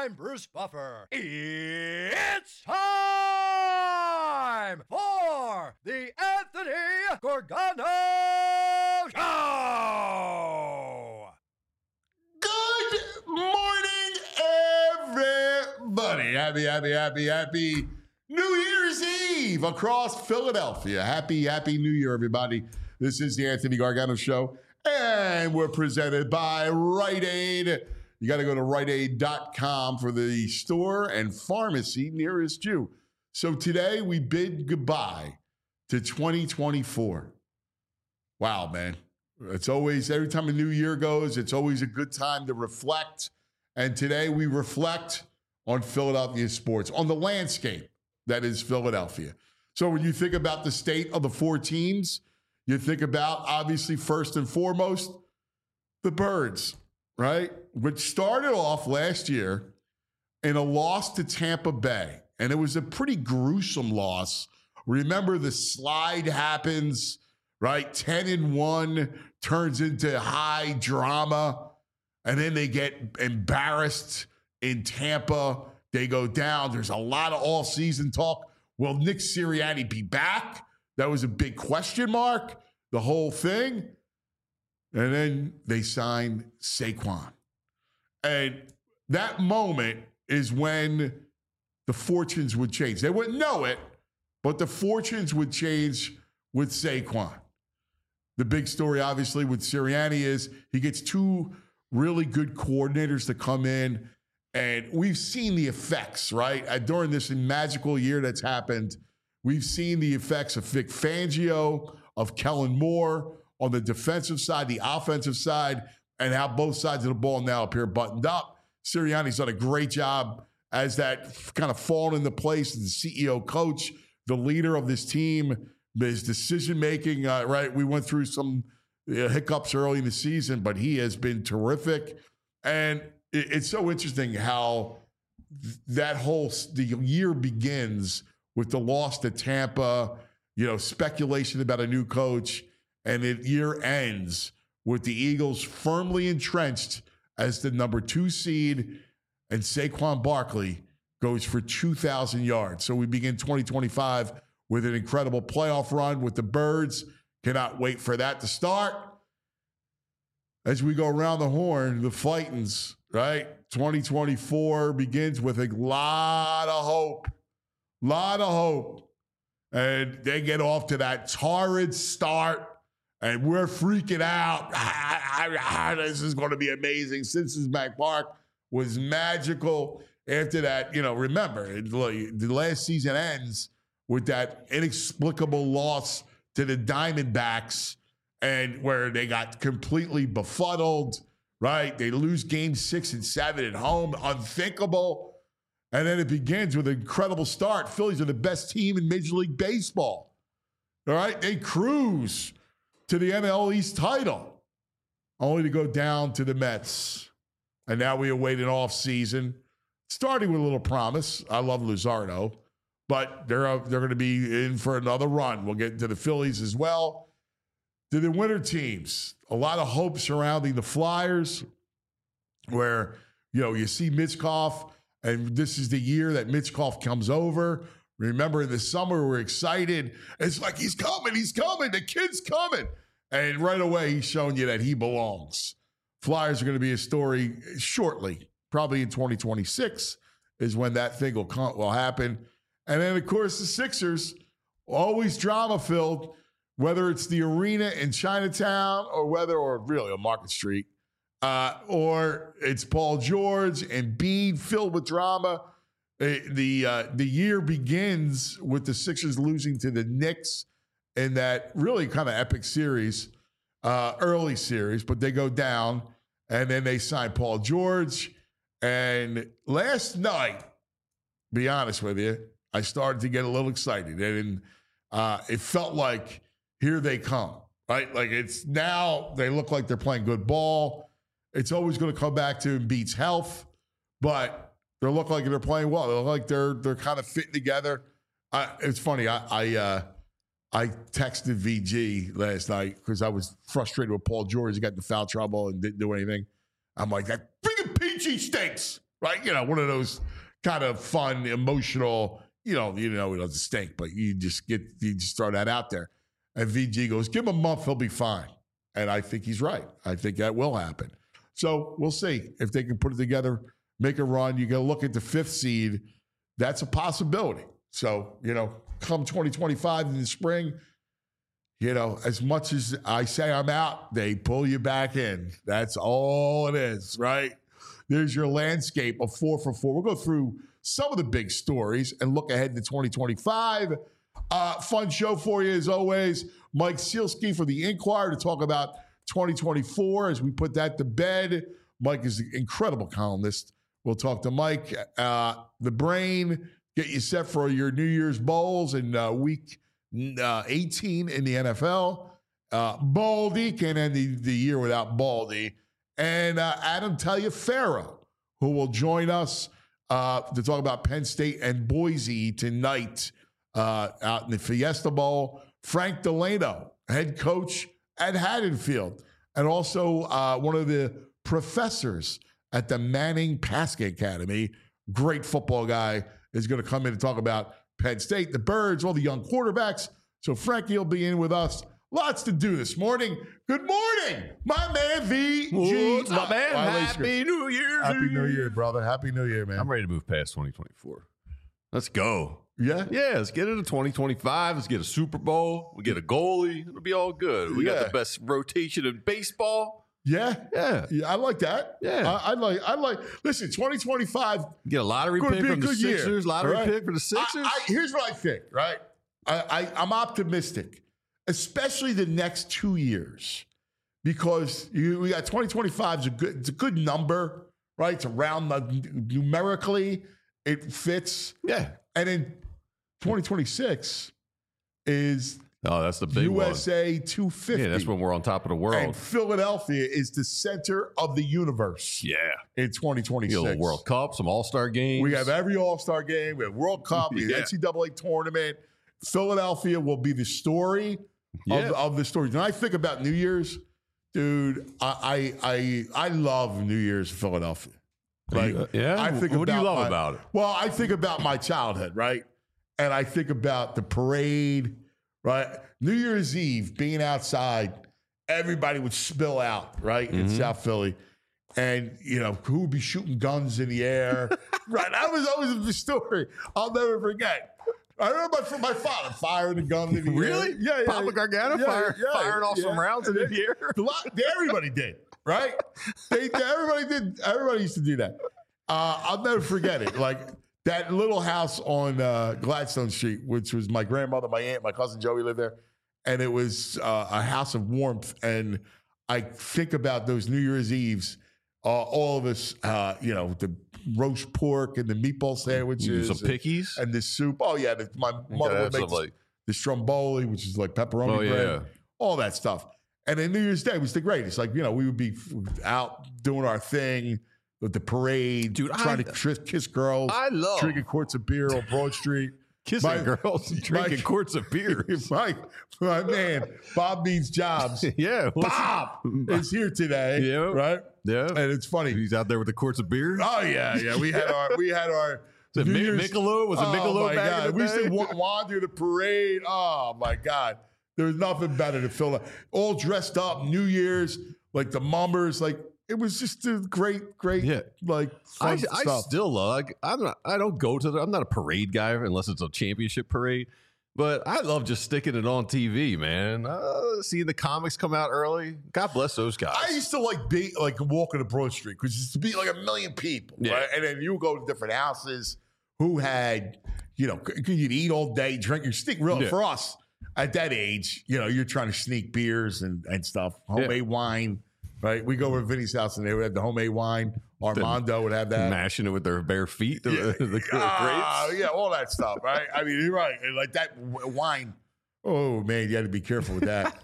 I'm Bruce Buffer. It's time for the Anthony Gorgano Show! Good morning, everybody. Happy New Year's Eve across Philadelphia. Happy New Year, everybody. This is the Anthony Gargano Show, and we're presented by Rite Aid. You got to go to riteaid.com for the store and pharmacy nearest you. So today we bid goodbye to 2024. Wow, man. It's always, every time a new year goes, it's always a good time to reflect. And today we reflect on Philadelphia sports, on the landscape that is Philadelphia. So when you think about the state of the four teams, you think about, obviously, first and foremost, the Birds, right? Which started off last year in a loss to Tampa Bay. And it was a pretty gruesome loss. Remember, the slide happens, right? 10-1 turns into high drama. And then they get embarrassed in Tampa. They go down. There's a lot of all-season talk. Will Nick Sirianni be back? That was a big question mark, the whole thing. And then they signed Saquon. And that moment is when the fortunes would change. They wouldn't know it, but the fortunes would change with Saquon. The big story, obviously, with Sirianni is he gets two really good coordinators to come in. And we've seen the effects, right? During this magical year that's happened, we've seen the effects of Vic Fangio, of Kellen Moore on the defensive side, the offensive side, and how both sides of the ball now appear buttoned up. Sirianni's done a great job as that kind of fallen into place as the CEO coach, the leader of this team, his decision-making, right? We went through some hiccups early in the season, but he has been terrific. And it's so interesting how the year begins with the loss to Tampa, speculation about a new coach, and the year ends with the Eagles firmly entrenched as the number 2 seed, and Saquon Barkley goes for 2,000 yards. So we begin 2025 with an incredible playoff run with the Birds. Cannot wait for that to start. As we go around the horn, the Fightins, right? 2024 begins with a lot of hope. And they get off to that torrid start, and we're freaking out. This is going to be amazing. Cincinnati Park was magical. After that, remember, the last season ends with that inexplicable loss to the Diamondbacks, and where they got completely befuddled, right? They lose games 6 and 7 at home. Unthinkable. And then it begins with an incredible start. Phillies are the best team in Major League Baseball. All right? They cruise to the NL East title, only to go down to the Mets. And now we await an offseason, starting with a little promise. I love Luzardo, but they're going to be in for another run. We'll get into the Phillies as well. To the winter teams, a lot of hope surrounding the Flyers, where, you see Michkov, and this is the year that Michkov comes over. Remember, in the summer, we're excited. It's like, he's coming. The kid's coming. And right away, he's showing you that he belongs. Flyers are going to be a story shortly. Probably in 2026 is when that thing will happen. And then, of course, the Sixers, always drama-filled, whether it's the arena in Chinatown or really on Market Street, or it's Paul George and Embiid filled with drama. The year begins with the Sixers losing to the Knicks in that really kind of epic series, early series, but they go down, and then they sign Paul George. And last night, be honest with you, I started to get a little excited, and it felt like here they come, right? Like it's now they look like they're playing good ball. It's always going to come back to Embiid's health, but they look like they're playing well. They look like they're kind of fitting together. It's funny. I texted VG last night because I was frustrated with Paul George. He got into foul trouble and didn't do anything. I'm like, that freaking PG stinks. right? One of those kind of fun, emotional, it doesn't stink, but you just throw that out there. And VG goes, give him a month, he'll be fine. And I think he's right. I think that will happen. So we'll see if they can put it together, make a run. You got to look at the 5th seed. That's a possibility. So, come 2025 in the spring, as much as I say I'm out, they pull you back in. That's all it is, right? There's your landscape of 4 for 4. We'll go through some of the big stories and look ahead to 2025. Fun show for you as always. Mike Sealski for the Inquirer to talk about 2024 as we put that to bed. Mike is an incredible columnist. We'll talk to Mike. The Brain, get you set for your New Year's Bowls in week 18 in the NFL. Baldy can't end the year without Baldy. And Adam Taliaferro, who will join us to talk about Penn State and Boise tonight out in the Fiesta Bowl. Frank Delano, head coach at Haddonfield, and also one of the professors at the Manning Paskey Academy. Great football guy is going to come in and talk about Penn State, the Birds, all the young quarterbacks. So Frankie will be in with us. Lots to do this morning. Good morning, my man VG. What's up, man? Happy New Year. Happy New Year, brother. Happy New Year, man. I'm ready to move past 2024. Let's go. Yeah? Yeah, let's get into 2025. Let's get a Super Bowl. We get a goalie. It'll be all good. We got the best rotation in baseball. Yeah. I like that. Yeah. I like. Listen, 2025. Get a lottery pick from the Sixers. Year, lottery pick for the Sixers. Here's what I think, right? I'm optimistic, especially the next 2 years, because we got 2025 is it's a good number, right? It's around numerically, it fits. Yeah. And then 2026 is that's the big USA 250. Yeah, that's when we're on top of the world. And Philadelphia is the center of the universe. Yeah. In 2026. You know, World Cup, some All-Star games. We have every All-Star game. We have World Cup, the NCAA tournament. Philadelphia will be the story of the story. When I think about New Year's, dude, I love New Year's in Philadelphia. Like, I think what do you love about it? Well, I think about my childhood, right? And I think about the parade, right? New Year's Eve, being outside, everybody would spill out, right, in South Philly. And, who would be shooting guns in the air? Right? That was always the story I'll never forget. I remember my father firing a gun in the air. Really? Yeah. Papa Gargano firing off some rounds in the air? Everybody did, right? Everybody did. Everybody used to do that. I'll never forget it. Like, that little house on Gladstone Street, which was my grandmother, my aunt, my cousin Joey lived there. And it was a house of warmth. And I think about those New Year's Eves, all of us, the roast pork and the meatball sandwiches. Some pickies? And the soup. Oh, yeah. My mother would make the stromboli, which is like pepperoni bread. All that stuff. And then New Year's Day was the greatest. Like, we would be out doing our thing. With the parade, dude, trying to kiss girls, drinking quarts of beer on Broad Street. Kissing girls and drinking quarts of beer. My man, Bob Means Jobs. Bob is here today. Yeah. Right? Yeah. And it's funny. He's out there with the quarts of beer. Oh, yeah. We had our Michelob? Was it Michelob back in the day? We used to wander the parade. Oh, my God. There was nothing better to fill up. All dressed up, New Year's, like the Mummers, like, it was just a great, like, fun stuff. I still love. I don't go to. I'm not a parade guy unless it's a championship parade. But I love just sticking it on TV, man. Seeing the comics come out early. God bless those guys. I used to like walking to Broad Street because it used to be like a million people, right? And then you would go to different houses who had, you'd eat all day, drink your stick. Really, for us at that age, you're trying to sneak beers and stuff, homemade wine. Right, we go over to Vinny's house and they would have the homemade wine. Armando would have that, mashing it with their bare feet. The grapes, all that stuff. Right, I mean, you're right. And like that wine. Oh man, you had to be careful with that.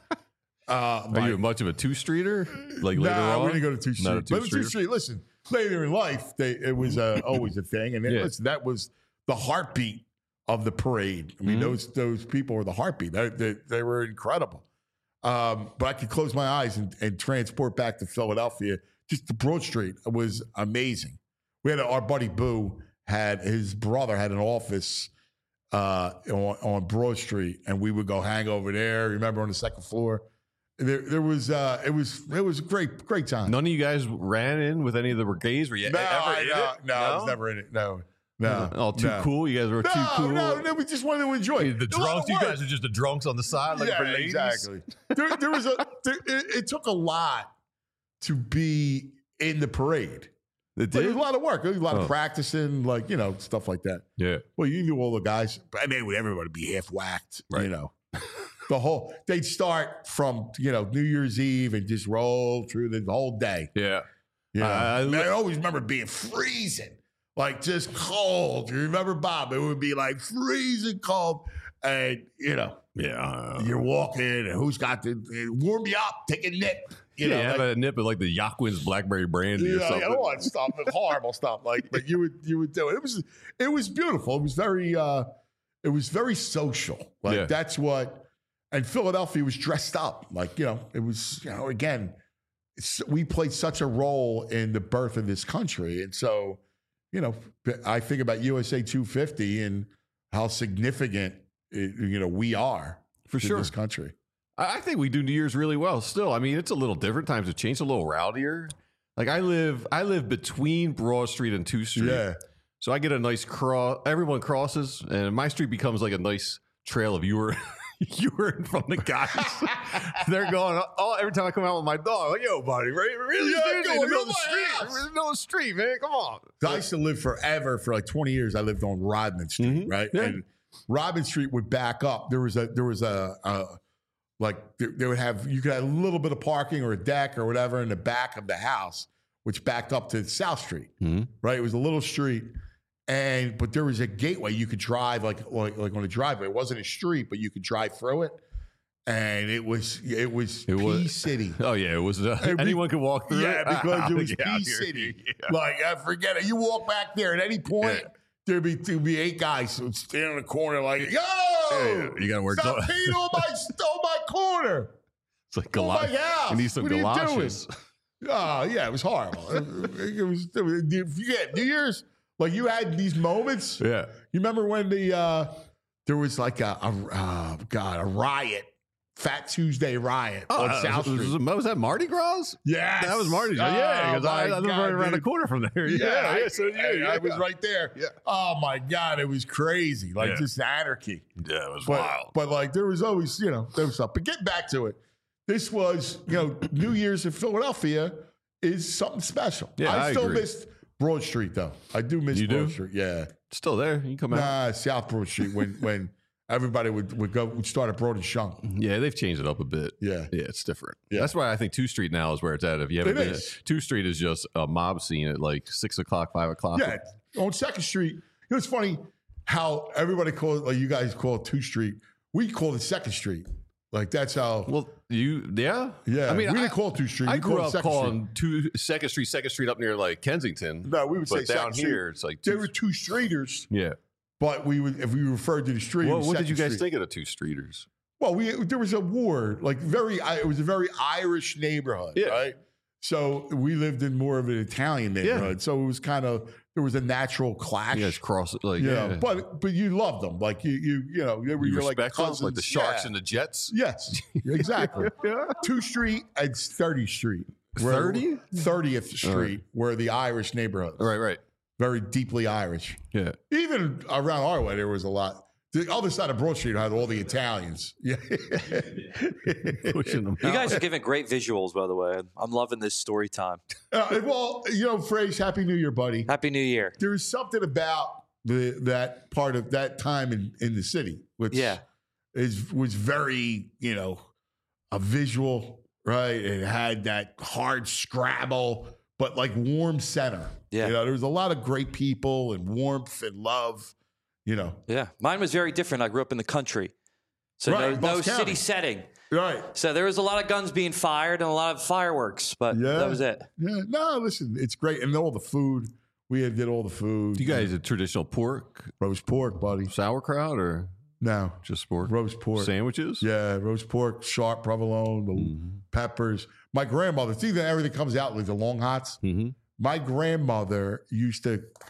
Are you much of a two-streeter? Like later on, we're gonna go to two-street. Not a two-streeter. Two-street. Listen, later in life, it was always a thing, and listen, that was the heartbeat of the parade. I mean, those people were the heartbeat. They were incredible. But I could close my eyes and transport back to Philadelphia. Just the Broad Street was amazing. our buddy Boo his brother had an office on Broad Street, and we would go hang over there. Remember, on the second floor, it was a great time. None of you guys ran in with any of the brigades? Were you ever in it? No, I was never in it. No. Too cool. You guys were too cool. No, we just wanted to enjoy the drunks. You guys are just the drunks on the side, like for ladies. Exactly. It took a lot to be in the parade. It did? It was a lot of work. It was a lot of practicing, stuff like that. Yeah. Well, you knew all the guys, but everybody would be half whacked, right. They'd start from, New Year's Eve and just roll through the whole day. Yeah. I always remember being freezing, just cold. You remember, Bob? It would be freezing cold. And, you're walking, and who's got to warm you up, take a nip. Have a nip of the Yaquin's blackberry brandy or something. I don't want stuff, horrible stuff. But you would do it. It was beautiful. It was very social. That's what. And Philadelphia was dressed up. It was. Again, we played such a role in the birth of this country, and so, I think about USA 250 and how significant we are for sure this country. I think we do New Year's really well still. I mean, it's a little different. Times have changed, a little rowdier. I live between Broad Street and 2th Street. Yeah. So I get a nice cross. Everyone crosses, and my street becomes a nice trail of urine from the guys. They're going, every time I come out with my dog, yo, buddy, really seriously, in the middle of the street. In the middle of the street, man, come on. I used to live forever, for 20 years, I lived on Rodman Street, right? Yeah. And Rodman Street would back up. There was they would have, you could have a little bit of parking or a deck or whatever in the back of the house, which backed up to South Street, right? It was a little street, but there was a gateway you could drive like on a driveway. It wasn't a street, but you could drive through it, and it was Pea City. Oh yeah, it was. Anyone could walk through. Yeah, it. because it was Pea City. Yeah. Forget it. You walk back there at any point. Yeah. There'd be 8 guys who would stand in the corner yo, you gotta work. Stop peeing on my corner. It's like galoshes. You need some galoshes. Oh yeah, it was horrible. it was New Year's, you had these moments. Yeah, you remember when there was a riot. Fat Tuesday riot on South Street. Was that Mardi Gras? Yes. That was Mardi Gras. Yeah, because I live right around the corner from there. I was right there. Yeah. Oh, my God. It was crazy. Just anarchy. Yeah, it was wild. But, there was always, there was stuff. But getting back to it, this was, New Year's in Philadelphia is something special. Yeah, I still missed Broad Street, though. I do miss Broad Street. Yeah. It's still there. You can come out. South Broad Street when everybody would start at Broad and Shunk. Yeah, they've changed it up a bit. Yeah. Yeah, it's different. Yeah. That's why I think 2th Street now is where it's at. If you haven't been, 2th Street is just a mob scene at 6 o'clock, 5 o'clock. Yeah. On 2nd Street, it's funny how everybody calls it, you guys call it 2th Street. We call it 2nd Street. That's how. Well, yeah. I mean, we didn't call it 2th Street. I grew up calling 2nd Street up near Kensington. No, we would say down here, it's there were 2 streeters. Yeah. But if we referred to the street, what did you guys think of the 2 streeters? Well, there was a ward, it was a very Irish neighborhood, right? So we lived in more of an Italian neighborhood. So it was there was a natural clash. You guys cross it, but you loved them, you respect cousins, them, the Sharks and the Jets. Yes, exactly. 2th Street and 30th Street, 30th Street, were the Irish neighborhoods. Right. Very deeply Irish. Yeah. Even around our way, there was a lot. The other side of Broad Street had all the Italians. Yeah. Pushing them you guys are giving great visuals, by the way. I'm loving this story time. Phrase, Happy New Year, buddy. Happy New Year. There's something about that part of that time in the city, which was very, a visual, right? It had that hard scrabble, but warm center. Yeah. There was a lot of great people and warmth and love, Yeah. Mine was very different. I grew up in the country. So no city setting. Right. So there was a lot of guns being fired and a lot of fireworks, but that was it. Yeah. No, listen, it's great. And all the food. We did all the food. You guys did traditional pork? Roast pork, buddy. Sauerkraut or? No. Just pork? Roast pork. Sandwiches? Yeah, roast pork, sharp provolone, peppers. My grandmother, see that everything comes out like the long hots. Mm-hmm. my grandmother used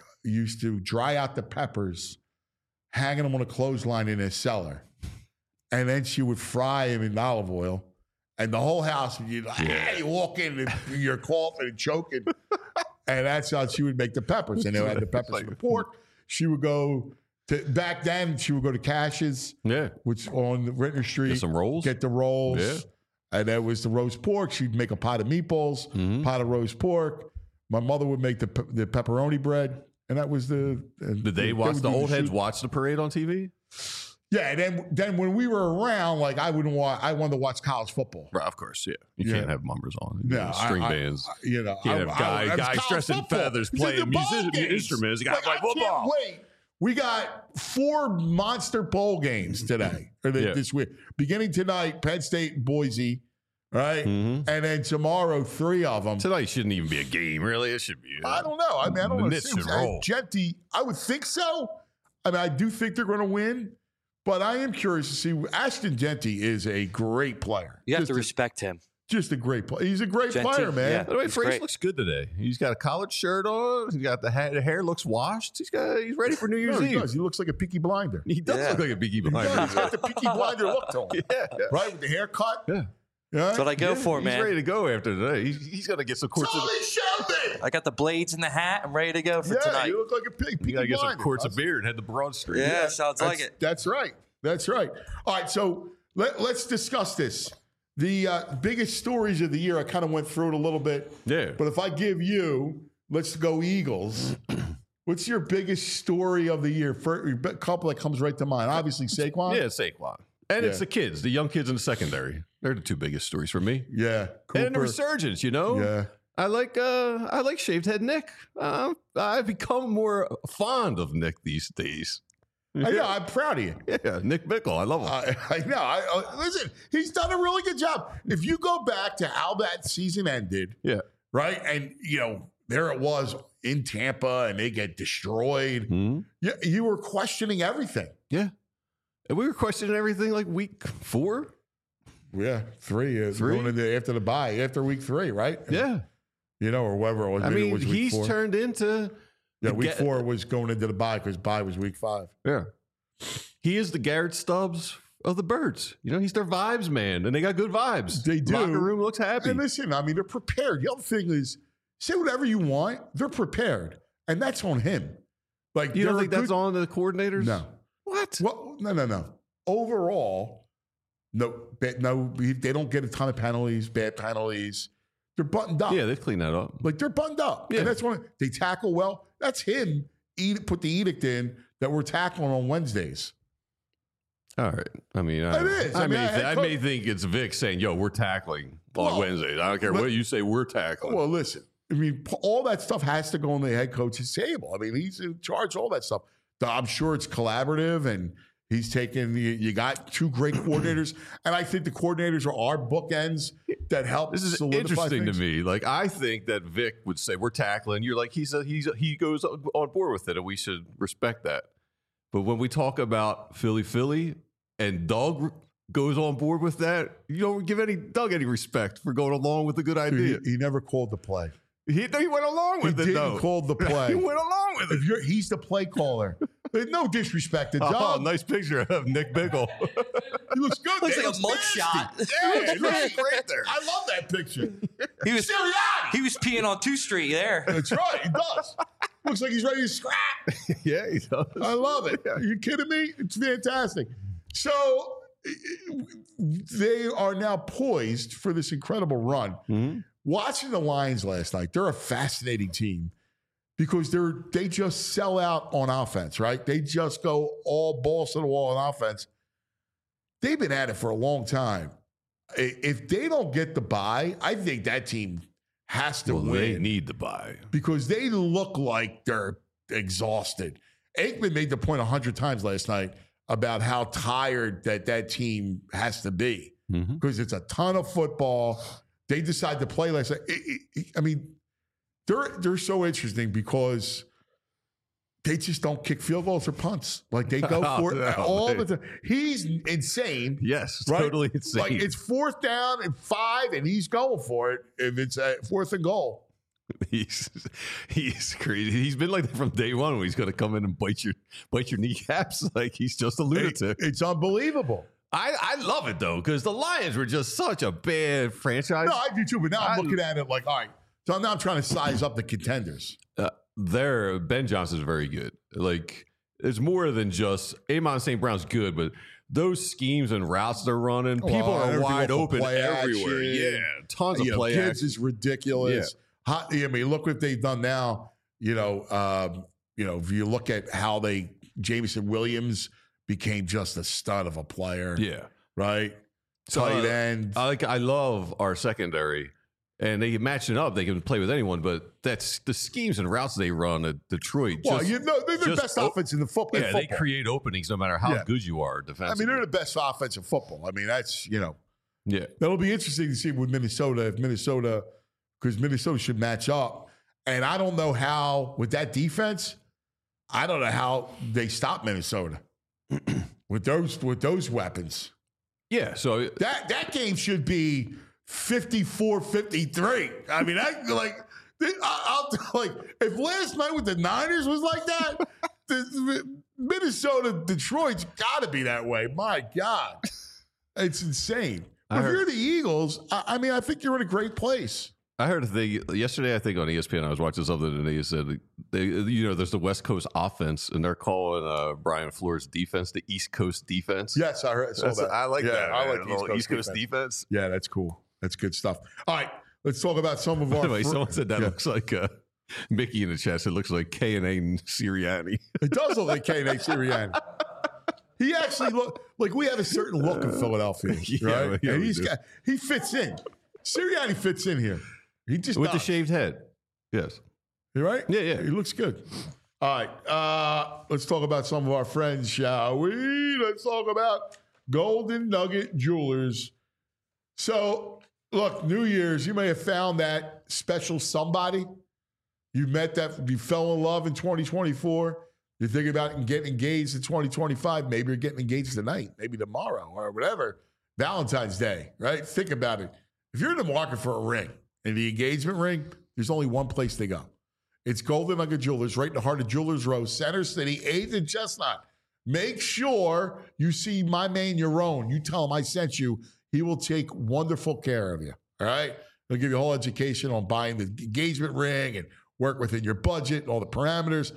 to dry out the peppers, hanging them on a clothesline in a cellar. And then she would fry them in olive oil. And the whole house, you'd like, hey, walk in and you're coughing and choking. And that's how she would make the peppers. And they had the peppers for the pork. She would go to, back then, she would go to Cash's, which on the Rittner Street. Get some rolls. Get the rolls. Yeah. And that was the roast pork. She'd make a pot of meatballs, pot of roast pork. My mother would make the pepperoni bread. And that was the... Did they watch the old heads watch the parade on TV? Yeah, and then when we were around, like I wanted to watch college football. Right, of course, yeah. You can't have mumbers on. String bands. You know, can't have guys dressed in feathers playing instruments. You got to play football. Wait, we got 4 monster bowl games today or this week. Beginning tonight, Penn State, Boise, right, and then tomorrow 3 of them. Tonight shouldn't even be a game, really. It should be. I don't know. I mean, I don't know. Roll. Genty, I would think so. I mean, I do think they're going to win. But I am curious to see. Ashton Genty is a great player. You have to respect him. Just a great player. He's a great player, man. Yeah. By the way, Frazier looks good today. He's got a collared shirt on. He's got the hair looks washed. He's ready for New Year's Eve. He does. He looks like a Peaky Blinder. He does look like a Peaky Blinder. He's got the Peaky Blinder look to him. Right, with the haircut. Yeah. That's what I go for, man. He's ready to go after today. He's going to get some courts. I got the blades in the hat. I'm ready to go for tonight. You look like a Peaky Blinder. You got to get some quarts of beer and head the Broad Street. Yeah, sounds like it. That's right. That's right. All right, so let's discuss this. The biggest stories of the year, I kind of went through it a little bit. Yeah. But if I give you, let's go Eagles. What's your biggest story of the year? For a couple that comes right to mind. Obviously, Saquon. Yeah, Saquon. And it's the kids, the young kids in the secondary. They're the 2 biggest stories for me. Yeah. Cooper. And the resurgence, you know? Yeah. I like shaved head Nick. I've become more fond of Nick these days. I know. I'm proud of you. Yeah, Nick Bickle. I love him. I know. Listen, he's done a really good job. If you go back to how that season ended, right, and there it was in Tampa, and they get destroyed. You were questioning everything. Yeah, and we were questioning everything like week 4. Yeah, 3 going into after the bye, after week 3, right? Yeah, or whatever it was. I mean, it was week he's 4. turned into. Yeah, week 4 was going into the bye because bye was week 5. Yeah. He is the Garrett Stubbs of the Birds. He's their vibes man, and they got good vibes. They do. Locker room looks happy. And listen, I mean, they're prepared. The other thing is, say whatever you want, they're prepared. And that's on him. Like, you don't think that's on the coordinators? No. What? Well, no. Overall, no, they don't get a ton of penalties, bad penalties. They're buttoned up. Yeah, they clean that up. Like, they're buttoned up. Yeah. And that's when they tackle well. That's him put the edict in that we're tackling on Wednesdays. All right. I mean, it is. I may think it's Vic saying, yo, we're tackling on Wednesdays. I don't care what you say, we're tackling. Well, listen, I mean, all that stuff has to go on the head coach's table. I mean, he's in charge of all that stuff. I'm sure it's collaborative, and he's taken, you got 2 great coordinators, and I think the coordinators are our bookends that help. This is interesting to me. Like, I think that Vic would say, we're tackling. You're like, he goes on board with it, and we should respect that. But when we talk about Philly, and Doug goes on board with that, you don't give Doug any respect for going along with a good idea. He never called the play. He went along with it, though. He call the play. He went along with it. He's the play caller. No disrespect to Doug. Oh, nice picture of Nick Bickle. He looks good. Looks like a mugshot. Yeah, he looks great there. I love that picture. He was peeing on 2 Street there. That's right. He does. Looks like he's ready to scrap. Yeah, he does. I love it. Are you kidding me? It's fantastic. So they are now poised for this incredible run. Mm-hmm. Watching the Lions last night, they're a fascinating team because they just sell out on offense, right? They just go all balls to the wall on offense. They've been at it for a long time. If they don't get the bye, I think that team has to win. They need the bye. Because they look like they're exhausted. Aikman made the point 100 times last night about how tired that team has to be. Because it's a ton of football. They decide to play last night. I mean, they're so interesting because they just don't kick field goals or punts. Like, they go for it all the time. He's insane. Yes, right? Totally insane. Like, it's 4th down and 5, and he's going for it if it's 4th and goal. He's crazy. He's been like that from day one when he's going to come in and bite your kneecaps like he's just a lunatic. It's unbelievable. I love it, though, because the Lions were just such a bad franchise. No, I do too, but now I'm looking at it like, all right, so now I'm trying to size up the contenders. Ben Johnson's very good. Like, it's more than just Amon St. Brown's good, but those schemes and routes they're running, people are wide open everywhere. Yeah, tons of play kids action. is ridiculous. Yeah. I mean, look what they've done now. If you look at how Jameson Williams became just a stud of a player. Yeah, right. So, tight end. I love our secondary, and they match it up. They can play with anyone, but that's the schemes and routes they run at Detroit. Well, they're the best offense in the football. Yeah, they create openings no matter how good you are defensively. I mean, they're the best offense in football. I mean, that's Yeah, that'll be interesting to see with Minnesota because Minnesota should match up. And I don't know how with that defense. I don't know how they stop Minnesota with those weapons. Yeah, so that game should be 54-53. I mean, I'll if last night with the Niners was like that, Minnesota, Detroit's got to be that way. My God, it's insane. If you're the Eagles, I mean, I think you're in a great place. I heard a thing yesterday, I think on ESPN, I was watching something and they said, there's the West Coast offense and they're calling Brian Flores' defense the East Coast defense. Yes, I saw that. I like that. I like the East Coast defense. Yeah, that's cool. That's good stuff. All right, let's talk about some of our. By the way, someone said that looks like Mickey in the chat. It looks like K&A Sirianni. It does look like K&A Sirianni. He actually look like we have a certain look in Philadelphia, right? Yeah, and he fits in. Sirianni fits in here. He just with the shaved head. Yes. You right? Yeah. He looks good. All right. Let's talk about some of our friends, shall we? Let's talk about Golden Nugget Jewelers. So, look, New Year's, you may have found that special somebody. You met that, you fell in love in 2024. You're thinking about getting engaged in 2025. Maybe you're getting engaged tonight, maybe tomorrow or whatever. Valentine's Day, right? Think about it. If you're in the market for a ring, and the engagement ring, there's only one place to go. It's Golden Nugget Jewelers, right in the heart of Jewelers Row, Center City, 8th and Chestnut. Make sure you see my man, Yaron. You tell him I sent you. He will take wonderful care of you, all right? He'll give you a whole education on buying the engagement ring and work within your budget and all the parameters.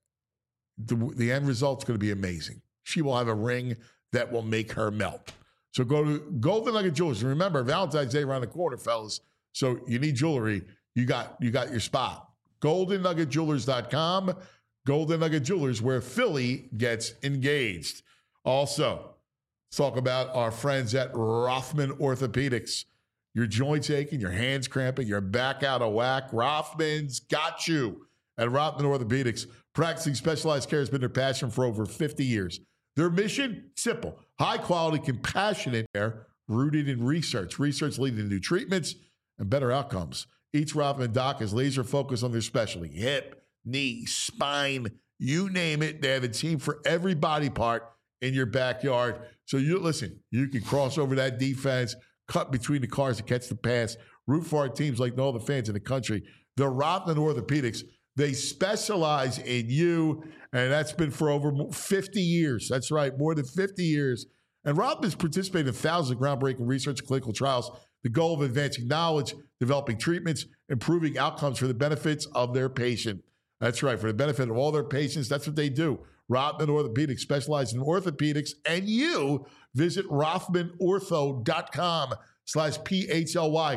The end result's going to be amazing. She will have a ring that will make her melt. So go to Golden Nugget Jewelers. And remember, Valentine's Day around the corner, fellas. So you need jewelry. You got your spot. GoldenNuggetJewelers.com. Golden Nugget Jewelers, where Philly gets engaged. Also, let's talk about our friends at Rothman Orthopedics. Your joints aching, your hands cramping, your back out of whack. Rothman's got you. At Rothman Orthopedics, practicing specialized care has been their passion for over 50 years. Their mission, simple. High quality, compassionate care rooted in research. Research leading to new treatments and better outcomes. Each Rothman doc is laser focused on their specialty. Hip, knee, spine, you name it. They have a team for every body part in your backyard. So you can cross over that defense, cut between the cars to catch the pass, root for our teams like no other fans in the country. The Rothman Orthopedics, they specialize in you, and that's been for over 50 years. That's right, more than 50 years. And Rothman's participated in thousands of groundbreaking research and clinical trials. The goal of advancing knowledge, developing treatments, improving outcomes for the benefits of their patient. That's right, for the benefit of all their patients. That's what they do. Rothman Orthopedics specializes in orthopedics, and you visit RothmanOrtho.com/PHLY.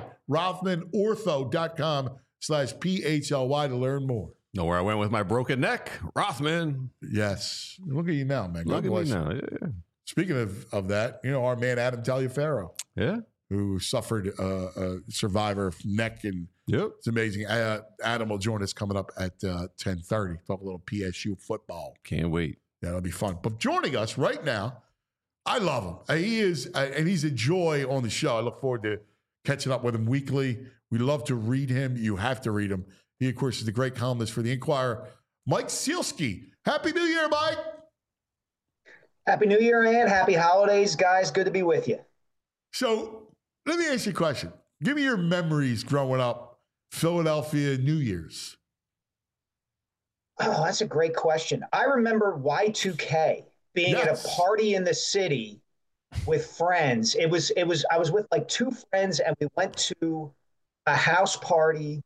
RothmanOrtho.com/PHLY to learn more. Know where I went with my broken neck? Rothman. Yes. Look at you now, man. Look at me now. Yeah. Speaking of that, our man Adam Taliaferro. Yeah. Who suffered a survivor of neck, and it's amazing. Adam will join us coming up at 10:30. Talk a little PSU football. Can't wait. Yeah, that'll be fun. But joining us right now, I love him. He is, and he's a joy on the show. I look forward to catching up with him weekly. We love to read him. You have to read him. He, of course, is the great columnist for the Inquirer, Mike Sielski. Happy New Year, Mike. Happy New Year, and happy holidays, guys. Good to be with you. So let me ask you a question. Give me your memories growing up Philadelphia New Year's? Oh, that's a great question. I remember Y2K being at a party in the city with friends. I was with like two friends, and we went to a house party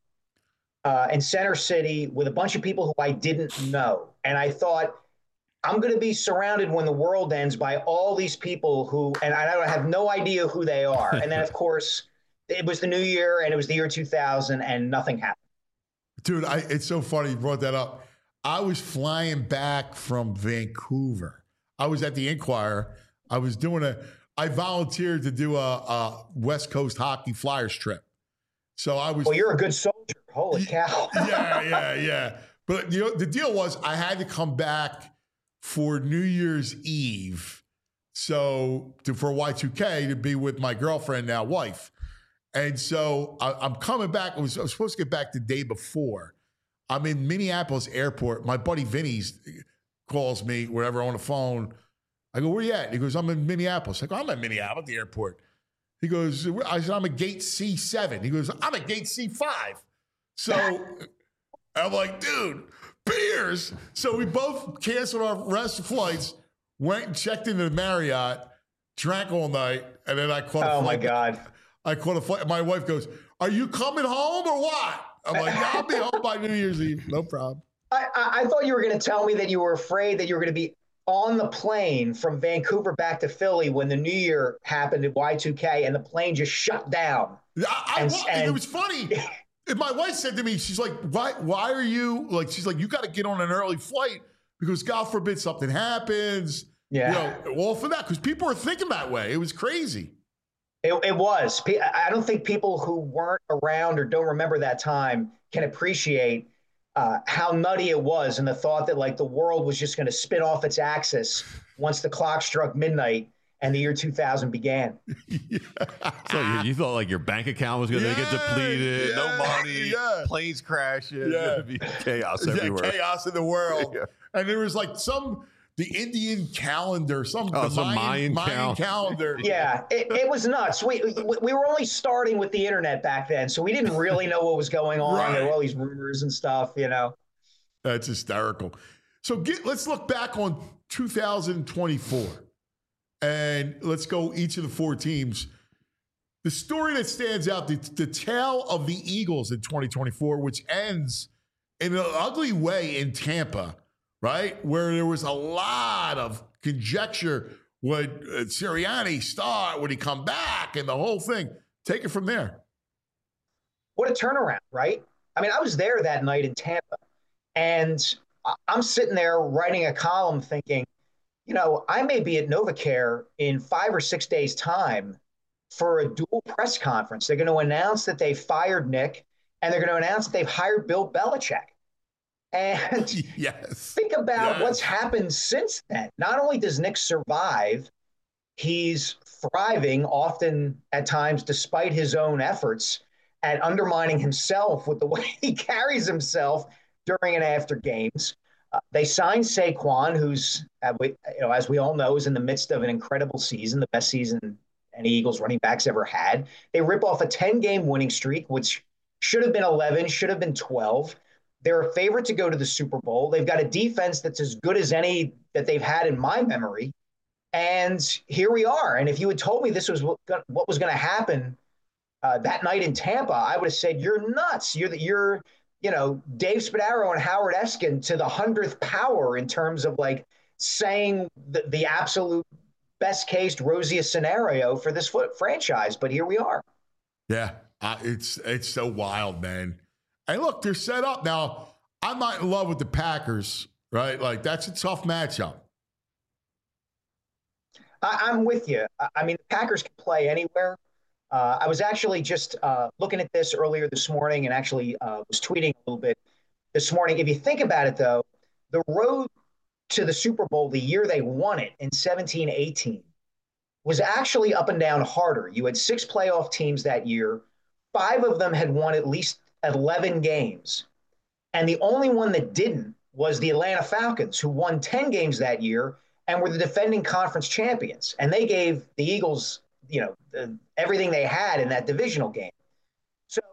in Center City with a bunch of people who I didn't know. And I thought, I'm going to be surrounded when the world ends by all these people and I don't have no idea who they are. And then, of course, it was the new year, and it was the year 2000, and nothing happened. Dude, it's so funny you brought that up. I was flying back from Vancouver. I was at the Inquirer. I volunteered to do a West Coast hockey Flyers trip. So I was. Well, you're a good soldier. Holy cow. Yeah. But the deal was I had to come back for New Year's Eve. So for Y2K to be with my girlfriend, now wife. And so I'm coming back. I was supposed to get back the day before. I'm in Minneapolis airport. My buddy Vinny's calls me, wherever, on the phone. I go, where you at? He goes, I'm in Minneapolis. I go, I'm at Minneapolis, the airport. He goes, I said, I'm at gate C7. He goes, I'm at gate C5. So I'm like, dude, beers. So we both canceled our rest of flights, went and checked into the Marriott, drank all night, and then I caught a flight. Oh, my God. I caught a flight. My wife goes, are you coming home or what? I'm like, yeah, I'll be home by New Year's Eve. No problem. I thought you were going to tell me that you were afraid that you were going to be on the plane from Vancouver back to Philly when the New Year happened at Y2K and the plane just shut down. It was funny. My wife said to me, she's like, why are you, like, she's like, you got to get on an early flight because God forbid something happens. Yeah. All for that, because people are thinking that way. It was crazy. It was. I don't think people who weren't around or don't remember that time can appreciate how nutty it was, and the thought that like the world was just going to spin off its axis once the clock struck midnight and the year 2000 began. So you thought like your bank account was going to get depleted, no money, planes crashing, it'd be chaos everywhere. Chaos in the world. And there was like the Indian calendar, some Mayan calendar. Yeah, it was nuts. We were only starting with the internet back then, so we didn't really know what was going on. Right. There were all these rumors and stuff, That's hysterical. So let's look back on 2024, and let's go each of the four teams. The story that stands out, the tale of the Eagles in 2024, which ends in an ugly way in Tampa, right? Where there was a lot of conjecture. Would Sirianni start? Would he come back? And the whole thing. Take it from there. What a turnaround, right? I mean, I was there that night in Tampa, and I'm sitting there writing a column thinking, I may be at NovaCare in 5 or 6 days' time for a dual press conference. They're going to announce that they fired Nick, and they're going to announce that they've hired Bill Belichick. And think about what's happened since then. Not only does Nick survive, he's thriving, often at times despite his own efforts, at undermining himself with the way he carries himself during and after games. They signed Saquon, who's, as we all know, is in the midst of an incredible season, the best season any Eagles running backs ever had. They rip off a 10-game winning streak, which should have been 11, should have been 12. They're a favorite to go to the Super Bowl. They've got a defense that's as good as any that they've had in my memory. And here we are. And if you had told me this was what was going to happen that night in Tampa, I would have said, you're nuts. You're Dave Spadaro and Howard Eskin to the 100th power in terms of like saying the absolute best case, rosiest scenario for this franchise. But here we are. Yeah, it's so wild, man. And look, they're set up. Now, I'm not in love with the Packers, right? Like, that's a tough matchup. I'm with you. I mean, the Packers can play anywhere. I was actually just looking at this earlier this morning and actually was tweeting a little bit this morning. If you think about it, though, the road to the Super Bowl, the year they won it in 17-18, was actually up and down harder. You had 6 playoff teams that year. 5 of them had won at least 11 games. And the only one that didn't was the Atlanta Falcons, who won 10 games that year and were the defending conference champions. And they gave the Eagles, everything they had in that divisional game. So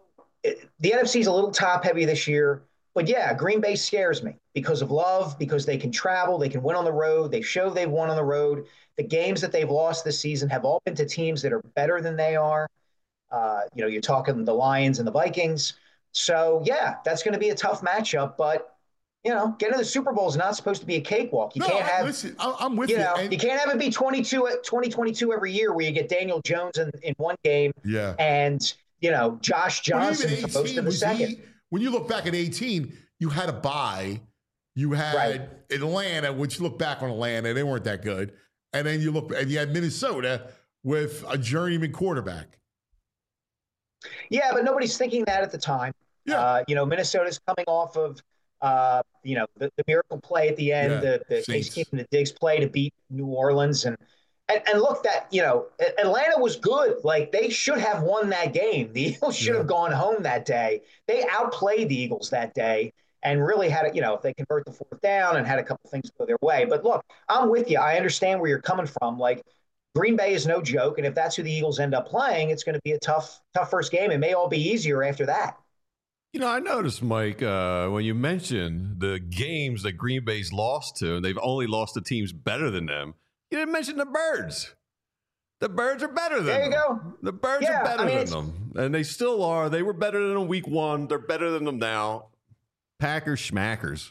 the NFC is a little top heavy this year. But yeah, Green Bay scares me because of Love, because they can travel, they can win on the road. They show they've won on the road. The games that they've lost this season have all been to teams that are better than they are. You're talking the Lions and the Vikings. So, yeah, that's going to be a tough matchup. But, getting to the Super Bowl is not supposed to be a cakewalk. You can't have. Listen, I'm with you. You can't have it be 2022 every year where you get Daniel Jones in one game. Yeah. And, Josh Johnson supposed to the second. When you look back at 18, you had a bye. You had Atlanta, which look back on Atlanta, they weren't that good. And then you had Minnesota with a journeyman quarterback. Yeah, but nobody's thinking that at the time. Yeah. Minnesota's coming off of, the miracle play at the end, the Case Keenum and the Diggs play to beat New Orleans. And look, that, Atlanta was good. Like, they should have won that game. The Eagles should have gone home that day. They outplayed the Eagles that day and really had if they convert the fourth down and had a couple things go their way. But look, I'm with you. I understand where you're coming from. Like, Green Bay is no joke. And if that's who the Eagles end up playing, it's going to be a tough first game. It may all be easier after that. I noticed, Mike, when you mentioned the games that Green Bay's lost to, and they've only lost to teams better than them, you didn't mention the Birds. The Birds are better than them. There you go. The Birds are better than them. And they still are. They were better than them week one. They're better than them now. Packers schmackers.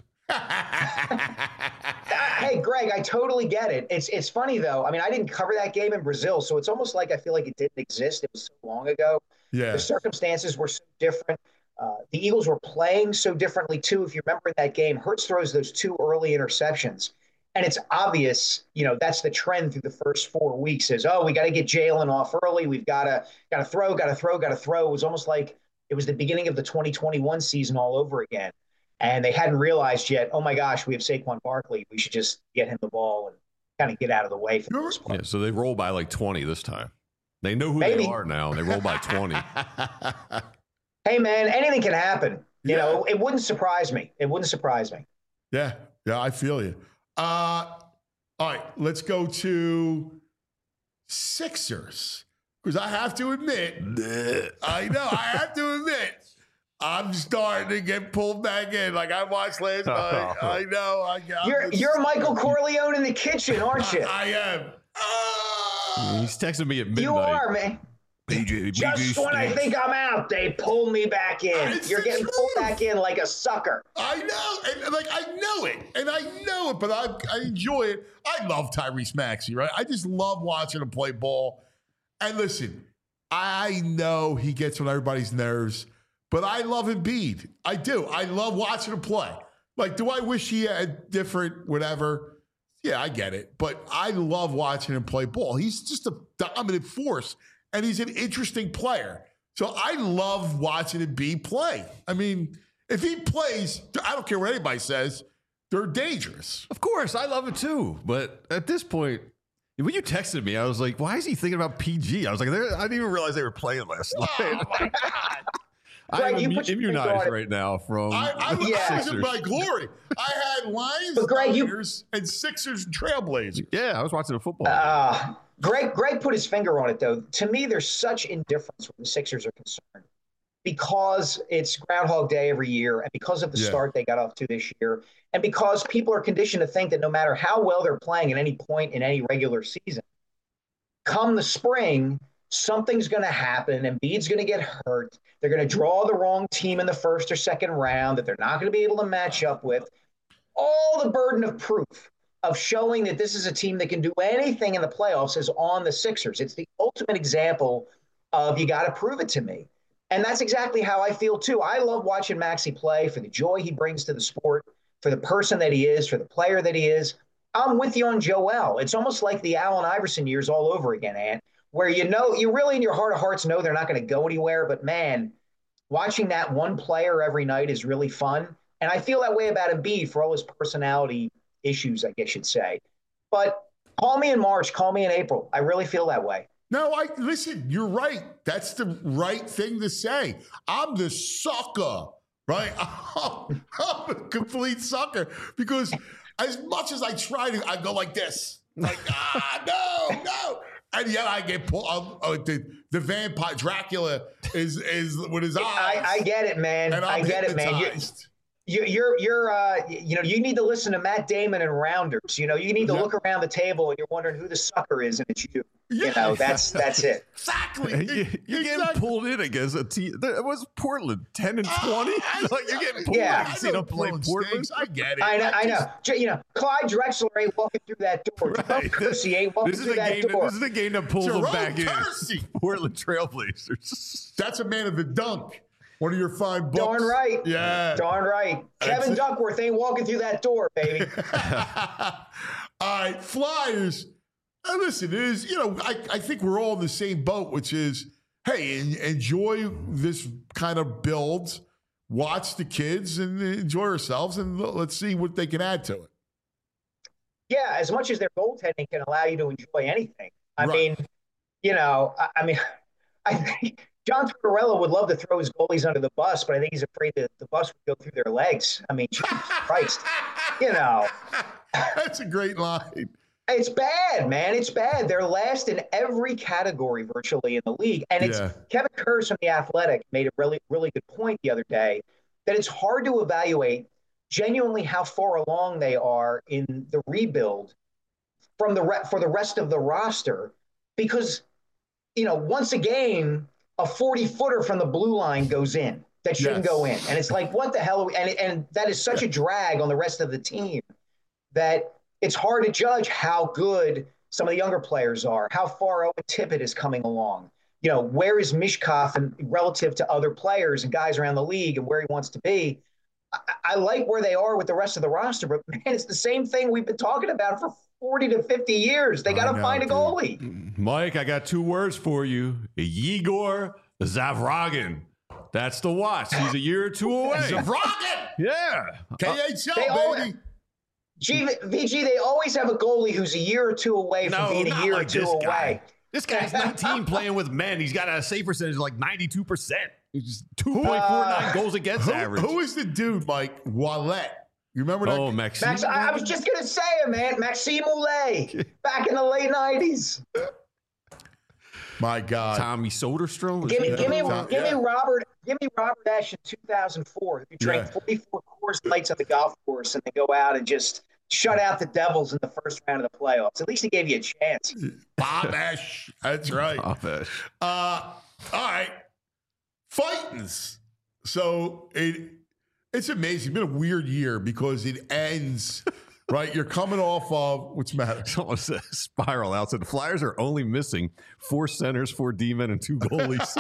Hey, Greg, I totally get it. It's funny, though. I mean, I didn't cover that game in Brazil, so it's almost like I feel like it didn't exist. It was so long ago. Yeah. The circumstances were so different. The Eagles were playing so differently, too. If you remember that game, Hurts throws those 2 early interceptions. And it's obvious, that's the trend through the first 4 weeks is, we got to get Jalen off early. We've got to throw. It was almost like it was the beginning of the 2021 season all over again. And they hadn't realized yet, oh, my gosh, we have Saquon Barkley. We should just get him the ball and kind of get out of the way for the most part. Yeah, so they roll by like 20 this time. They know who they are now. They roll by 20. Hey, man, anything can happen. It wouldn't surprise me. Yeah, I feel you. All right, let's go to Sixers. Because I have to admit, I'm starting to get pulled back in. Like I watched last night. I know. You're Michael Corleone in the kitchen, aren't you? I am. He's texting me at midnight. You are, man. Just when I think I'm out, they pull me back in. You're getting pulled back in like a sucker. I know. And I know it, but I enjoy it. I love Tyrese Maxey, right? I just love watching him play ball. And listen, I know he gets on everybody's nerves, but I love Embiid. I do. I love watching him play. Like, do I wish he had different whatever? Yeah, I get it. But I love watching him play ball. He's just a dominant force. And he's an interesting player. So I love watching Embiid play. I mean, if he plays, I don't care what anybody says, they're dangerous. Of course, I love it too. But at this point, when you texted me, I was like, why is he thinking about PG? I was like, I didn't even realize they were playing last night. Oh, my God. I'm immunized right now from I was in my glory. I had Lions, Tigers, and Sixers and Trailblazers. Yeah, I was watching the football. Greg put his finger on it, though. To me, there's such indifference when the Sixers are concerned because it's Groundhog Day every year and because of the start they got off to this year and because people are conditioned to think that no matter how well they're playing at any point in any regular season, come the spring, something's going to happen. Embiid's going to get hurt. They're going to draw the wrong team in the first or second round that they're not going to be able to match up with. All the burden of proof of showing that this is a team that can do anything in the playoffs is on the Sixers. It's the ultimate example of you got to prove it to me. And that's exactly how I feel, too. I love watching Maxey play for the joy he brings to the sport, for the person that he is, for the player that he is. I'm with you on Joel. It's almost like the Allen Iverson years all over again, Ant, where you really in your heart of hearts know they're not going to go anywhere. But, man, watching that one player every night is really fun. And I feel that way about Embiid for all his personality issues, I guess you'd say. But call me in March, call me in April. I really feel that way. No, listen, you're right. That's the right thing to say. I'm the sucker, right? I'm a complete sucker because as much as I try to, I go like this. Like, no. And yet I get pulled. The vampire Dracula is with his eyes. I get it, man. And I get it, man. You need to listen to Matt Damon and Rounders. You need to look around the table and you're wondering who the sucker is, and it's you. That's it. Exactly. You're getting pulled in against a team. It was Portland 10-20. Like you're getting pulled Yeah. in. See them play Portland. I get it. I know. Clyde Drexler ain't walking through that door. Jerome Kersey ain't walking through that door. This is the game that pulls them back Kersey. in. Portland Trailblazers. That's a man of the dunk. One of your fine books. Darn right. Yeah. Darn right. Kevin Duckworth ain't walking through that door, baby. All right, Flyers. And listen, it is, I think we're all in the same boat, which is, hey, enjoy this kind of build, watch the kids and enjoy ourselves, and let's see what they can add to it. Yeah, as much as their goaltending can allow you to enjoy anything. I mean, I think John Tortorella would love to throw his goalies under the bus, but I think he's afraid that the bus would go through their legs. I mean, Jesus Christ, That's a great line. It's bad, man. It's bad. They're last in every category virtually in the league. And Kevin Kurz from The Athletic made a really, really good point the other day that it's hard to evaluate genuinely how far along they are in the rebuild for the rest of the roster because, once a game, a 40-footer from the blue line goes in that shouldn't go in. And it's like, what the hell are we? And that is such a drag on the rest of the team that it's hard to judge how good some of the younger players are, how far Owen Tippett is coming along. Where is Mishkov and relative to other players and guys around the league and where he wants to be. I like where they are with the rest of the roster, but man, it's the same thing we've been talking about for 40 to 50 years. They got to find a goalie. Mike, I got 2 words for you. Yegor Zavragin. That's the watch. He's a year or 2 away. Zavragin! Yeah. KHL, baby. VG, they always have a goalie who's a year or 2 away from being a year or 2 away. This guy's 19 playing with men. He's got a save percentage of like 92%. He's 2.49 goals against average. Who is the dude, Mike? Wallet. You remember that? Oh, Maxime. I was just going to say it, man. Maxime Oulet, back in the late 90s. My God. Tommy Soderstrom. Give me Robert Ashe in 2004, who drank 44 Coors Lights on the golf course and then go out and just shut out the Devils in the first round of the playoffs. At least he gave you a chance. Bob Ashe. That's right. Bob Ashe. All right. Fightins. So it's amazing. It's been a weird year because it ends, right? You're coming off of, what's the matter? Someone said Spiral out. So the Flyers are only missing 4 centers, 4 D-men, and 2 goalies.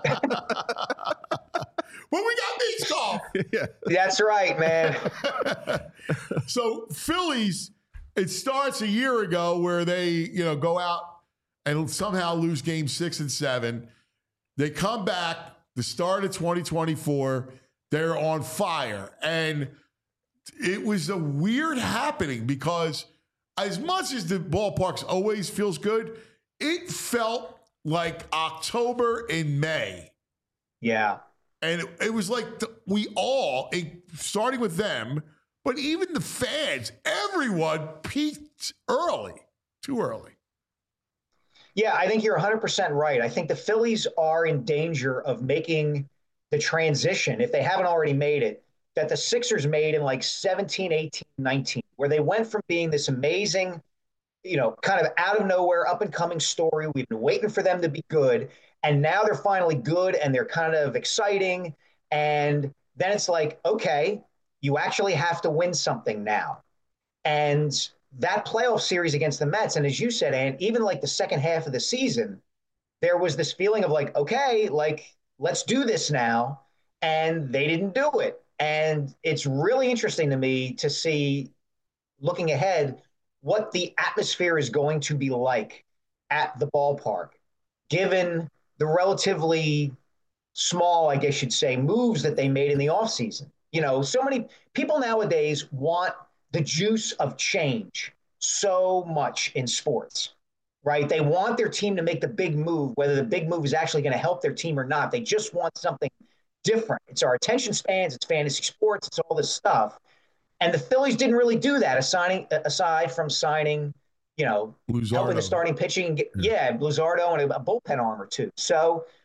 Well, we got Michkov. Yeah. That's right, man. So Phillies, it starts a year ago where they, go out and somehow lose game 6 and 7. They come back the start of 2024. They're on fire. And it was a weird happening because as much as the ballparks always feels good, it felt like October and May. Yeah. And it was like we all, starting with them, but even the fans, everyone peaked early, too early. Yeah, I think you're 100% right. I think the Phillies are in danger of making the transition, if they haven't already made it, that the Sixers made in like 17, 18, 19, where they went from being this amazing, kind of out of nowhere, up and coming story. We've been waiting for them to be good. And now they're finally good and they're kind of exciting. And then it's like, okay, you actually have to win something now. And that playoff series against the Mets, and as you said, Ann, even like the second half of the season, there was this feeling of like, okay, like, let's do this now. And they didn't do it. And it's really interesting to me to see, looking ahead, what the atmosphere is going to be like at the ballpark, given the relatively small, I guess you'd say, moves that they made in the offseason. So many people nowadays want the juice of change so much in sports, right? They want their team to make the big move, whether the big move is actually going to help their team or not. They just want something different. It's our attention spans, it's fantasy sports, it's all this stuff. And the Phillies didn't really do that, aside from signing, helping the starting pitching. Luzardo and a bullpen arm or two. So,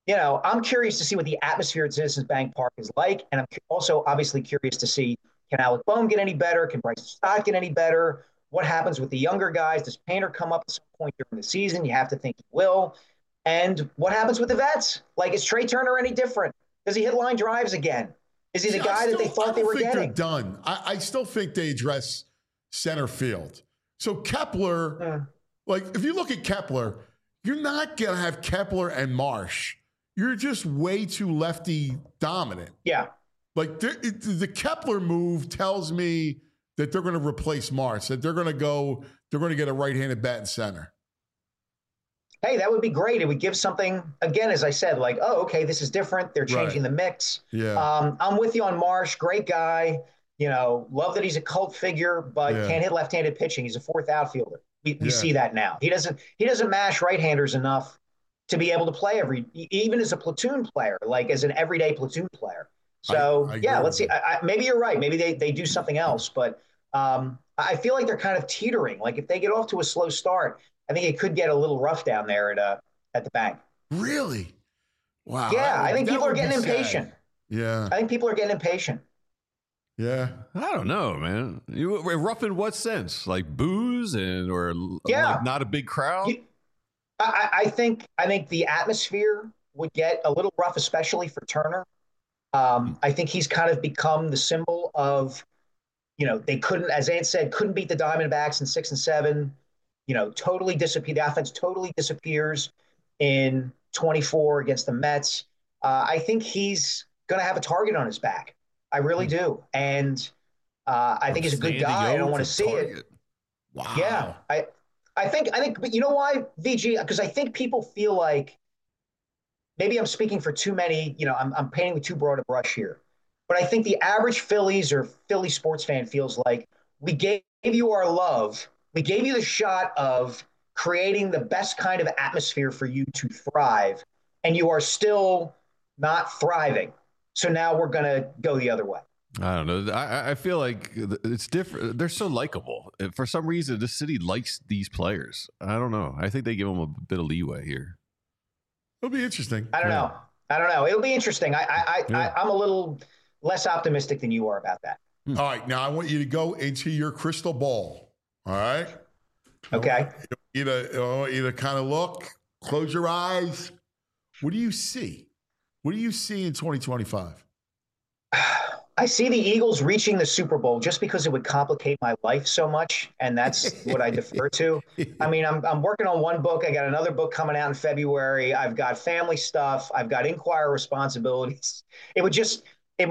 I'm curious to see what the atmosphere at Citizens Bank Park is like. And I'm also obviously curious to see, can Alec Boehm get any better? Can Bryson Stott get any better? What happens with the younger guys? Does Painter come up at some point during the season? You have to think he will. And what happens with the vets? Like, is Trey Turner any different? Does he hit line drives again? Is he the guy that they thought they were getting? They're done. I still think they address center field. So Kepler, like if you look at Kepler, you're not going to have Kepler and Marsh. You're just way too lefty dominant. Yeah. Like the Kepler move tells me that they're going to replace Marsh, that they're going to get a right-handed bat in center. Hey, that would be great. It would give something, again, as I said, like, oh, okay, this is different. They're changing the mix. Yeah. I'm with you on Marsh. Great guy. Love that he's a cult figure, but can't hit left-handed pitching. He's a fourth outfielder. We see that now. He doesn't mash right-handers enough to be able to play even as a platoon player, like as an everyday platoon player. So, let's see. Maybe you're right. Maybe they do something else, but I feel like they're kind of teetering. Like if they get off to a slow start, I think it could get a little rough down there at the bank. Really? Wow. Yeah, I think people are getting impatient. Yeah. I think people are getting impatient. Yeah. I don't know, man. Rough in what sense? Like booze or like not a big crowd? I think the atmosphere would get a little rough, especially for Turner. I think he's kind of become the symbol of, they couldn't, as Ant said, couldn't beat the Diamondbacks in 6 and 7. Totally disappear. The offense totally disappears in 24 against the Mets. I think he's going to have a target on his back. I really do. And I think he's a good guy. I don't want to see it. Wow. Yeah. I think, but you know why, VG? Because I think people feel like maybe I'm speaking for too many, I'm painting with too broad a brush here. But I think the average Phillies or Philly sports fan feels like we gave you our love. We gave you the shot of creating the best kind of atmosphere for you to thrive, and you are still not thriving. So now we're going to go the other way. I don't know. I feel like it's different. They're so likable. For some reason, this city likes these players. I don't know. I think they give them a bit of leeway here. It'll be interesting. I don't know. It'll be interesting. I'm a little less optimistic than you are about that. All right. Now I want you to go into your crystal ball. All right. Okay. I want you to kind of look, close your eyes. What do you see? What do you see in 2025? I see the Eagles reaching the Super Bowl just because it would complicate my life so much, and that's what I defer to. I mean, I'm working on one book. I got another book coming out in February. I've got family stuff. I've got Inquirer responsibilities. It would just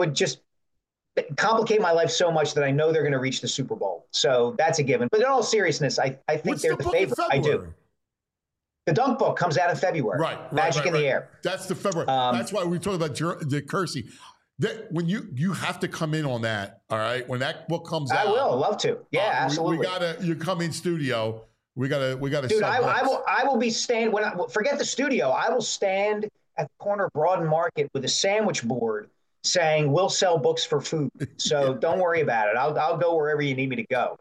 complicate my life so much that I know they're going to reach the Super Bowl. So that's a given. But in all seriousness, I think they're the favorite. I do. The Dunk book comes out in February. Right. Magic in the Air. That's the February. That's why we talk about the Kersey. That when you have to come in on that, all right? When that book comes out, I will love to. Yeah, absolutely. You come in studio. We gotta. Dude, I will be stand forget the studio. I will stand at the corner of Broad Market with a sandwich board saying we'll sell books for food. So don't worry about it. I'll go wherever you need me to go.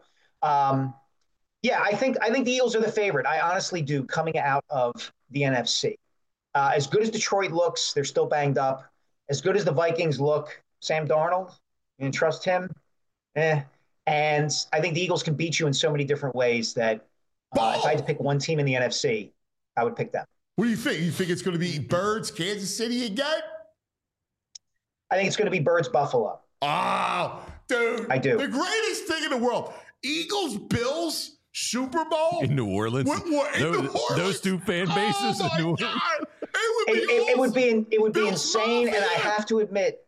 Yeah, I think the Eagles are the favorite. I honestly do, coming out of the NFC. As good as Detroit looks, they're still banged up. As good as the Vikings look, Sam Darnold, you can trust him. And I think the Eagles can beat you in so many different ways that if I had to pick one team in the NFC, I would pick them. What do you think? You think it's going to be Birds, Kansas City again? I think it's going to be Birds, Buffalo. Oh, dude. I do. The greatest thing in the world. Eagles, Bills, Super Bowl. In New Orleans. Those two fan bases in New Orleans. It would be insane, and I have to admit,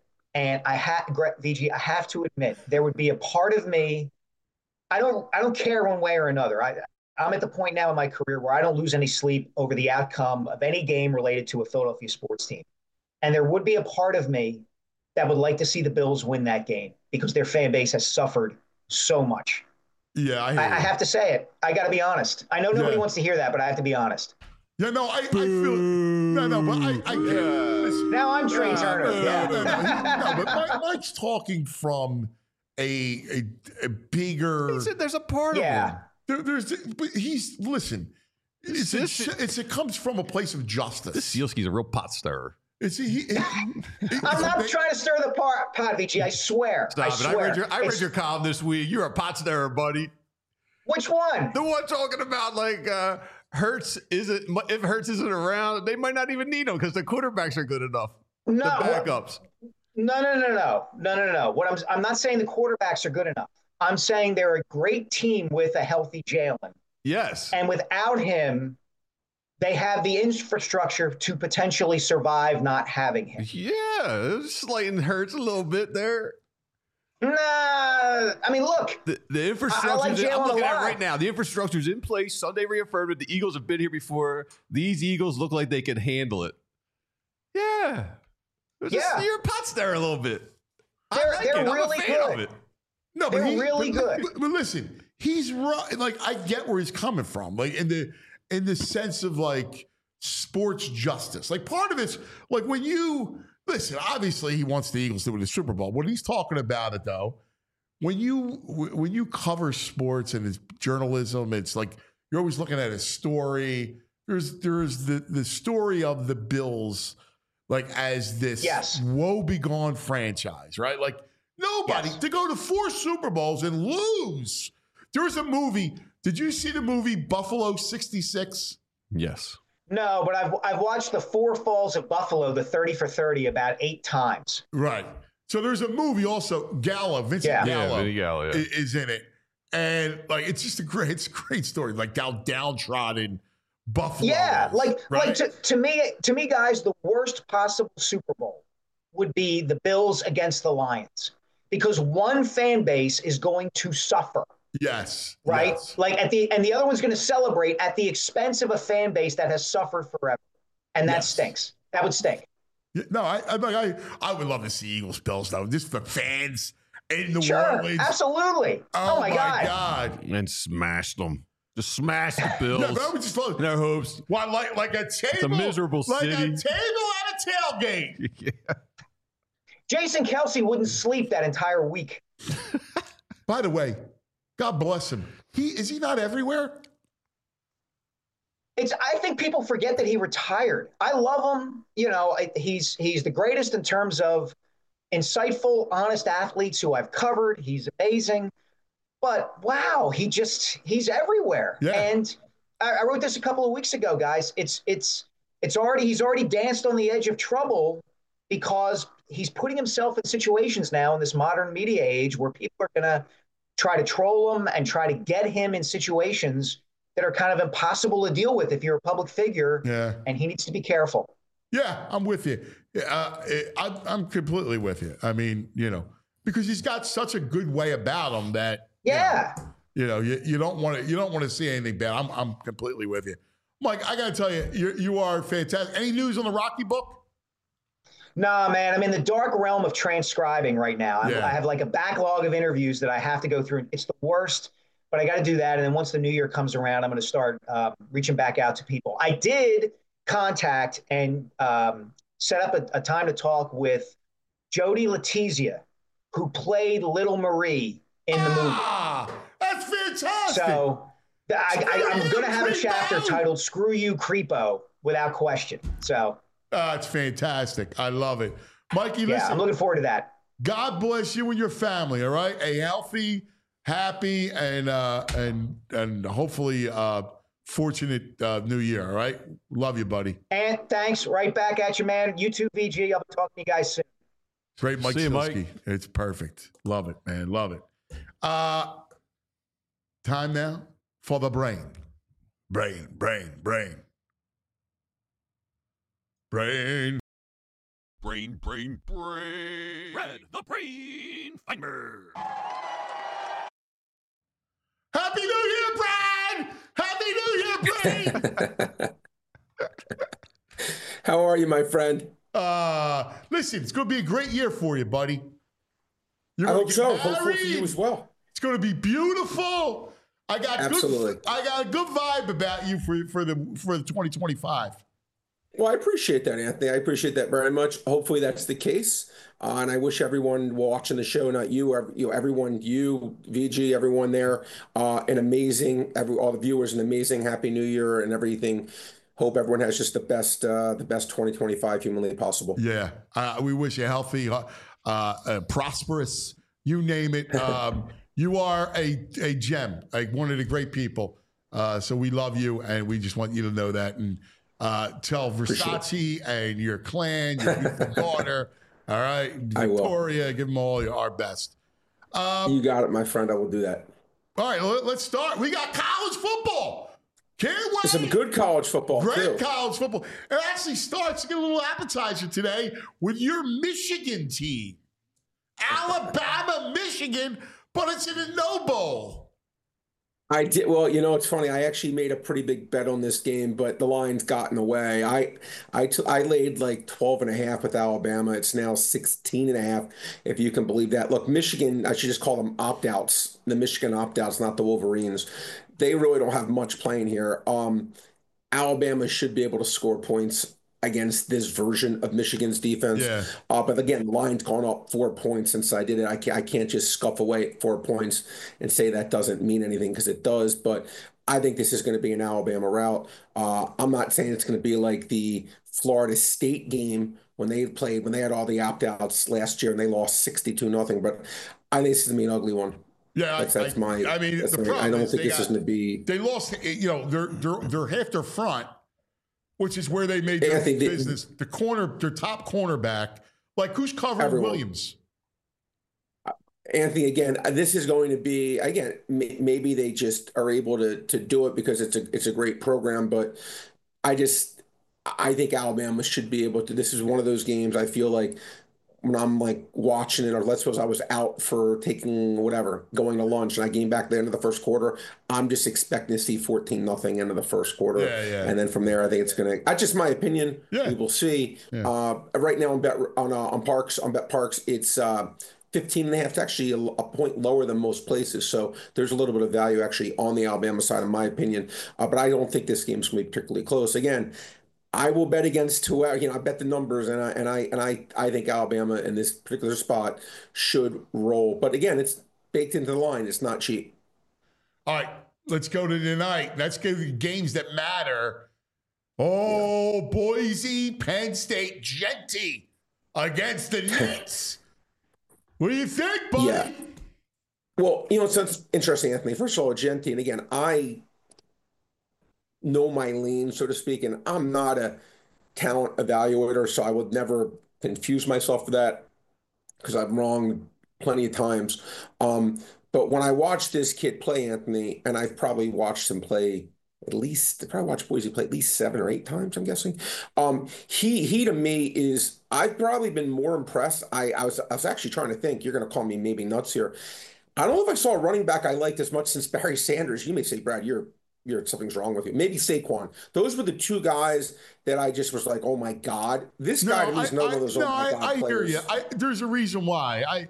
VG, I have to admit, there would be a part of me. I don't care one way or another. I'm at the point now in my career where I don't lose any sleep over the outcome of any game related to a Philadelphia sports team, and there would be a part of me that would like to see the Bills win that game because their fan base has suffered so much. Yeah, I have to say it. I got to be honest. I know nobody wants to hear that, but I have to be honest. Yeah, no, I feel no, but I can't. Listen. Now I'm Trey Turner. No, but Mike's talking from a bigger. He said there's a part of him. But listen. It comes from a place of justice. This Sealski's a real pot stirrer. I'm not trying to stir the pot, VG. I swear. Stop it. I read your column this week. You're a pot stirrer, buddy. Which one? The one talking about like Hurts isn't. If Hurts isn't around, they might not even need him because the quarterbacks are good enough. No, the backups. No. What I'm not saying the quarterbacks are good enough. I'm saying they're a great team with a healthy Jalen. Yes. And without him, they have the infrastructure to potentially survive not having him. Yeah, slighting Hurts a little bit there. Nah, I mean, look. The infrastructure, I'm looking at it right now. The infrastructure is in place. Sunday reaffirmed it. The Eagles have been here before. These Eagles look like they can handle it. Yeah. You're a pot stirrer a little bit. They're really good. No, they're really good. But listen, he's right. Like, I get where he's coming from. Like, in the sense of like sports justice. Like, part of it's like when you listen, obviously he wants the Eagles to win the Super Bowl. When he's talking about it though, when you cover sports and it's journalism, it's like you're always looking at a story. There's the story of the Bills like as this woe-begone franchise, right? Like nobody to go to 4 Super Bowls and lose. There was a movie. Did you see the movie Buffalo 66? Yes. No, but I've watched the 4 Falls of Buffalo, the 30 for 30, about 8 times. Right. So there's a movie also, Vincent Gallo, is in it. And like it's just a great story. Like downtrodden Buffalo. Yeah, like to me, guys, the worst possible Super Bowl would be the Bills against the Lions. Because one fan base is going to suffer. Yes. Right? Yes. Like and the other one's going to celebrate at the expense of a fan base that has suffered forever. And that stinks. That would stink. Yeah, no, I would love to see Eagles Bills though. Just for fans in the world. Absolutely. Oh my God. And smash them. Just smash the Bills. Yeah, that would just fun. Their hopes. Why like a table? It's a miserable city. Like a table at a tailgate. Yeah. Jason Kelce wouldn't sleep that entire week. By the way, God bless him. Is he not everywhere? I think people forget that he retired. I love him. You know, he's the greatest in terms of insightful, honest athletes who I've covered. He's amazing. But wow, he's everywhere. Yeah. And I wrote this a couple of weeks ago, guys. He's already danced on the edge of trouble because he's putting himself in situations now in this modern media age where people are going to try to troll him and try to get him in situations that are kind of impossible to deal with if you're a public figure. Yeah. And he needs to be careful. Yeah, I'm with you. I'm completely with you. I mean, because he's got such a good way about him that you don't want to see anything bad. I'm completely with you. Mike, I got to tell you, you are fantastic. Any news on the Rocky book? Nah, man, I'm in the dark realm of transcribing right now. I have like a backlog of interviews that I have to go through. It's the worst, but I got to do that. And then once the new year comes around, I'm going to start reaching back out to people. I did contact and set up a time to talk with Jody Letizia, who played Little Marie in the movie. That's fantastic. So I'm going to have a chapter titled "Screw You, Creepo," without question. So. It's fantastic. I love it. Mikey, listen. I'm looking forward to that. God bless you and your family, all right? A healthy, happy, and hopefully fortunate new year, all right? Love you, buddy. And thanks. Right back at you, man. You too, VG. I'll be talking to you guys soon. Great, Mike. See you, Mike. It's perfect. Love it, man. Love it. Time now for the brain. Brain. Brain. Red the Brain Finder. Happy New Year, Brad! Happy New Year, Brain! How are you, my friend? Listen, it's going to be a great year for you, buddy. I hope so. Hopefully for you as well. It's going to be beautiful. I got a good vibe about you for the 2025. Well, I appreciate that, Anthony. I appreciate that very much. Hopefully that's the case. And I wish everyone watching the show, not you, everyone, you, VG, everyone there, all the viewers, an amazing Happy New Year and everything. hope everyone has just the best 2025 humanly possible. Yeah, we wish you healthy, prosperous, you name it. You are a gem, like one of the great people. So we love you, and we just want you to know that. And tell Versace and your clan, your beautiful daughter, all right, Victoria, give them all our best. You got it, my friend. I will do that. All right, let's start. We got college football. Can't wait. Some good college football, Great college football. It actually starts, get a little appetizer today with your Michigan team. Alabama, Michigan, but it's in a no bowl. I did. Well, it's funny. I actually made a pretty big bet on this game, but the line's gotten away. I laid like 12.5 with Alabama. It's now 16.5, if you can believe that. Look, Michigan, I should just call them opt-outs. The Michigan opt-outs, not the Wolverines. They really don't have much playing here. Alabama should be able to score points against this version of Michigan's defense. Yeah. But again, the line's gone up 4 points since I did it. I can't just scuff away 4 points and say that doesn't mean anything, because it does. But I think this is going to be an Alabama rout. I'm not saying it's going to be like the Florida State game when they had all the opt-outs last year and they lost 62-0. But I think this is going to be an ugly one. Yeah, that's my. I mean, the problem I don't is think this is going to be. They lost. They're half their front, which is where they made their business. Their top cornerback, like who's covering Williams? Anthony, again, this is going to be, again, maybe they just are able to do it because it's a great program, but I think Alabama should be able to. This is one of those games I feel like when I'm like watching it, or let's suppose I was out for going to lunch, and I came back at the end of the first quarter, I'm just expecting to see 14-0 end of the first quarter. Yeah. And then from there, I think it's going to, that's just my opinion. Yeah. We will see. Yeah. Right now on BetParks, it's 15.5. It's actually a point lower than most places. So there's a little bit of value actually on the Alabama side, in my opinion. But I don't think this game's going to be particularly close. Again, I will bet against whoever, I bet the numbers, and I think Alabama in this particular spot should roll. But again, it's baked into the line. It's not cheap. All right, let's go to tonight. Let's go to the games that matter. Oh, Boise, Penn State, Jeanty against the Knicks. What do you think, buddy? Yeah. Well, so it's interesting, Anthony. First of all, Jeanty, and again, I know my lane, so to speak, and I'm not a talent evaluator, so I would never confuse myself for that because I'm wrong plenty of times. But when I watch this kid play, Anthony, and I've probably watched him play watched Boise play at least 7 or 8 times, I'm guessing. He to me is, I've probably been more impressed. I was actually trying to think, you're going to call me maybe nuts here. I don't know if I saw a running back I liked as much since Barry Sanders. You may say, Brad, you're something's wrong with you. Maybe Saquon. Those were the 2 guys that I just was like, oh my God, this guy to me is one of those. I hear you. There's a reason why.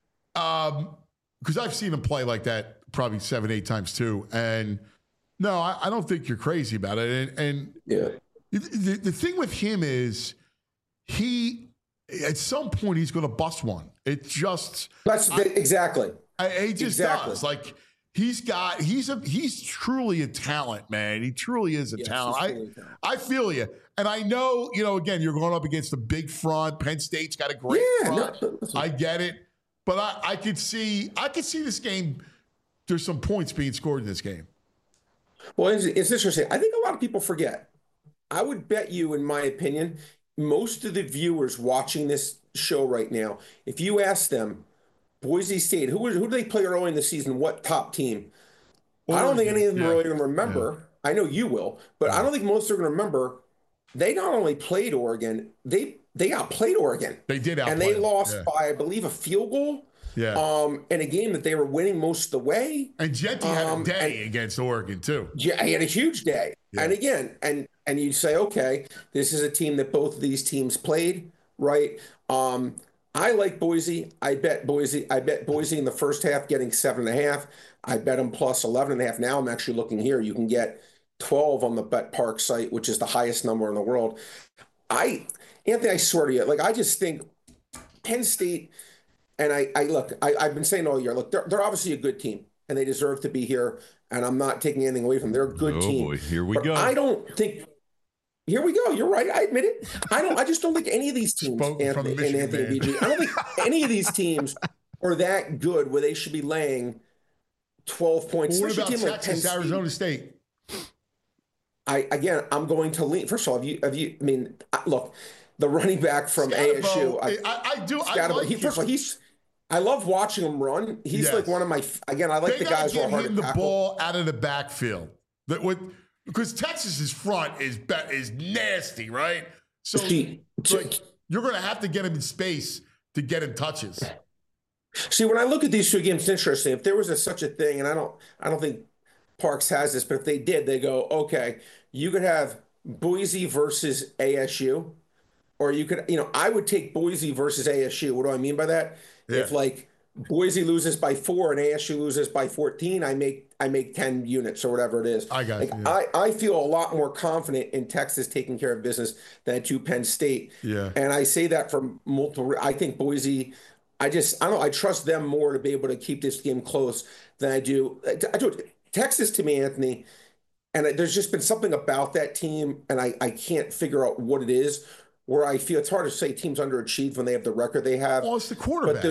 Because I've seen him play like that probably 7, 8 times too. And no, I don't think you're crazy about it. And yeah, the thing with him is at some point he's going to bust one. It just exactly. He just does. Like. He's truly a talent, man. He truly is a talent. I feel you. And I know, again, you're going up against a big front. Penn State's got a great front. No, I get it. But I could see this game. There's some points being scored in this game. Well, it's interesting. I think a lot of people forget. I would bet you, in my opinion, most of the viewers watching this show right now, if you ask them, Boise State, who do they play early in the season? What top team? I don't think any of them are really going to remember. Yeah. I know you will, but I don't think most are going to remember. They not only played Oregon, they outplayed Oregon. They did outplay and they lost by, I believe, a field goal. Yeah. In a game that they were winning most of the way. And Jeanty had a day against Oregon too. Yeah, he had a huge day. Yeah. And again, and you say, okay, this is a team that both of these teams played, right? I like Boise. I bet Boise in the first half getting 7.5. I bet them plus 11.5. Now I'm actually looking here. You can get 12 on the BetPark site, which is the highest number in the world. Anthony, I swear to you, I just think Penn State, and I've been saying all year, look, they're obviously a good team and they deserve to be here. And I'm not taking anything away from them. They're a good team. Boy, here we go. I don't think Here we go. You're right. I admit it. I just don't think any of these teams, Anthony BG, I don't think any of these teams are that good where they should be laying 12 points. Well, what about Texas, like Arizona State? I'm going to lean. First of all, look, the running back from ASU. I love watching him run. He's like one of my. Again, I like the guys who are hard to tackle. The ball out of the backfield. Because Texas's front is nasty, right? So you're going to have to get him in space to get him touches. See, when I look at these two games, it's interesting. If there was such a thing, and I don't think Parks has this, but if they did, they go, okay, you could have Boise versus ASU, or you could, I would take Boise versus ASU. What do I mean by that? Yeah. If like Boise loses by 4 and ASU loses by 14, I make 10 units or whatever it is. I got you. I feel a lot more confident in Texas taking care of business than to Penn State. Yeah. And I say that from multiple. I think Boise. I trust them more to be able to keep this game close than I do. Texas, to me, Anthony, and there's just been something about that team, and I can't figure out what it is, where I feel it's hard to say teams underachieved when they have the record they have. Well, it's the quarterback.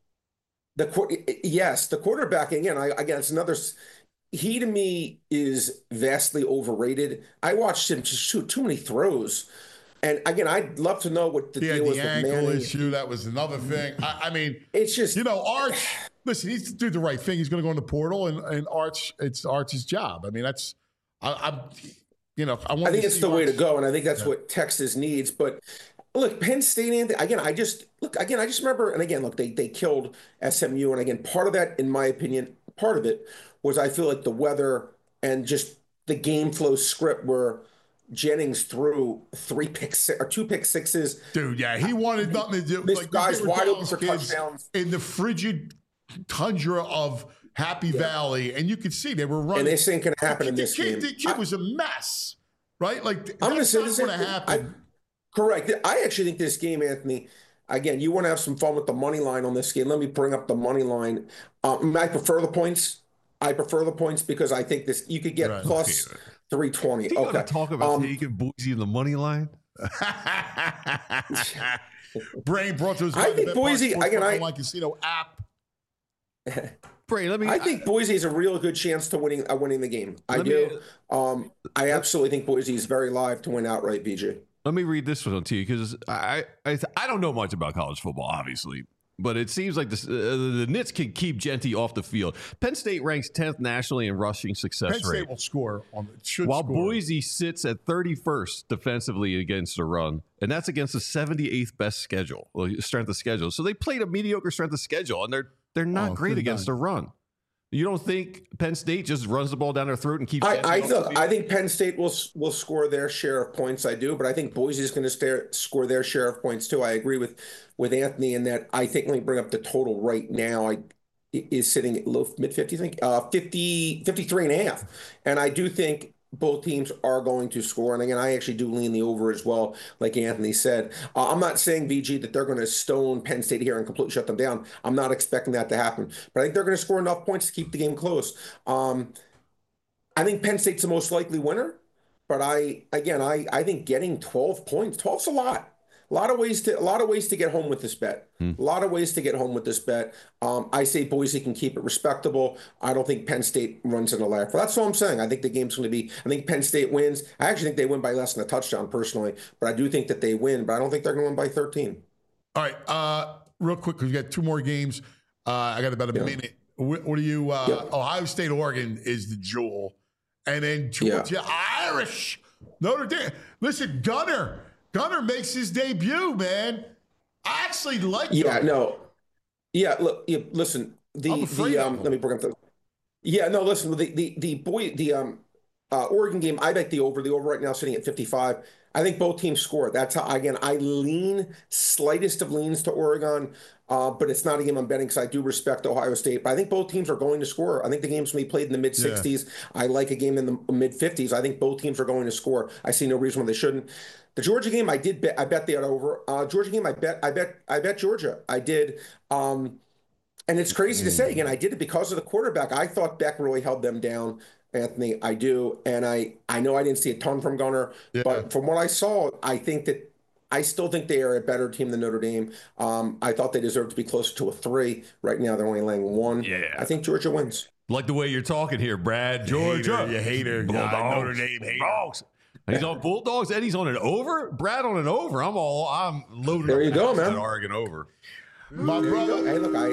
But yes, the quarterback, again, it's another. He, to me, is vastly overrated. I watched him just shoot too many throws. And again, I'd love to know what the deal was with Manning. The ankle issue, that was another thing. I mean, it's just, Arch, listen, he's to do the right thing. He's going to go in the portal, and Arch, it's Arch's job. I mean, that's, I think it's the way to go, and I think that's what Texas needs. But look, Penn State, again, I just remember, and again, look, they killed SMU, and again, part of that, in my opinion, part of it was I feel like the weather and just the game flow script where Jennings threw 2 pick sixes. Dude, yeah, he wanted nothing to do. This guy's wide open for touchdowns in the frigid tundra of Happy Valley, and you could see they were running. And this ain't going to happen in this game. The kid was a mess, right? Like I'm going to say this is going to happen. Correct. I actually think this game, Anthony. Again, you want to have some fun with the money line on this game. Let me bring up the money line. I prefer the points. Because I think this you could get plus 320. You okay. Talk about taking Boise in the money line. Brain brought to us. I think Boise. Again, like casino app. Brain, I think Boise has a real good chance to winning the game. I do. I absolutely think Boise is very live to win outright. BJ. Let me read this one to you because I don't know much about college football, obviously. But it seems like the Nits can keep Genty off the field. Penn State ranks 10th nationally in rushing success rate. Penn State will score. While Boise sits at 31st defensively against the run. And that's against the 78th best strength of schedule. So they played a mediocre strength of schedule, and they're not great against the run. You don't think Penn State just runs the ball down their throat and keeps? I think Penn State will score their share of points. I do, but I think Boise is going to score their share of points too. I agree with Anthony in that. I think let me bring up the total right now. Is sitting at low mid 50s. I think 53.5, and I do think both teams are going to score. And again, I actually do lean the over as well, like Anthony said. I'm not saying, VG, that they're going to stone Penn State here and completely shut them down. I'm not expecting that to happen. But I think they're going to score enough points to keep the game close. I think Penn State's the most likely winner. But I think getting 12 points, 12's a lot. A lot of ways to get home with this bet. I say Boise can keep it respectable. I don't think Penn State runs in a laugh. That's all I'm saying. I think the game's going to be. I think Penn State wins. I actually think they win by less than a touchdown personally, but I do think that they win. But I don't think they're going to win by 13. All right, real quick because we got 2 more games. I got about a minute. What do you? Ohio State, Oregon is the jewel, and then Georgia, Irish, Notre Dame. Listen, Gunner makes his debut, man. I actually like Gunner. Look, listen. Let me bring up the. Listen. The Oregon game. I bet the over. The over right now sitting at 55. I think both teams score. That's how. Again, I lean slightest of leans to Oregon, but it's not a game I'm betting because I do respect Ohio State. But I think both teams are going to score. I think the game's going to be played in the mid 60s. I like a game in the mid 50s. I think both teams are going to score. I see no reason why they shouldn't. The Georgia game, I bet they are over. Georgia game, I bet Georgia. I did. And it's crazy to say again, I did it because of the quarterback. I thought Beck really held them down. Anthony. I do. And I know I didn't see a ton from Gunnar, but from what I saw, I still think they are a better team than Notre Dame. I thought they deserved to be closer to a 3. Right now, they're only laying 1. Yeah. I think Georgia wins. Like the way you're talking here, Brad. Georgia. You hater. Bulldogs. Notre Dame hater. Bulldogs. He's on Bulldogs, and he's on an over. Brad on an over. I'm loaded. There you go, man. Oregon over. My brother. Hey, look,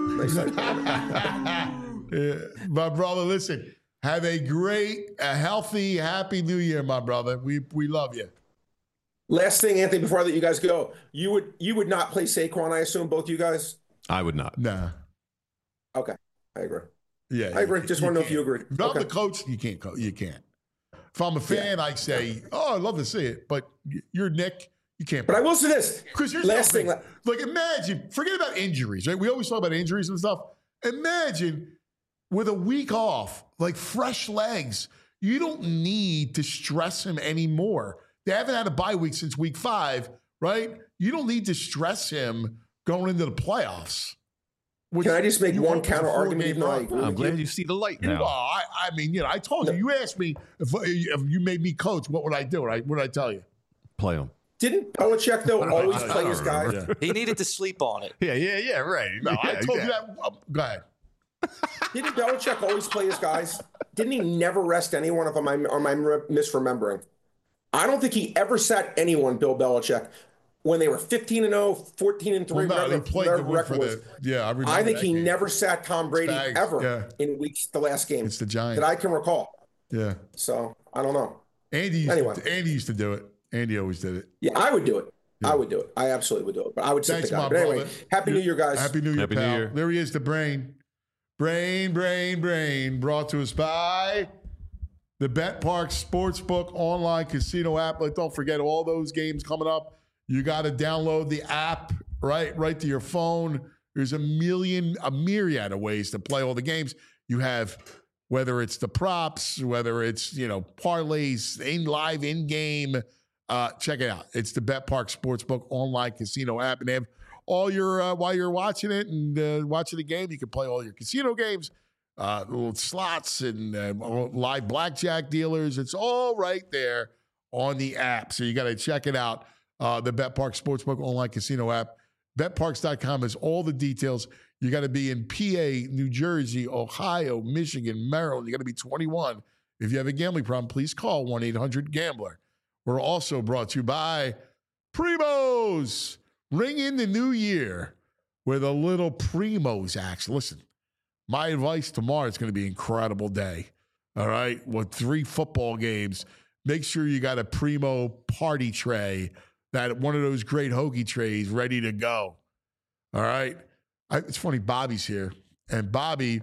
My brother, listen. Have a great, healthy, happy New Year, my brother. We love you. Last thing, Anthony, before I let you guys go, you would not play Saquon, I assume, both you guys? I would not. Nah. Okay, I agree. Yeah, I agree. Just want to know if you agree. If I'm the coach, you can't. You can't. If I'm a fan, I say, "Oh, I'd love to see it," but you're Nick. You can't. But I will say this. Because last thing, like imagine, forget about injuries, right? We always talk about injuries and stuff. Imagine with a week off, like fresh legs, you don't need to stress him anymore. They haven't had a bye week since week 5, right? You don't need to stress him going into the playoffs. Can I just make one counter argument? Even though I'm glad you see the light now. Well, I mean, I told you. You asked me if you made me coach, what would I do? What would I tell you? Play him. Didn't Belichick, though, always play his guys? Yeah. He needed to sleep on it. Yeah, right. No, I told you that. Go ahead. Didn't Belichick always play his guys? Didn't he never rest anyone, or am I misremembering? I don't think he ever sat anyone, Bill Belichick, when they were 15-0, 14-3. Well, no, he played the record was. I remember. I think he never sat Tom Brady ever in the last game. It's the Giants that I can recall. Yeah. So I don't know. Andy used to do it. Andy always did it. Yeah, I would do it. Yeah. I would do it. I absolutely would do it. But I would sit the guy. But anyway, Happy New Year, guys. Happy New Year, pal. New Year. There he is, the brain. Brain. Brought to us by the BetParx Sportsbook online casino app. But don't forget all those games coming up. You got to download the app right to your phone. There's a myriad of ways to play all the games. You have, whether it's the props, whether it's, parlays, in-game. Check it out. It's the BetParx Sportsbook online casino app. And they have all your, while you're watching it and watching the game, you can play all your casino games, little slots and live blackjack dealers. It's all right there on the app. So you got to check it out. The BetParx Sportsbook online casino app. BetParx.com has all the details. You got to be in PA, New Jersey, Ohio, Michigan, Maryland. You got to be 21. If you have a gambling problem, please call 1-800-GAMBLER. We're also brought to you by Primos. Ring in the new year with a little Primos action. Listen, my advice tomorrow is going to be an incredible day. All right? With 3 football games, make sure you got a Primo party tray, one of those great hoagie trays ready to go. All right? It's funny, Bobby's here. And Bobby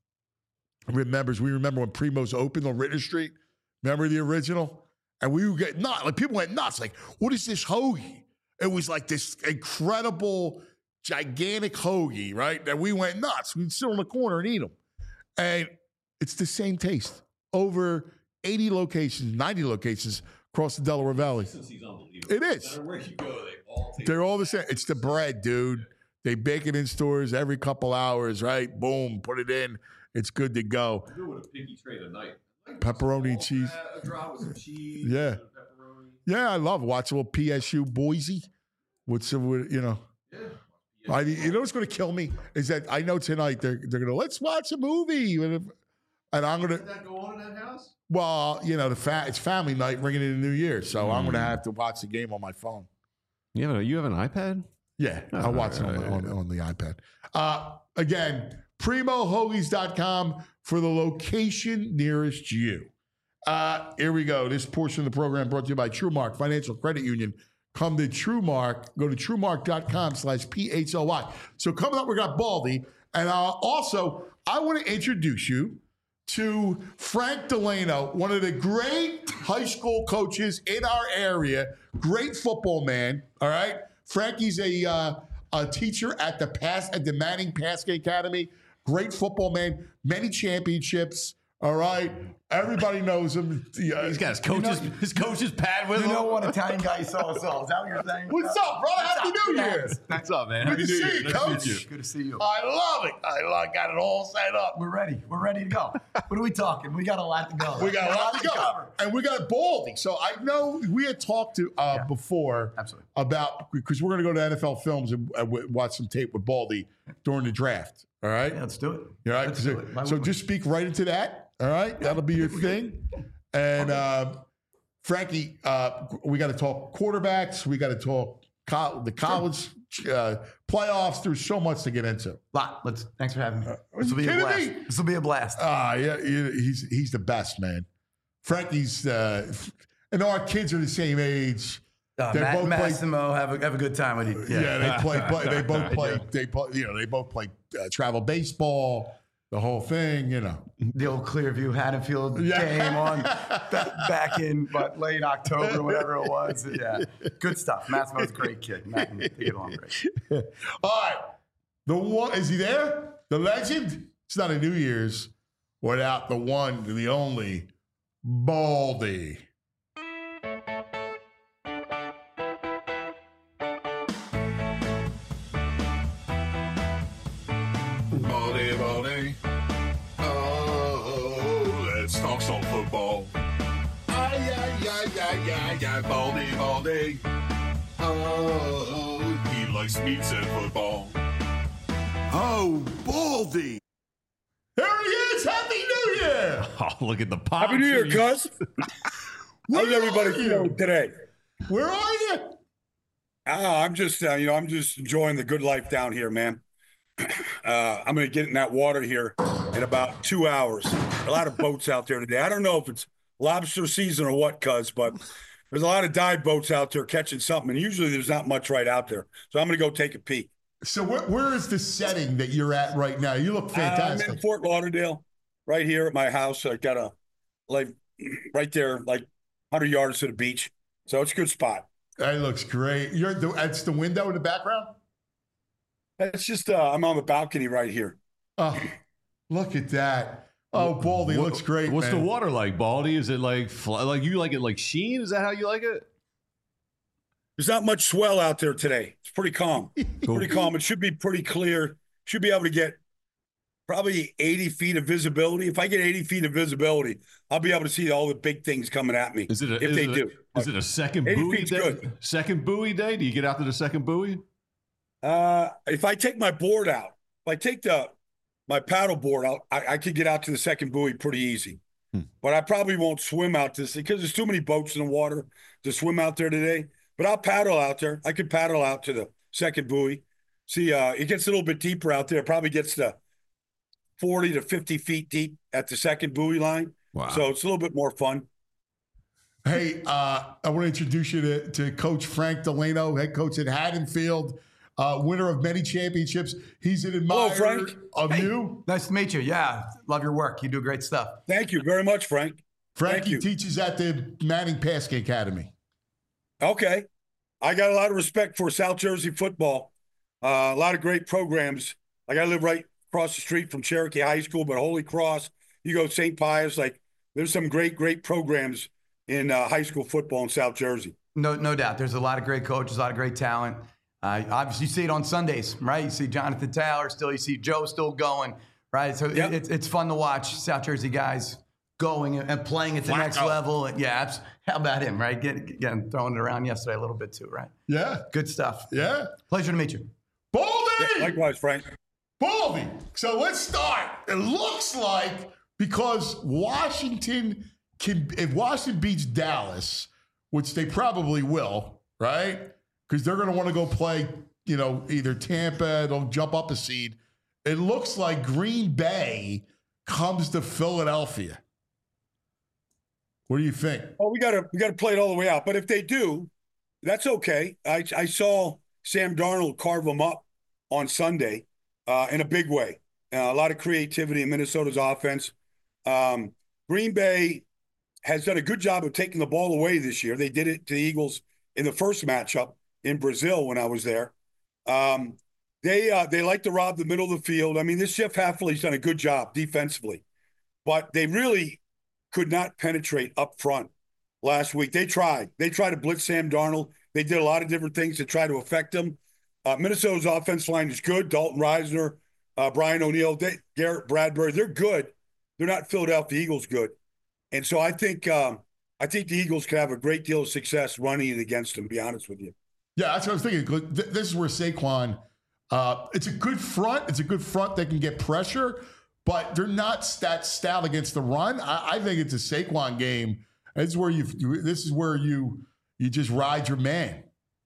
we remember when Primos opened on Ritter Street. Remember the original? And we would get nuts. Like, people went nuts. Like, what is this hoagie? It was like this incredible, gigantic hoagie, right? That we went nuts. We'd sit on the corner and eat them. And it's the same taste. Over 80 locations, 90 locations across the Delaware Valley. It is. No matter where you go, they're all the same. It's the bread, dude. They bake it in stores every couple hours, right? Boom, put it in. It's good to go. I do with a piggy tray tonight. Pepperoni and cheese. A drop with some cheese. Yeah. And pepperoni. Yeah, I love watching a little PSU Boise. Yeah. You know what's going to kill me is that I know tonight they're going to, let's watch a movie. And I'm going to. Does that go on in that house? Well, it's family night ringing in the new year. So I'm going to have to watch the game on my phone. You have an iPad? Yeah, I'll watch it on the iPad. Again, PrimoHoagies.com for the location nearest you. Here we go. This portion of the program brought to you by TrueMark Financial Credit Union. Come to TrueMark. Go to TrueMark.com/PHLY. So coming up, we got Baldy. And also, I want to introduce you to Frank Delano, one of the great high school coaches in our area. Great football man, all right? Frankie's a teacher at the Manning Paskey Academy. Great football man, many championships, all right? Everybody knows him. He's got his coach's pad with him. You know what Italian guy you saw us all. Is that what you're saying? What's up, brother? Happy New Year. What's up, man? Good to see you, Coach. Good to see you. I love it. I got it all set up. We're ready. We're ready to go. What are we talking? We got a lot to go. We got a lot to go. cover. And we got Baldy. So I know we had talked to before Absolutely. about, because we're going to go to NFL Films and watch some tape with Baldy during the draft. All right? Yeah, let's do it. All right? Let's do it. So just speak right into that. All right? That'll be your thing. And Frankie, we got to talk quarterbacks. We got to talk the college playoffs. There's so much to get into. Thanks for having me. This will be a blast. This will be a blast. Yeah, he's the best, man. Frankie's, and our kids are the same age. Massimo, have a good time with you. Yeah, they play. They both play. They both play travel baseball. The whole thing, The old Clearview Haddonfield game on back in late October, whatever it was. Yeah, good stuff. Massimo's a great kid. Matt can get along great. All right, the one, is he there? The legend. It's not a New Year's without the one, the only Baldy. Baldy. Oh, let's talk some football. Baldy. Oh, he likes meats and football. Oh, Baldy. There he is. Happy New Year. Oh, look at the pop. Happy New Year, cuz. How's everybody feeling today? Where are you? I'm just, I'm just enjoying the good life down here, man. I'm going to get in that water here in about 2 hours. A lot of boats out there today. I don't know if it's lobster season or what, cuz, but there's a lot of dive boats out there catching something, and usually there's not much right out there. So I'm going to go take a peek. So where is the setting that you're at right now? You look fantastic. I'm in Fort Lauderdale, right here at my house. I got right there, 100 yards to the beach. So it's a good spot. That looks great. That's the window in the background? It's just, I'm on the balcony right here. Oh, look at that. Oh, Baldy looks great. What's the water like, Baldy? Is it like you like it like sheen? Is that how you like it? There's not much swell out there today. It's pretty calm. Pretty calm. It should be pretty clear. Should be able to get probably 80 feet of visibility. If I get 80 feet of visibility, I'll be able to see all the big things coming at me. Is it a second buoy day? Good. Second buoy day? Do you get out to the second buoy? If I take my board out, if I take my paddle board out, I could get out to the second buoy pretty easy. But I probably won't swim out to because there's too many boats in the water to swim out there today. But I'll paddle out there. I could paddle out to the second buoy. See, it gets a little bit deeper out there. It probably gets to 40 to 50 feet deep at the second buoy line. Wow. So it's a little bit more fun. Hey, I want to introduce you to Coach Frank Delano, head coach at Haddonfield, winner of many championships. He's an admirer of you. Nice to meet you. Yeah, love your work. You do great stuff. Thank you very much, Frank. Frankie teaches at the Manning Passing Academy. Okay. I got a lot of respect for South Jersey football. A lot of great programs. Like I live right across the street from Cherokee High School, but Holy Cross, you go St. Pius, there's some great programs in high school football in South Jersey. No doubt. There's a lot of great coaches, a lot of great talent. Obviously, you see it on Sundays, right? You see Jonathan Taylor still, you see Joe still going, right? So it's fun to watch South Jersey guys going and playing at the next level. And how about him, right? Getting throwing it around yesterday a little bit too, right? Yeah. Good stuff. Yeah. Pleasure to meet you. Baldy! Yeah, likewise, Frank. Baldy. So let's start. It looks like because if Washington beats Dallas, which they probably will, right? Because they're going to want to go play, either Tampa, they'll jump up a seed. It looks like Green Bay comes to Philadelphia. What do you think? Oh, we got to play it all the way out. But if they do, that's okay. I saw Sam Darnold carve them up on Sunday in a big way. A lot of creativity in Minnesota's offense. Green Bay has done a good job of taking the ball away this year. They did it to the Eagles in the first matchup in Brazil when I was there. They like to rob the middle of the field. I mean, this Jeff Hafley's done a good job defensively, but they really could not penetrate up front last week. They tried to blitz Sam Darnold. They did a lot of different things to try to affect him. Minnesota's offense line is good. Dalton Risner, Brian O'Neill, Garrett Bradbury, they're good. They're not Philadelphia Eagles good. And so I think the Eagles could have a great deal of success running it against them, to be honest with you. Yeah, that's what I was thinking. This is where Saquon, it's a good front. It's a good front that can get pressure, but they're not stout against the run. I think it's a Saquon game. This is where you just ride your man.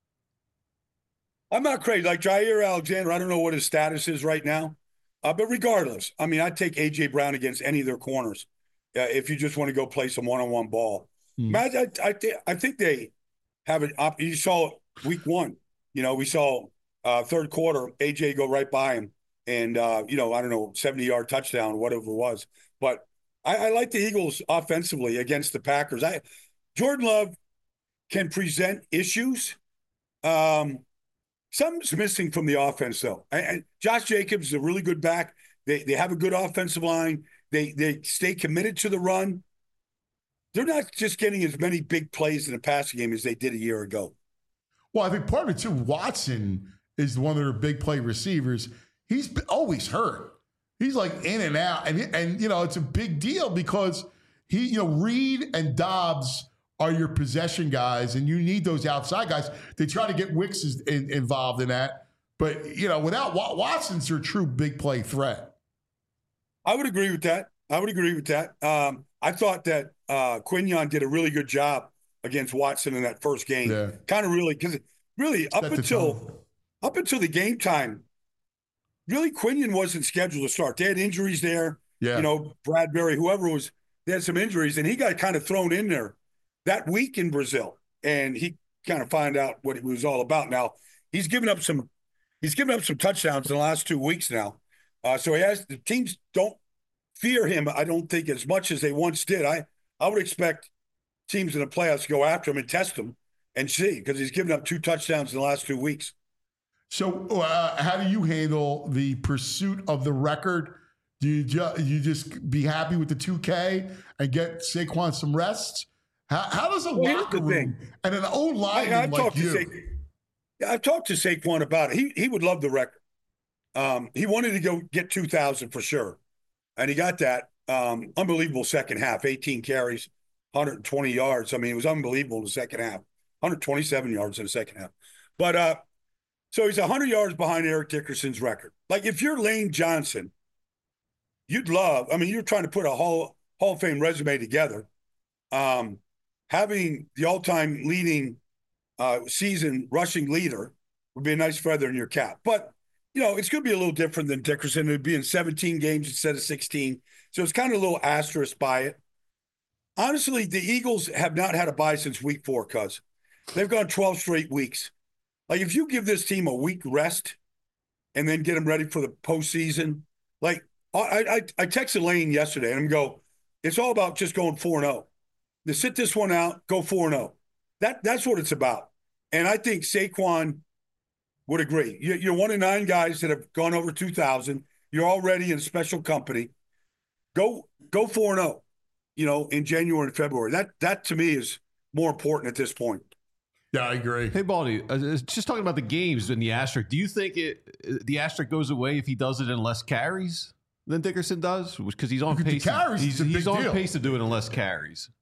I'm not crazy. Like Jair Alexander, I don't know what his status is right now. But regardless, I mean, I'd take A.J. Brown against any of their corners if you just want to go play some one-on-one ball. Matt, I think they have it. You saw week one. We saw third quarter, A.J. go right by him. And, I don't know, 70-yard touchdown, whatever it was. But I like the Eagles offensively against the Packers. Jordan Love can present issues. Something's missing from the offense, though. And Josh Jacobs is a really good back. They have a good offensive line. They stay committed to the run. They're not just getting as many big plays in the passing game as they did a year ago. Well, I think part of it, too, Watson is one of their big play receivers. He's always hurt. He's like in and out. And it's a big deal because Reed and Dobbs are your possession guys, and you need those outside guys. They try to get Wicks involved in that. But, without Watson's your true big play threat. I would agree with that. I thought that Quinion did a really good job against Watson in that first game. Yeah. Kind of really, because up until the game time, really Quinion wasn't scheduled to start. They had injuries there. Yeah. Bradbury, whoever was, they had some injuries, and he got kind of thrown in there that week in Brazil, and he kind of found out what it was all about. Now he's given up some touchdowns in the last 2 weeks now. So the teams don't fear him, I don't think, as much as they once did. I would expect teams in the playoffs to go after him and test him and see, because he's given up 2 touchdowns in the last 2 weeks. So how do you handle the pursuit of the record? Do you just be happy with the 2K and get Saquon some rest? How does a locker room and an old lineman like you? I've talked to Saquon about it. He would love the record. He wanted to go get 2,000 for sure, and he got that. Unbelievable second half, 18 carries, 120 yards. I mean, it was unbelievable in the second half, 127 yards in the second half. But so he's 100 yards behind Eric Dickerson's record. Like, if you're Lane Johnson, you're trying to put a Hall of Fame resume together. Having the all-time leading season rushing leader would be a nice feather in your cap. But, it's going to be a little different than Dickerson. It would be in 17 games instead of 16. So it's kind of a little asterisk by it. Honestly, the Eagles have not had a bye since week 4, cuz they've gone 12 straight weeks. Like, if you give this team a week rest and then get them ready for the postseason, like I texted Lane yesterday and it's all about just going 4-0. To sit this one out, go 4-0. That's what it's about. And I think Saquon would agree. You're one of 9 guys that have gone over 2,000. You're already in special company. Go 4-0, in January and February. That to me is more important at this point. Yeah, I agree. Hey, Baldy, just talking about the games and the asterisk, do you think the asterisk goes away if he does it in less carries than Dickerson does? Because he's on pace. He's on pace to do it in less carries.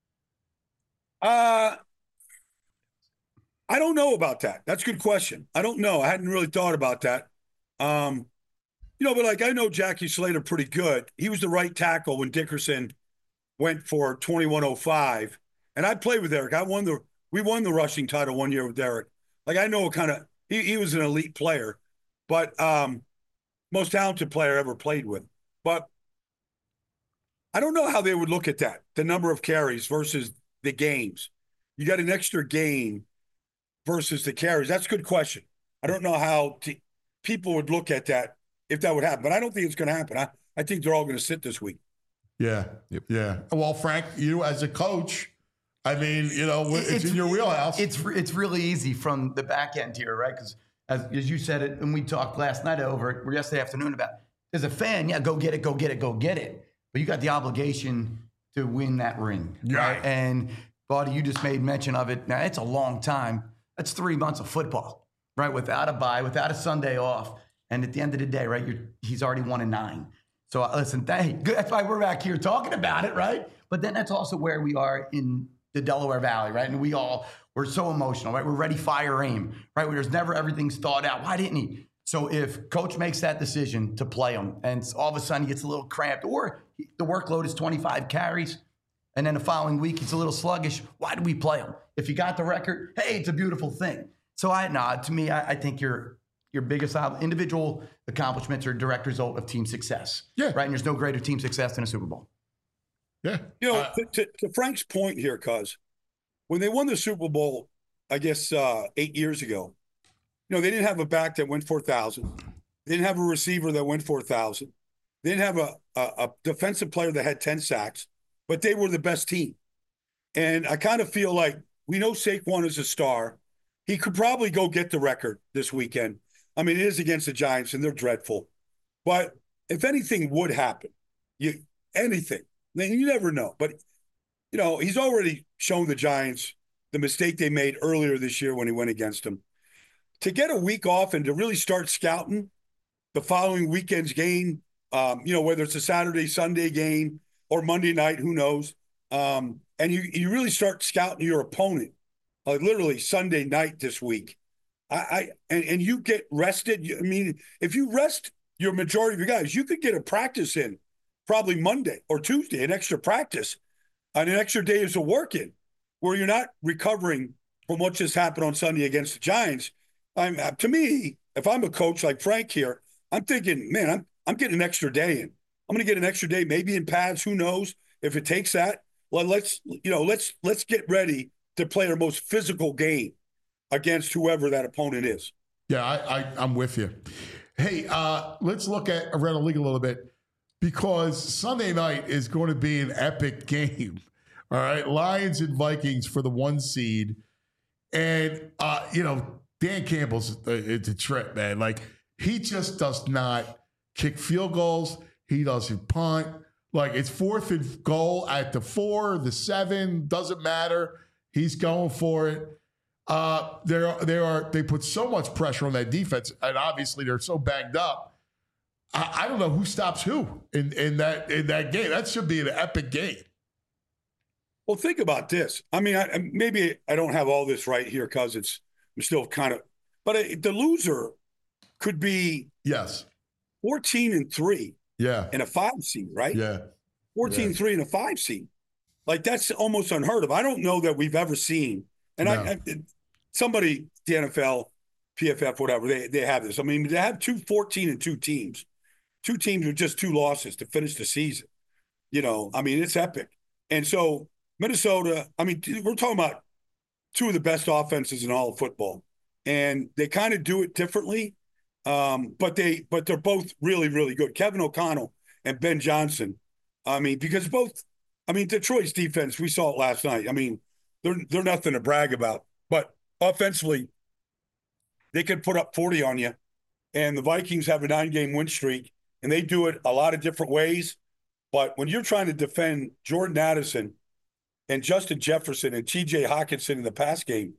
I don't know about that. That's a good question. I don't know. I hadn't really thought about that. But I know Jackie Slater pretty good. He was the right tackle when Dickerson went for 2105. And I played with Eric. We won the rushing title one year with Eric. Like, I know he was an elite player, but most talented player I ever played with. But I don't know how they would look at that, the number of carries versus the games. You got an extra game versus the carries. That's a good question. I don't know how people would look at that if that would happen, but I don't think it's going to happen. I think they're all going to sit this week. Yeah. Yep. Yeah. Well, Frank, you as a coach, I mean, it's in your wheelhouse. It's really easy from the back end here, right? Because as you said it, and we talked last night or yesterday afternoon about, as a fan, yeah, go get it. But you got the obligation to win that ring. Right. And, Buddy, you just made mention of it. Now, it's a long time. That's 3 months of football, right? Without a bye, without a Sunday off. And at the end of the day, right, he's already 1-9. So, listen, that's why we're back here talking about it, right? But then that's also where we are in the Delaware Valley, right? And we're so emotional, right? We're ready, fire, aim, right? Where there's never everything's thought out. Why didn't he? So if coach makes that decision to play him and all of a sudden he gets a little cramped or the workload is 25 carries and then the following week he's a little sluggish, why do we play him? If you got the record, hey, it's a beautiful thing. So to me, I think your biggest individual accomplishments are a direct result of team success. Yeah. Right. And there's no greater team success than a Super Bowl. Yeah. To Frank's point here, cuz when they won the Super Bowl, I guess 8 years ago, they didn't have a back that went 4,000. They didn't have a receiver that went 4,000. They didn't have a defensive player that had 10 sacks, but they were the best team. And I kind of feel like we know Saquon is a star. He could probably go get the record this weekend. I mean, it is against the Giants, and they're dreadful. But if anything would happen, anything, then you never know. But, he's already shown the Giants the mistake they made earlier this year when he went against them. To get a week off and to really start scouting the following weekend's game, whether it's a Saturday, Sunday game or Monday night, who knows? And you really start scouting your opponent, literally Sunday night this week. And you get rested. I mean, if you rest your majority of your guys, you could get a practice in probably Monday or Tuesday, an extra practice, and an extra day is a work in where you're not recovering from what just happened on Sunday against the Giants. To me, if I'm a coach like Frank here, I'm thinking, man, I'm getting an extra day in. I'm going to get an extra day, maybe in pads. Who knows if it takes that? Well, let's get ready to play our most physical game against whoever that opponent is. Yeah, I'm with you. Hey, let's look at around the league a little bit because Sunday night is going to be an epic game. All right, Lions and Vikings for the 1 seed, and Dan Campbell's it's a trip, man. Like he just does not kick field goals. He doesn't punt. Like it's 4th and goal at the 4, the 7, doesn't matter. He's going for it. They put so much pressure on that defense, and obviously they're so banged up. I don't know who stops who in that game. That should be an epic game. Well, think about this. I mean, maybe I don't have all this right here because I'm still kind of, but the loser could be 14-3. Yeah. And a 5 seed, right? Yeah. 14-3 and a 5 seed. Like that's almost unheard of. I don't know that we've ever seen. And somebody, the NFL, PFF, whatever, they have this. I mean, they have 2 14-2 teams. 2 teams with just 2 losses to finish the season. I mean, it's epic. And so Minnesota, I mean, we're talking about 2 of the best offenses in all of football. And they kind of do it differently. But they're both really, really good. Kevin O'Connell and Ben Johnson. I mean, because Detroit's defense, we saw it last night. I mean, they're nothing to brag about. But offensively, they could put up 40 on you. And the Vikings have a 9-game win streak, and they do it a lot of different ways. But when you're trying to defend Jordan Addison and Justin Jefferson and T.J. Hockenson in the pass game,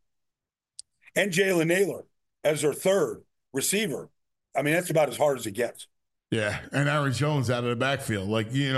and Jalen Naylor as their 3rd receiver, I mean, that's about as hard as it gets. Yeah, and Aaron Jones out of the backfield. Like, you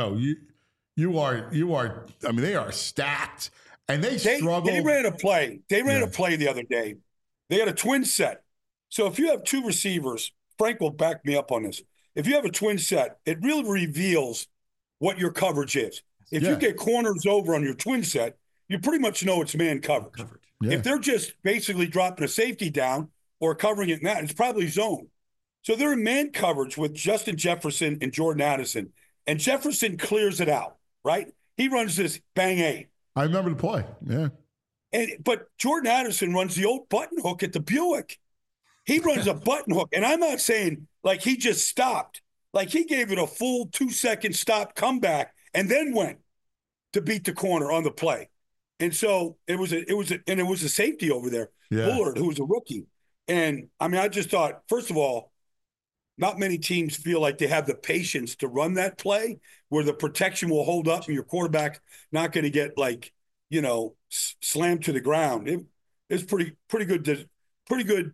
are, I mean, they are stacked. And they struggled. They ran a play. They ran a play the other day. They had a twin set. So if you have 2 receivers, Frank will back me up on this. If you have a twin set, it really reveals what your coverage is. If you get corners over on your twin set, you pretty much know it's man coverage. Yeah. If they're just basically dropping a safety down or covering it in that, it's probably zone. So they're in man coverage with Justin Jefferson and Jordan Addison. And Jefferson clears it out, right? He runs this bang A. I remember the play, yeah. But Jordan Addison runs the old button hook at the Buick. He runs a button hook. And I'm not saying like he just stopped. Like he gave it a full 2-second stop comeback and then went to beat the corner on the play. And so it was a safety over there, Bullard, who was a rookie. And I mean, I just thought, first of all, not many teams feel like they have the patience to run that play where the protection will hold up and your quarterback not going to get slammed to the ground. It's pretty good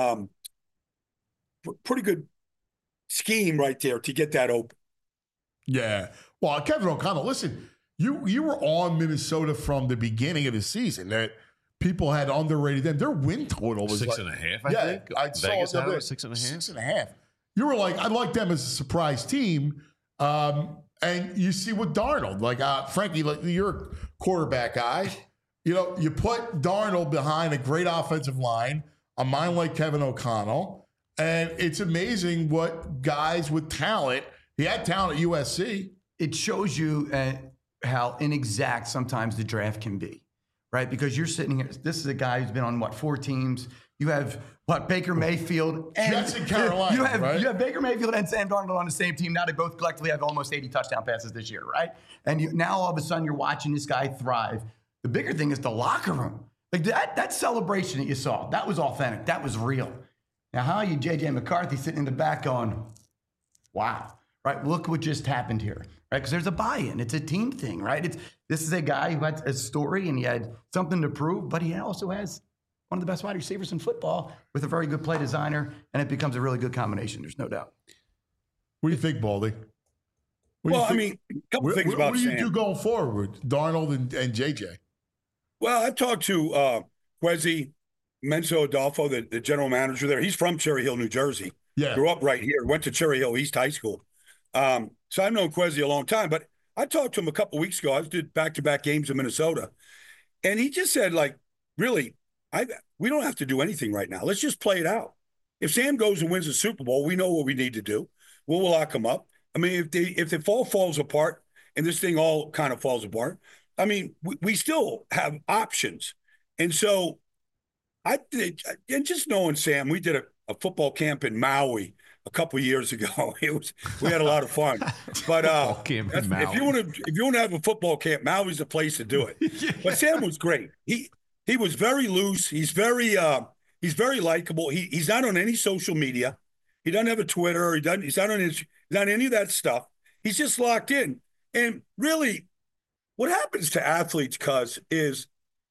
scheme right there to get that open. Yeah. Well, Kevin O'Connell, listen, you were on Minnesota from the beginning of the season that people had underrated them. Their win total was 6.5, I think. I Vegas saw had it. it 6.5. 6.5. You were like, I like them as a surprise team. And you see with Darnold, Frankie, you're a quarterback guy. You put Darnold behind a great offensive line, a mind like Kevin O'Connell, and it's amazing what guys with talent. He had talent at USC. It shows you how inexact sometimes the draft can be, right? Because you're sitting here. This is a guy who's been on 4 teams. You have Baker Mayfield and Jets in Carolina. You have Baker Mayfield and Sam Darnold on the same team. Now they both collectively have almost 80 touchdown passes this year, right? And now all of a sudden you're watching this guy thrive. The bigger thing is the locker room. Like that celebration that you saw, that was authentic. That was real. Now how are you, J.J. McCarthy, sitting in the back going, wow, right? Look what just happened here, right? Because there's a buy-in. It's a team thing, right? This is a guy who had a story and he had something to prove, but he also has one of the best wide receivers in football with a very good play designer, and it becomes a really good combination. There's no doubt. What do you think, Baldy? A couple things about Sam. What do you do going forward with Darnold and JJ? Well, I talked to Kwesi Mensah-Adolfo, the general manager there. He's from Cherry Hill, New Jersey. Yeah. Grew up right here. Went to Cherry Hill East High School. So I've known Kwesi a long time. But I talked to him a couple weeks ago. I did back-to-back games in Minnesota. And he just said, really, we don't have to do anything right now. Let's just play it out. If Sam goes and wins the Super Bowl, we know what we need to do. We'll lock him up. I mean, if the fall falls apart and this thing all kind of falls apart, I mean, we still have options. And so and just knowing Sam, we did a football camp in Maui a couple of years ago. We had a lot of fun. But if you want to have a football camp, Maui's the place to do it. Yeah. But Sam was great. He was very loose. He's very likable. He's not on any social media. He doesn't have a Twitter. He's not on any of that stuff. He's just locked in. And really, what happens to athletes, Cuz, is,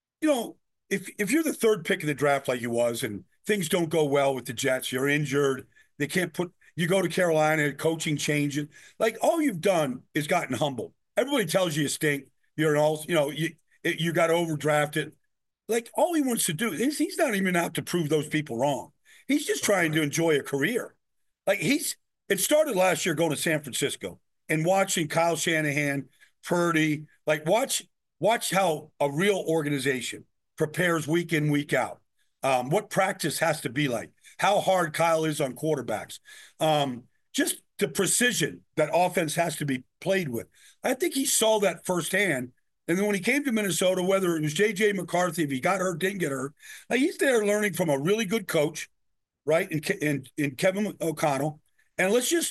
if you're the third pick of the draft like you was, and things don't go well with the Jets, you're injured, they can't you go to Carolina, coaching changes. All you've done is gotten humbled. Everybody tells you stink. You're you got overdrafted. All he wants to do is he's not even out to prove those people wrong. He's just trying to enjoy a career. It started last year going to San Francisco and watching Kyle Shanahan, Purdy, watch how a real organization prepares week in, week out. What practice has to be like, how hard Kyle is on quarterbacks, just the precision that offense has to be played with. I think he saw that firsthand. And then when he came to Minnesota, whether it was J.J. McCarthy, if he got hurt, didn't get hurt, he's there learning from a really good coach, right, in Kevin O'Connell. And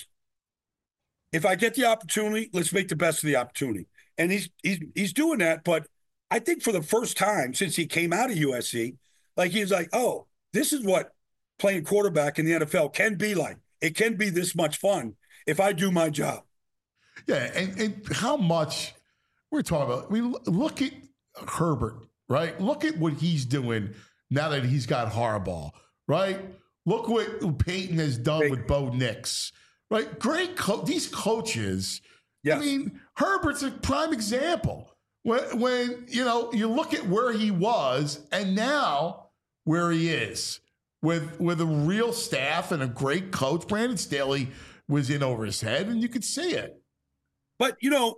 if I get the opportunity, let's make the best of the opportunity. And he's doing that. But I think for the first time since he came out of USC, he's like, oh, this is what playing quarterback in the NFL can be like. It can be this much fun if I do my job. Yeah, and how much – we're talking about, look at Herbert, right? Look at what he's doing now that he's got Harbaugh, right? Look what Peyton has done with Bo Nix, right? Great these coaches. Yes. I mean, Herbert's a prime example. When you look at where he was and now where he is with a real staff and a great coach. Brandon Staley was in over his head, and you could see it. But,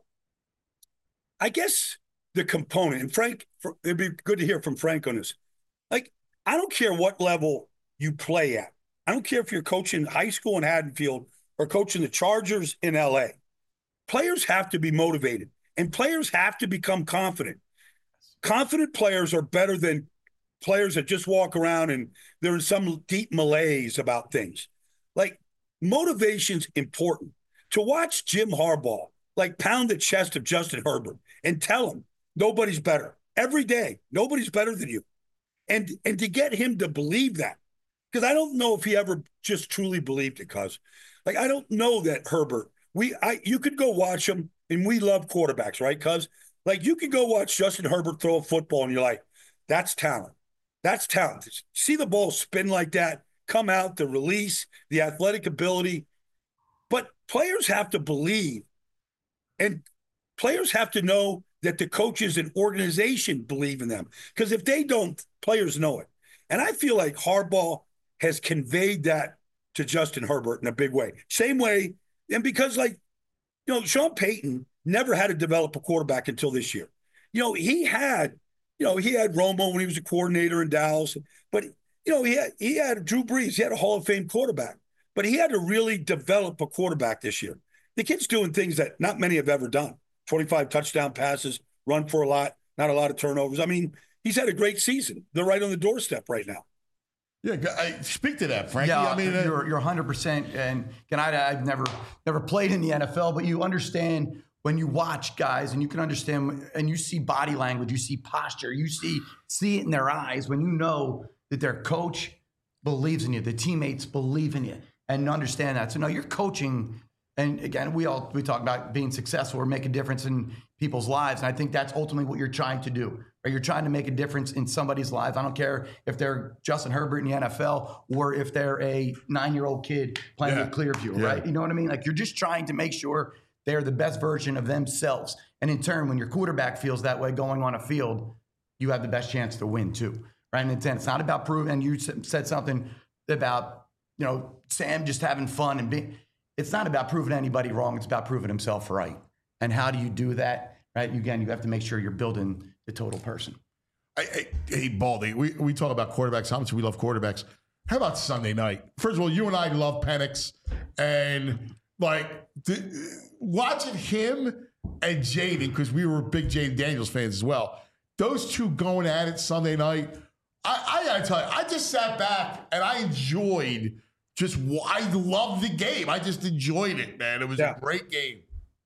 I guess the component, and Frank, it'd be good to hear from Frank on this. I don't care what level you play at. I don't care if you're coaching high school in Haddonfield or coaching the Chargers in LA. Players have to be motivated, and players have to become confident. Confident players are better than players that just walk around and they're in some deep malaise about things. Motivation's important. To watch Jim Harbaugh, pound the chest of Justin Herbert and tell him nobody's better every day. Nobody's better than you. And to get him to believe that, because I don't know if he ever just truly believed it, cuz. Like, I don't know that Herbert. You could go watch him, and we love quarterbacks, right, cuz? Like, you could go watch Justin Herbert throw a football, and you're like, that's talent. That's talent. See the ball spin like that, come out, the release, the athletic ability. But players have to believe, and players have to know that the coaches and organization believe in them. Because if they don't, players know it. And I feel like Harbaugh has conveyed that to Justin Herbert in a big way. Same way, and because, like, Sean Payton never had to develop a quarterback until this year. He had Romo when he was a coordinator in Dallas, but he had Drew Brees. He had a Hall of Fame quarterback, but he had to really develop a quarterback this year. The kid's doing things that not many have ever done. 25 touchdown passes, run for a lot, not a lot of turnovers. I mean, he's had a great season. They're right on the doorstep right now. Yeah, I speak to that, Frankie. Yeah, I mean, you're 100%. And I've never played in the NFL, but you understand when you watch guys, and you can understand, and you see body language, you see posture, you see it in their eyes when you know that their coach believes in you, the teammates believe in you, and understand that. So no, you're coaching. And again, we talk about being successful or make a difference in people's lives. And I think that's ultimately what you're trying to do. Or you're trying to make a difference in somebody's life. I don't care if they're Justin Herbert in the NFL or if they're a 9-year-old kid playing with Clearview, right? You know what I mean? Like, you're just trying to make sure they're the best version of themselves. And in turn, when your quarterback feels that way going on a field, you have the best chance to win too, right? And it's not about proving. And you said something about, Sam just having fun and being. It's not about proving anybody wrong. It's about proving himself right. And how do you do that, right? Again, you have to make sure you're building the total person. Hey, Baldy, we talk about quarterbacks. How much we love quarterbacks. How about Sunday night? First of all, you and I love Penix. And, watching him and Jaden, because we were big Jaden Daniels fans as well, those two going at it Sunday night, I got to tell you, I just sat back and I enjoyed I love the game. I just enjoyed it, man. It was a great game.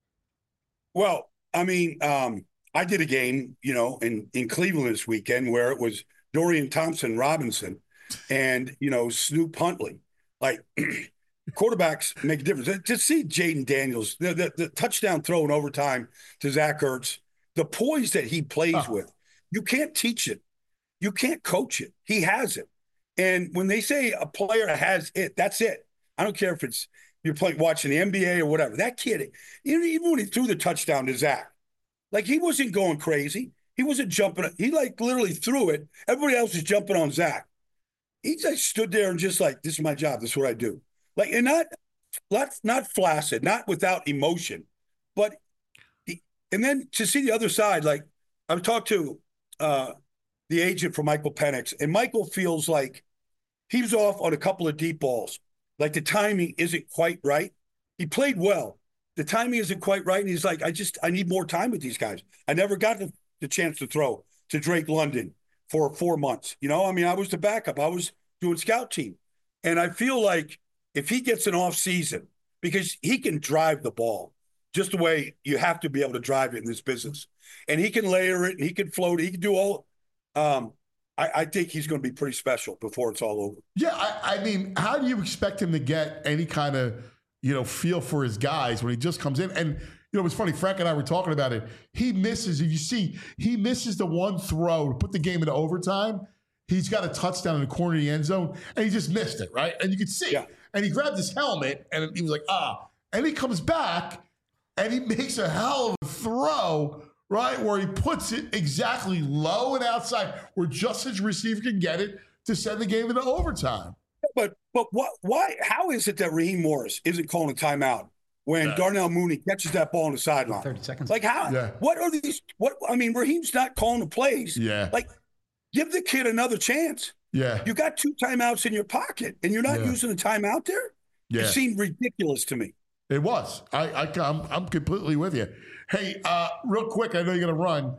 Well, I mean, I did a game, in Cleveland this weekend where it was Dorian Thompson-Robinson and, Snoop Huntley. Like, quarterbacks make a difference. To see Jaden Daniels, the touchdown throw in overtime to Zach Ertz, the poise that he plays with, you can't teach it. You can't coach it. He has it. And when they say a player has it, that's it. I don't care if it's you're watching the NBA or whatever. That kid, even when he threw the touchdown to Zach, like, he wasn't going crazy. He wasn't jumping. He literally threw it. Everybody else was jumping on Zach. He just stood there and just like, this is my job. This is what I do. Like, and not flaccid, not without emotion, but and then to see the other side, like, I've talked to the agent for Michael Penix, and Michael feels like he was off on a couple of deep balls. Like, the timing isn't quite right. He played well. The timing isn't quite right. And he's like, I need more time with these guys. I never got the chance to throw to Drake London for 4 months. I mean, I was the backup. I was doing scout team. And I feel like if he gets an off season, because he can drive the ball just the way you have to be able to drive it in this business. And he can layer it and he can float it. He can do all. I think he's going to be pretty special before it's all over. Yeah, I mean, how do you expect him to get any kind of, feel for his guys when he just comes in? And, it was funny, Frank and I were talking about it. He misses the one throw to put the game into overtime. He's got a touchdown in the corner of the end zone, and he just missed it, right? And you could see. Yeah. And he grabbed his helmet, and he was like, And he comes back, and he makes a hell of a throw, right, where he puts it exactly low and outside where just his receiver can get it to send the game into overtime. But why? How is it that Raheem Morris isn't calling a timeout when Darnell Mooney catches that ball on the sideline? 30 seconds. Like, how? Yeah. What are these? I mean, Raheem's not calling the plays. Yeah. Like, give the kid another chance. Yeah. You got 2 timeouts in your pocket, and you're not using the timeout there? Yeah. It seemed ridiculous to me. It was. I'm completely with you. Hey, real quick, I know you're going to run.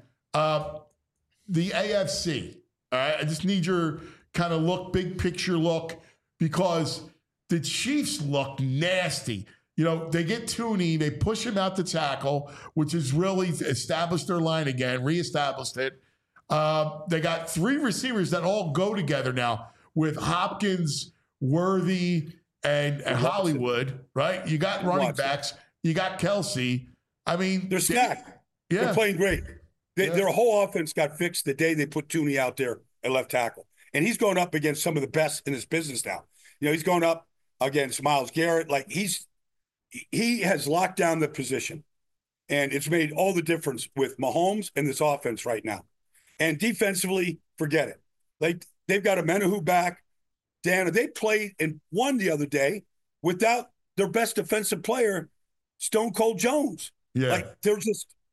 The AFC. All right, I just need your kind of big picture look, because the Chiefs look nasty. They get Tooney, they push him out to tackle, which has really established their line again, reestablished it. They got 3 receivers that all go together now with Hopkins, Worthy and Hollywood, right? You got running backs. You got Kelsey. I mean, they're stacked. Yeah. They're playing great. Their whole offense got fixed the day they put Tooney out there at left tackle. And he's going up against some of the best in his business now. You know, he's going up against Myles Garrett. Like, he has locked down the position. And it's made all the difference with Mahomes and this offense right now. And defensively, forget it. Like, they've got a Menahu back. Dan, they played and won the other day without their best defensive player, Stone Cold Jones. Yeah. Like, they're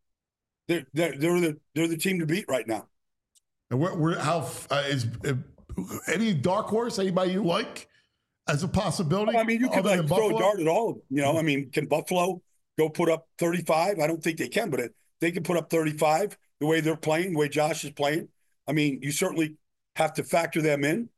the team to beat right now. And is any dark horse, anybody you like as a possibility? Well, I mean, you could throw a dart at all of them. You know, I mean, can Buffalo go put up 35? I don't think they can, but they can put up 35 the way they're playing, the way Josh is playing. I mean, you certainly have to factor them in.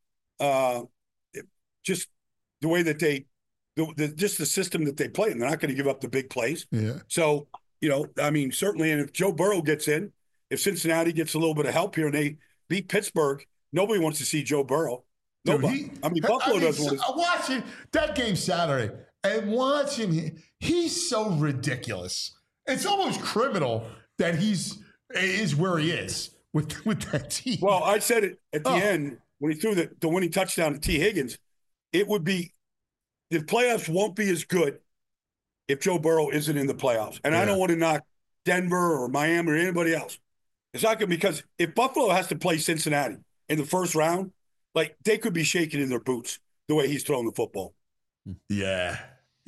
Just the way that just the system that they play, and they're not going to give up the big plays. Yeah. So, you know, I mean, certainly, and if Joe Burrow gets in, if Cincinnati gets a little bit of help here and they beat Pittsburgh, nobody wants to see Joe Burrow. Nobody. Buffalo doesn't want to. I'm watching that game Saturday and watching him. He's so ridiculous. It's almost criminal that is where he is with that team. Well, I said it at the end when he threw the winning touchdown to T. Higgins. It would be – the playoffs won't be as good if Joe Burrow isn't in the playoffs. And I don't want to knock Denver or Miami or anybody else. It's not good because if Buffalo has to play Cincinnati in the first round, like, they could be shaking in their boots the way he's throwing the football. Yeah.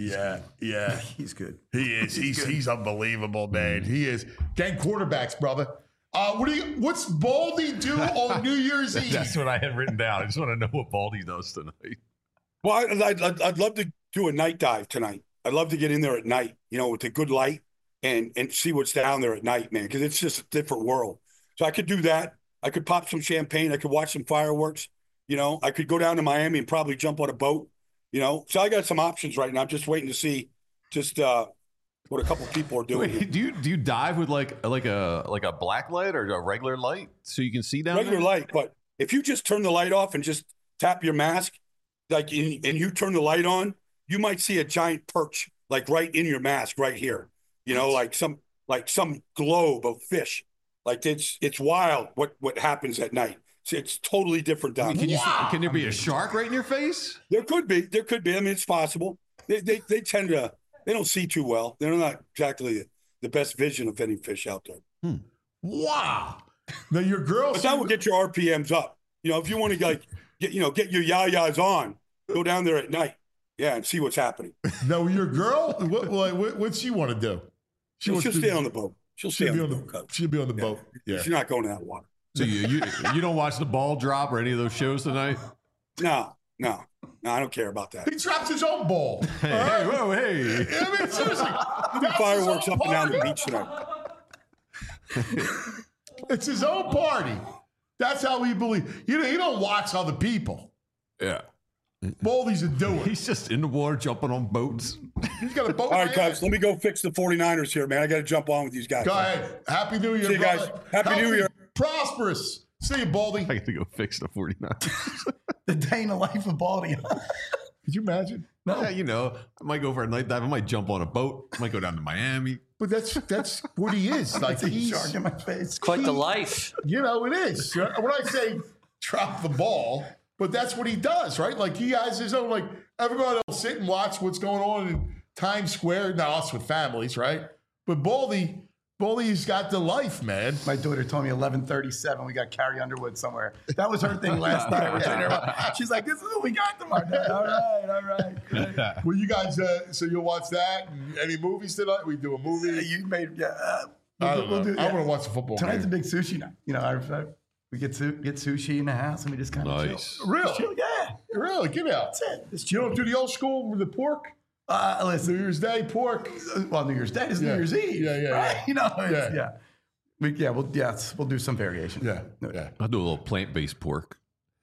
He's good. He is. He's unbelievable, man. He is. Gang quarterbacks, brother. What's Baldy do on New Year's Eve? That's what I had written down. I just want to know what Baldy does tonight. Well, I'd love to do a night dive tonight. I'd love to get in there at night, you know, with a good light and see what's down there at night, man, because it's just a different world. So I could do that. I could pop some champagne. I could watch some fireworks. You know, I could go down to Miami and probably jump on a boat. You know, so I got some options right now. I'm just waiting to see what a couple of people are doing. Wait, do you dive with like a black light or a regular light so you can see down regular there? light? But if you just turn the light off and just tap your mask, like, and you turn the light on, you might see a giant perch like right in your mask right here. You know, like some globe of fish. Like, it's wild what happens at night. It's totally different down there. Can there be a shark right in your face? There could be. I mean, it's possible. They tend to. They don't see too well. They're not exactly the best vision of any fish out there. Wow. Now your girl. But that will get your RPMs up. You know, if you want to get your yayas on, go down there at night. Yeah, and see what's happening. Now your girl, what's she want to do? She'll stay on the boat. She'll stay on the boat. She'll be on the boat. Yeah. She's not going to that water. So you don't watch The Ball Drop or any of those shows tonight? No, I don't care about that. He drops his own ball. Hey. I mean, seriously. Fireworks up and down the beach tonight. It's his own party. That's how he believes. He don't watch other people. Yeah. Baldy's a doer. He's just in the water jumping on boats. He's got a boat. All right, guys, let me go fix the 49ers here, man. I got to jump on with these guys. Go ahead. Happy New Year, See you guys. Happy New Year. Prosperous. See you, Baldy. I got to go fix the 49ers. The day in the life of Baldy. Could you imagine? No. Yeah, you know, I might go for a night dive. I might jump on a boat. I might go down to Miami. But that's what he is. Like, he's shark in my face. Quite the life. You know, it is. When I say drop the ball, but that's what he does, right? Like, he has his own, like, everybody will sit and watch what's going on in Times Square. Now, us with families, right? But Baldy's got the life, man. My daughter told me 11:37. We got Carrie Underwood somewhere. That was her thing last night. We're sitting there, she's like, "This is what we got tomorrow night." All right. Great. Well, you guys, so you'll watch that? Any movies tonight? We do a movie. You made, I want to watch the football. Tonight's game. a big sushi night. You know, we get sushi in the house and we just kind of chill. Really? Chill, yeah. Really? Get out. That's it. You don't do the old school with the pork? Listen, New Year's Day pork. Well, New Year's Day is New Year's Eve. Yeah. You know, we'll do some variation. Yeah. I'll do a little plant-based pork.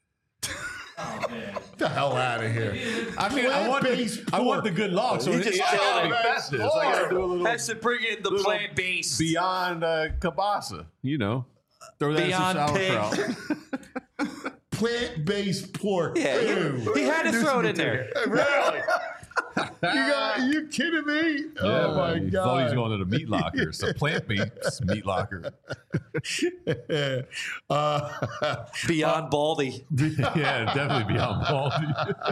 Get the hell out of here. I mean, I want the good log. So He just killed it. festive. So I got to do a little Has to bring in the plant base. beyond kielbasa. You know, throw that in some Beyond pig. sauerkraut. plant-based pork. Yeah, he had to throw it in there. Really? Are you kidding me? Yeah, oh my man. God! Thought he was going to the meat locker. It's a plant-based meat locker. Beyond Baldy. Yeah, definitely beyond Baldy.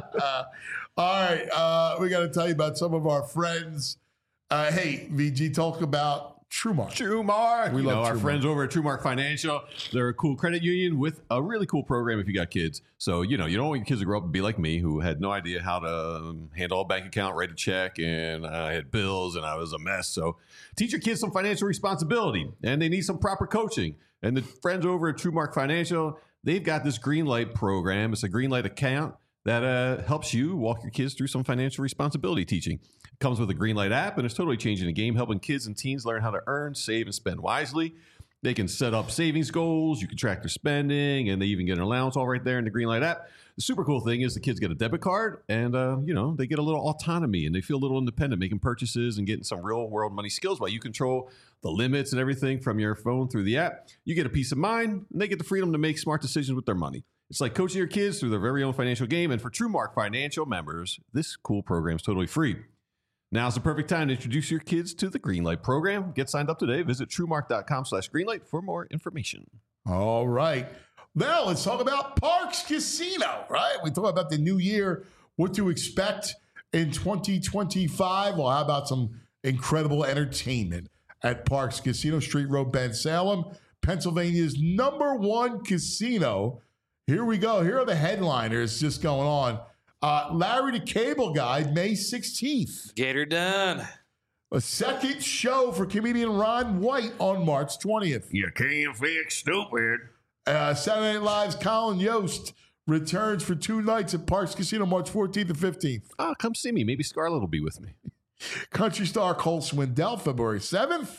All right, we got to tell you about some of our friends. Hey, VG, talk about TrueMark. TrueMark. We love our TrueMark. friends over at TrueMark Financial. They're a cool credit union with a really cool program if you got kids. So, you don't want your kids to grow up and be like me, who had no idea how to handle a bank account, write a check, and I had bills, and I was a mess. So teach your kids some financial responsibility, and they need some proper coaching. And the friends over at TrueMark Financial, they've got this Greenlight program. It's a Greenlight account that helps you walk your kids through some financial responsibility teaching. It comes with a Greenlight app, and it's totally changing the game, helping kids and teens learn how to earn, save, and spend wisely. They can set up savings goals. You can track their spending, and they even get an allowance all right there in the Greenlight app. The super cool thing is the kids get a debit card, and they get a little autonomy, and they feel a little independent, making purchases and getting some real-world money skills while you control the limits and everything from your phone through the app. You get a peace of mind, and they get the freedom to make smart decisions with their money. It's like coaching your kids through their very own financial game. And for TrueMark Financial members, this cool program is totally free. Now's the perfect time to introduce your kids to the Greenlight program. Get signed up today. Visit TrueMark.com/Greenlight for more information. All right. Now let's talk about Parx Casino, right? We talk about the new year, what to expect in 2025. Well, how about some incredible entertainment at Parx Casino, Street Road, Bensalem, Pennsylvania's #1 casino. Here we go. Here are the headliners just going on. Larry the Cable Guy, May 16th. Get her done. A second show for comedian Ron White on March 20th. You can't fix stupid. Saturday Night Live's Colin Yost returns for 2 nights at Parx Casino, March 14th and 15th. Oh, come see me. Maybe Scarlett will be with me. Country star Cole Swindell, February 7th.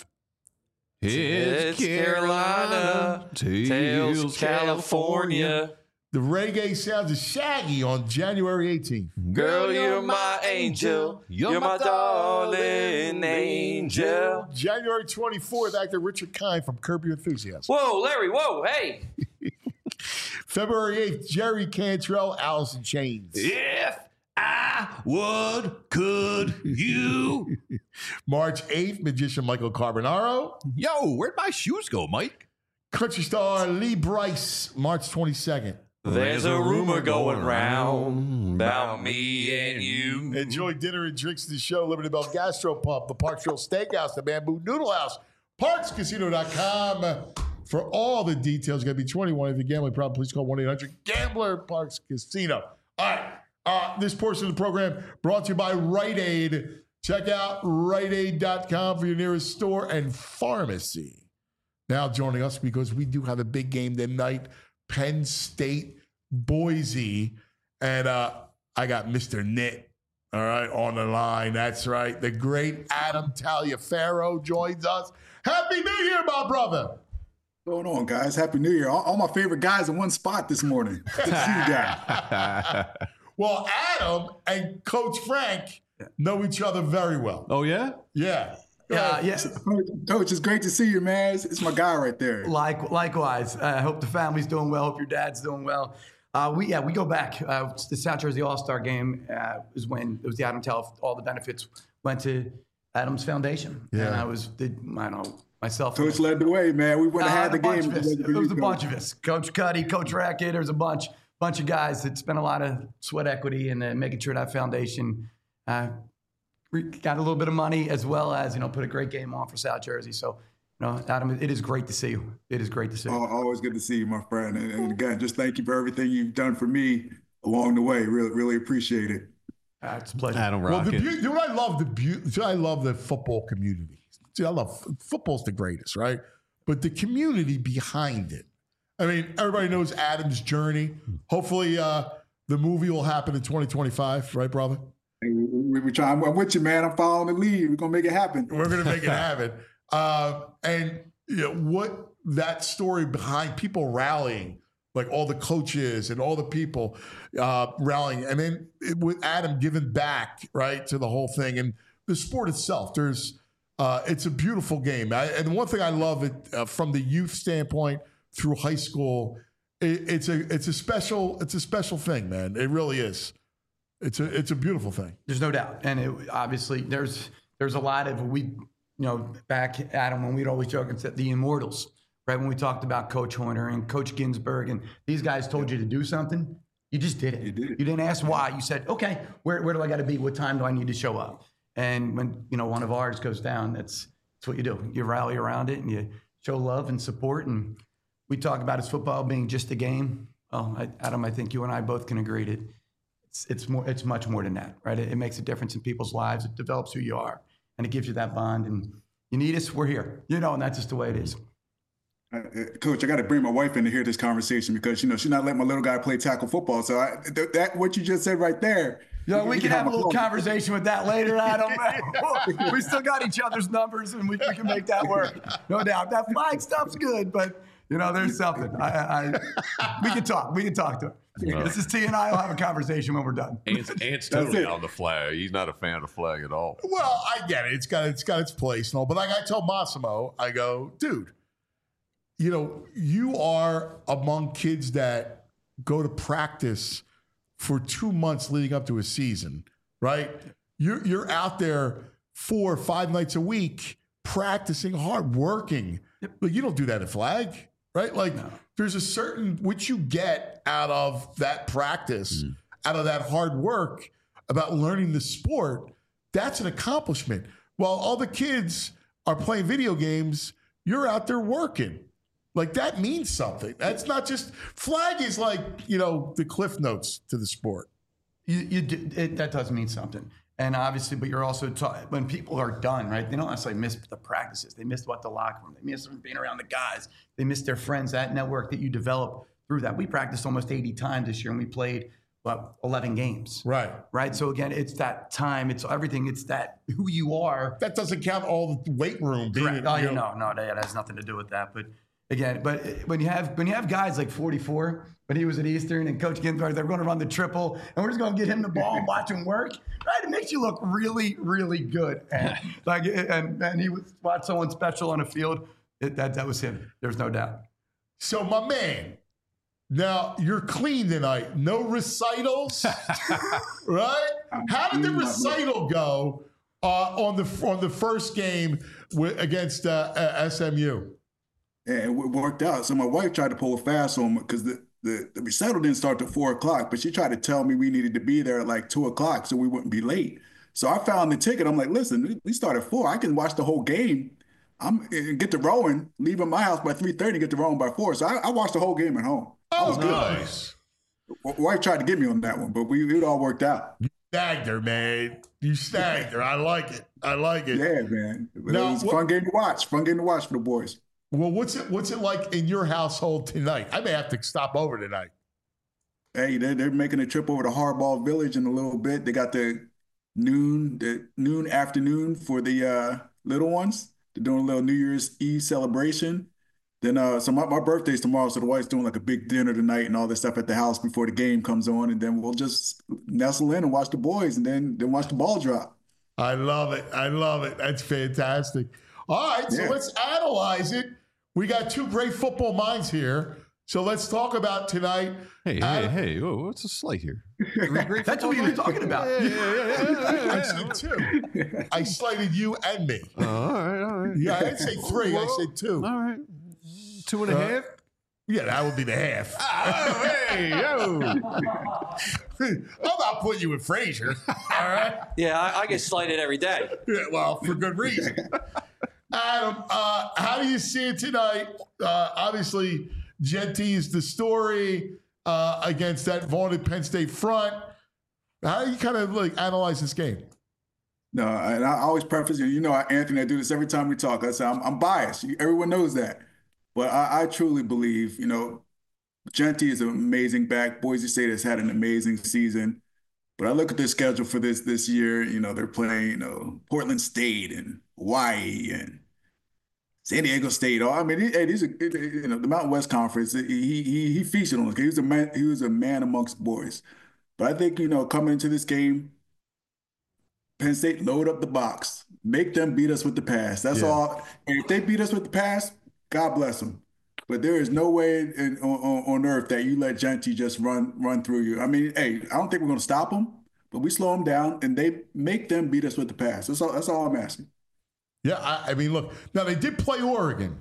It's Carolina, Tales California. The reggae sounds of Shaggy on January 18th. Girl, you're my angel. You're my darling angel. January 24th, actor Richard Kind from Curb Your Enthusiasm. Whoa, Larry, whoa, hey. February 8th, Jerry Cantrell, Alice in Chains. If I could you. March 8th, magician Michael Carbonaro. Yo, where'd my shoes go, Mike? Country star Lee Brice, March 22nd. There's a rumor going round about me and you. Enjoy dinner and drinks at the show. Liberty Bell Gastropub, the Parksville Steakhouse, the Bamboo Noodle House, ParksCasino.com. For all the details, you got to be 21. If you're gambling problem, please call 1-800-GAMBLER, Parx Casino. All right. This portion of the program brought to you by Rite Aid. Check out riteaid.com for your nearest store and pharmacy. Now joining us, because we do have a big game tonight, Penn State, Boise. And I got Mr. Knit, all right, on the line. That's right. The great Adam Taliaferro joins us. Happy New Year, my brother. What's going on, guys? Happy New Year. All my favorite guys in one spot this morning. Good to see you guys. Well, Adam and Coach Frank know each other very well. Oh, yeah? Yeah. Yes. Coach, it's great to see you, man. It's my guy right there. Likewise. I hope the family's doing well. Hope your dad's doing well. We go back. The South Jersey All-Star game was when it was the Adam Tell. All the benefits went to Adam's foundation. Yeah. And myself. Coach led the way, man. We wouldn't have had the game. It was a bunch of us. Coach Cuddy, Coach Rackett. There was a bunch of guys that spent a lot of sweat equity in making sure that foundation got a little bit of money, as well as, put a great game on for South Jersey. So, Adam, it is great to see you. It is great to see you. Always good to see you, my friend. And again, just thank you for everything you've done for me along the way. Really, really appreciate it. It's a pleasure. Adam Well, Rocket. I love the football community. I love football's the greatest, right? But the community behind it. I mean, everybody knows Adam's journey. Hopefully, the movie will happen in 2025, right, brother? We try. I'm with you, man. I'm following the lead. We're gonna make it happen. We're gonna make it happen. And what that story behind people rallying, like all the coaches and all the people rallying, and then with Adam giving back, right, to the whole thing and the sport itself. It's a beautiful game. And one thing I love it from the youth standpoint through high school it's a special thing, man. It really is. It's a beautiful thing. There's no doubt, and obviously there's a lot of back Adam when we'd always joke and said the immortals, right? When we talked about Coach Horner and Coach Ginsburg, and these guys told you to do something, you just did it. You did it. You didn't ask why. You said, okay, where do I got to be? What time do I need to show up? And when one of ours goes down, that's what you do. You rally around it and you show love and support. And we talk about his football being just a game. Well, Adam, I think you and I both can agree that it's much more than that, right? It makes a difference in people's lives. It develops who you are, and it gives you that bond. And you need us, we're here, and that's just the way it is. Coach, I got to bring my wife in to hear this conversation because she's not letting my little guy play tackle football. So that what you just said right there. We can have a little conversation with that later, Adam. We still got each other's numbers, and we can make that work. No doubt. That flag stuff's good, but there's something. We can talk. We can talk to her. This is T and I will have a conversation when we're done. Ant's totally on the flag. He's not a fan of the flag at all. Well, I get it. It's got its place and all. But like I told Massimo, I go, dude, you are among kids that go to practice for 2 months leading up to a season, right? You're out there 4 or 5 nights a week practicing hard, working. But you don't do that at flag, right? There's a certain which you get out of that practice, out of that hard work about learning the sport. That's an accomplishment. While all the kids are playing video games, you're out there working. That means something. That's not just flag is the cliff notes to the sport. That does mean something. And obviously, but you're also when people are done, right? They don't necessarily miss the practices. They miss the locker room. They miss being around the guys. They miss their friends, that network that you develop through that. We practiced almost 80 times this year, and we played 11 games. Right. So again, it's that time. It's everything. It's that who you are. That doesn't count all the weight room. Correct. No, that has nothing to do with that. But again, when you have guys like 44, when he was at Eastern and Coach Ginsburg, they're going to run the triple, and we're just going to get him the ball and watch him work. Right? It makes you look really, really good. And he watched someone special on a field. That was him. There's no doubt. So my man, now you're clean tonight. No recitals, right? How did the recital go on the first game against SMU? Yeah, it worked out. So my wife tried to pull a fast on me because the recital didn't start till 4 o'clock, but she tried to tell me we needed to be there at 2 o'clock so we wouldn't be late. So I found the ticket. I'm like, listen, we start at 4. I can watch the whole game. Get to rowing, leaving my house by 3:30, get to rowing by 4. So I watched the whole game at home. Oh, nice. My wife tried to get me on that one, but it all worked out. You snagged her, man. You snagged her. I like it. Yeah, man. But it was a fun game to watch. Fun game to watch for the boys. Well, what's it like in your household tonight? I may have to stop over tonight. Hey, they're making a trip over to Hardball Village in a little bit. They got the noon afternoon for the little ones. They're doing a little New Year's Eve celebration. Then so my birthday's tomorrow, so the wife's doing a big dinner tonight and all this stuff at the house before the game comes on, and then we'll just nestle in and watch the boys and then watch the ball drop. I love it. That's fantastic. All right, so let's analyze it. We got 2 great football minds here. So let's talk about tonight. Hey, what's the slate here? That's what we were talking about. Yeah. I said 2. I slated you and me. All right. Yeah, I didn't say 3. I said 2. All right. 2.5? Yeah, that would be the half. Hey, yo. I'm not putting you with Frazier. All right? Yeah, I get slighted every day. Yeah, well, for good reason. Adam, how do you see it tonight? Obviously, Jeanty is the story against that vaunted Penn State front. How do you kind of analyze this game? No, and I always preface, Anthony, I do this every time we talk. I say I'm biased. Everyone knows that. But I truly believe, Jeanty is an amazing back. Boise State has had an amazing season. But I look at their schedule for this year. They're playing, Portland State and Hawaii and San Diego State. These are, the Mountain West Conference. He featured on us. He was a man amongst boys. But I think, coming into this game, Penn State load up the box, make them beat us with the pass. That's all. And if they beat us with the pass, God bless them. but there is no way on earth that you let Jeanty just run through you. I mean, hey, I don't think we're going to stop them, but we slow them down and they make them beat us with the pass. That's all I'm asking. Yeah, I mean, look, now they did play Oregon.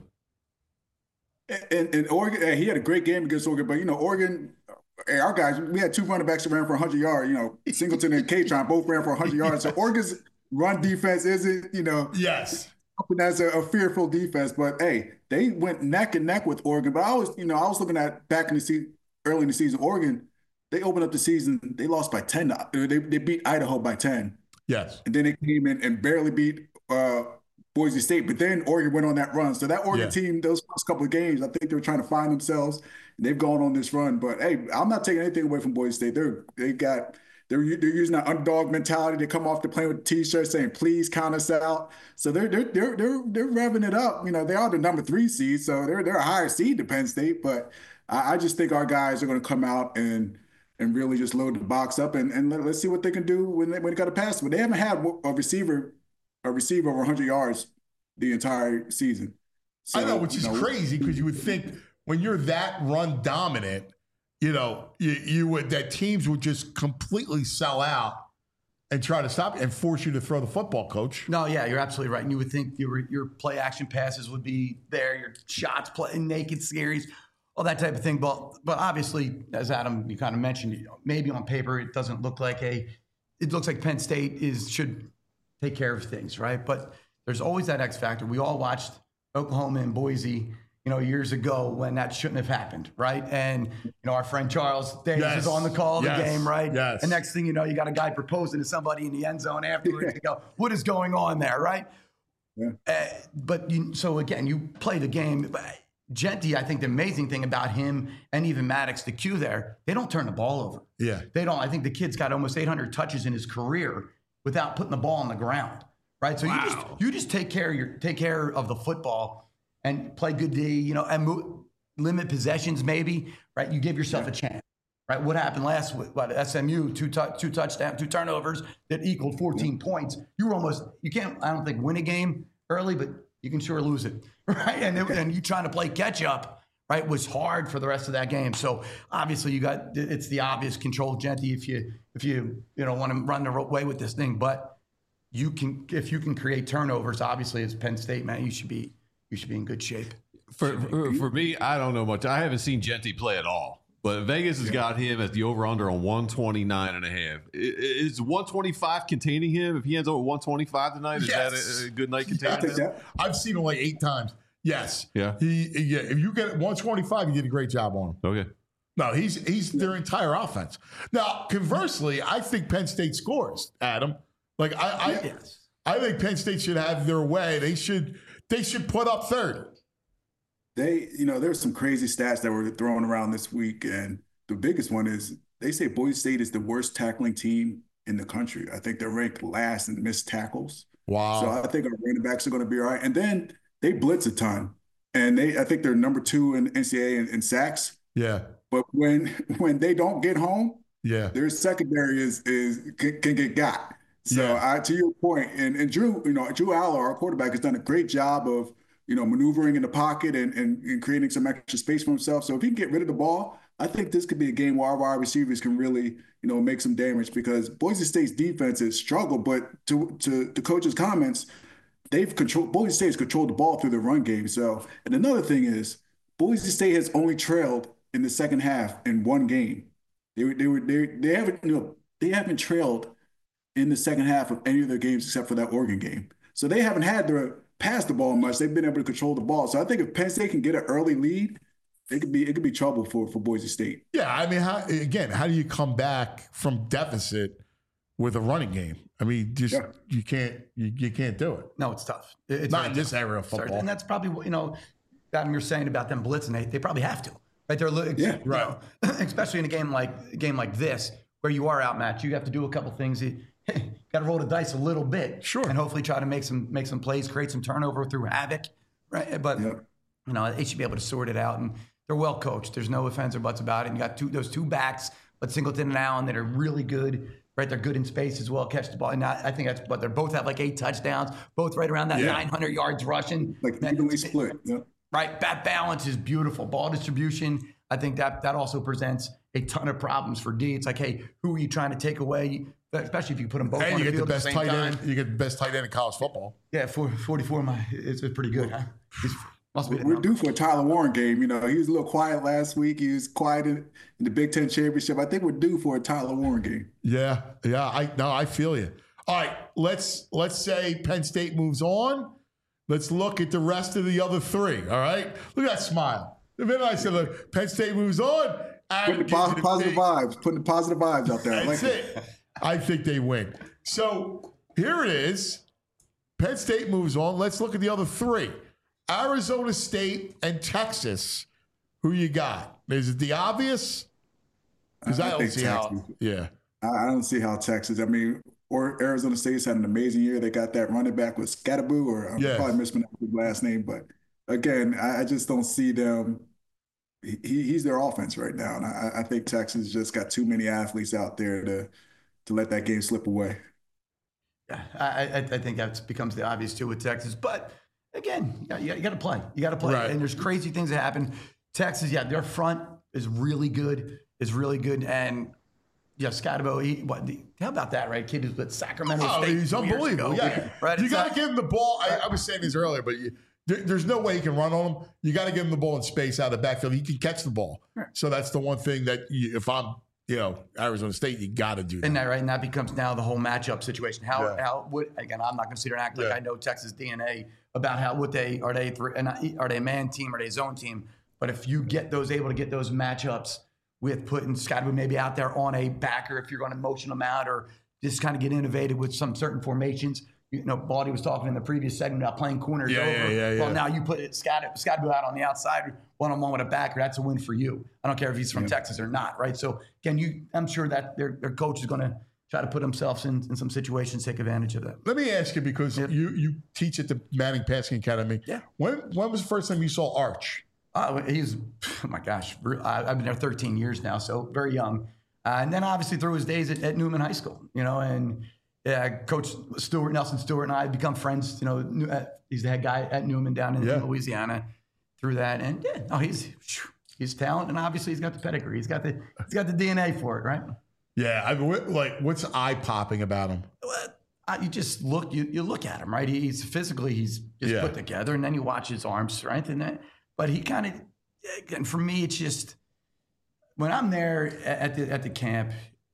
And Oregon, he had a great game against Oregon, but, Oregon, our guys, we had 2 running backs that ran for 100 yards. Singleton and Katron both ran for 100 yards. So Oregon's run defense isn't, yes, that's a fearful defense. But, hey, they went neck and neck with Oregon. But I was looking at back in the season, early in the season, Oregon, they opened up the season, they lost by 10. They beat Idaho by 10. Yes. And then they came in and barely beat Boise State, but then Oregon went on that run. So that Oregon team, those first couple of games, I think they were trying to find themselves, and they've gone on this run. But hey, I'm not taking anything away from Boise State. They're using that underdog mentality. They come off the plane with T-shirts saying, "Please count us out." So they're revving it up. They are the number 3 seed, so they're a higher seed than Penn State. But I just think our guys are going to come out and really just load the box up and let's see what they can do when they got to pass. But they haven't had a receiver over 100 yards the entire season. So, I know, which is crazy because you would think when you're that run dominant, you would that teams would just completely sell out and try to stop and force you to throw the football, Coach. No, yeah, you're absolutely right. And you would think your play action passes would be there, your shots, naked series, all that type of thing. But obviously, as Adam, you kind of mentioned, maybe on paper it doesn't look like it looks like Penn State should take care of things, right? But there's always that X factor. We all watched Oklahoma and Boise, years ago when that shouldn't have happened, right? And, our friend Charles Davis is on the call of the game, right? Yes. And next thing you know, you got a guy proposing to somebody in the end zone afterwards. You go, what is going on there, right? Yeah. So again, you play the game. Jeanty, I think the amazing thing about him and even Maddox, the Q there, they don't turn the ball over. Yeah. They don't. I think the kid's got almost 800 touches in his career without putting the ball on the ground, right? So you just take care of the football and play good D, and limit possessions maybe, right? You give yourself a chance, right? What happened last week? SMU, two touchdowns, 2 turnovers that equaled 14 points. You can't, I don't think, win a game early, but you can sure lose it, right? And you trying to play catch up, right, was hard for the rest of that game. So obviously it's the obvious control Jeanty if you want to run the way with this thing. But if you can create turnovers, obviously as Penn State, man, you should be in good shape. For me, I don't know much. I haven't seen Jeanty play at all. But Vegas has got him at the over-under on 129.5. Is 125 containing him? If he ends up with 125 tonight, is that a good night containing him? I've seen him like 8 times. Yes. Yeah. If you get 125, you did a great job on him. Okay. No, he's their entire offense. Now, conversely, I think Penn State scores, Adam. Like I think Penn State should have their way. They should put up 30. There's some crazy stats that were thrown around this week, and the biggest one is they say Boise State is the worst tackling team in the country. I think they're ranked last in missed tackles. Wow. So I think our running backs are going to be all right. And then they blitz a ton, and I think they're number 2 in NCAA in sacks. Yeah. But when they don't get home, their secondary can get got. So to your point, and Drew Allar, our quarterback, has done a great job of maneuvering in the pocket and creating some extra space for himself. So if he can get rid of the ball, I think this could be a game where our wide receivers can really, make some damage, because Boise State's defense has struggled. But to the coach's comments, Boise State has controlled the ball through the run game. So, and another thing is, Boise State has only trailed in the second half in 1 game. They haven't trailed in the second half of any of their games except for that Oregon game. So they haven't had to pass the ball much. They've been able to control the ball. So I think if Penn State can get an early lead, it could be trouble for Boise State. Yeah, I mean, how do you come back from deficit with a running game? I mean, you can't do it. No, it's tough. It's not in this area of football. And that's probably Adam, you're saying about them blitzing. They probably have to, right? They're right. Especially in a game like this where you are outmatched. You have to do a couple things. Got to roll the dice a little bit, sure, and hopefully try to make some plays, create some turnover through havoc, right? But they should be able to sort it out, and they're well coached. There's no offense or buts about it. And you got those 2 backs, but Singleton and Allen, that are really good, right? They're good in space as well, catch the ball. And I think they both have like 8 touchdowns, both right around that 900 yards rushing. Like evenly split. Yeah. right? That balance is beautiful. Ball distribution, I think that also presents a ton of problems for D. It's like, hey, who are you trying to take away? Especially if you put them both on the field at the same time. You get the best tight end in college football. Yeah, 44, it's pretty good, huh? We're due for a Tyler Warren game. You know, he was a little quiet last week. He was quiet in the Big Ten championship. I think we're due for a Tyler Warren game. Yeah. I feel you. All right, let's say Penn State moves on. Let's look at the rest of the other three. All right, look at that smile. The minute I said, "Look, Penn State moves on," putting the positive vibes out there. That's it. I think they win. So here it is. Penn State moves on. Let's look at the other three. Arizona State and Texas. Who you got? Is it the obvious? Because I don't see how. Yeah. I don't see how Texas. I mean, or Arizona State's had an amazing year. They got that running back with Scatterboo, or I'm probably mispronouncing his last name. But again, I just don't see them. He's their offense right now. And I think Texas just got too many athletes out there to let that game slip away. Yeah, I think that becomes the obvious too with Texas. But again, you got to play. You got to play. Right. And there's crazy things that happen. Texas, their front is really good. And Scatterbo, how about that, right? Kid who's with Sacramento State. He's unbelievable. Yeah. Right. You got to give him the ball. I was saying this earlier, but there's no way he can run on him. You got to give him the ball in space out of the backfield. He can catch the ball. Right. So that's the one thing that if I'm, Arizona State, you got to do that. And that becomes now the whole matchup situation. How would, again, I'm not going to sit here and act like I know Texas DNA about are they a man team, are they a zone team? But if you able to get those matchups with putting Scotty maybe out there on a backer, if you're going to motion them out or just kind of get innovative with some certain formations. Baldy was talking in the previous segment about playing corners over. Well, now you put Scotty out on the outside, one-on-one with a backer. That's a win for you. I don't care if he's from Texas or not, right? So, again, I'm sure that their coach is going to try to put themselves in some situations, take advantage of that. Let me ask you, because you teach at the Manning Passing Academy. Yeah. When was the first time you saw Arch? Oh my gosh. I've been there 13 years now, so very young. And then obviously through his days at Newman High School, and Coach Nelson Stewart and I become friends. He's the head guy at Newman down in Louisiana through that. And he's talent, and obviously he's got the pedigree. He's got the DNA for it, right? Yeah. What's eye-popping about him? You just look, you look at him, right? He's just put together, and then you watch his arm strength and that. But he kind of, and for me, it's just when I'm there at the camp,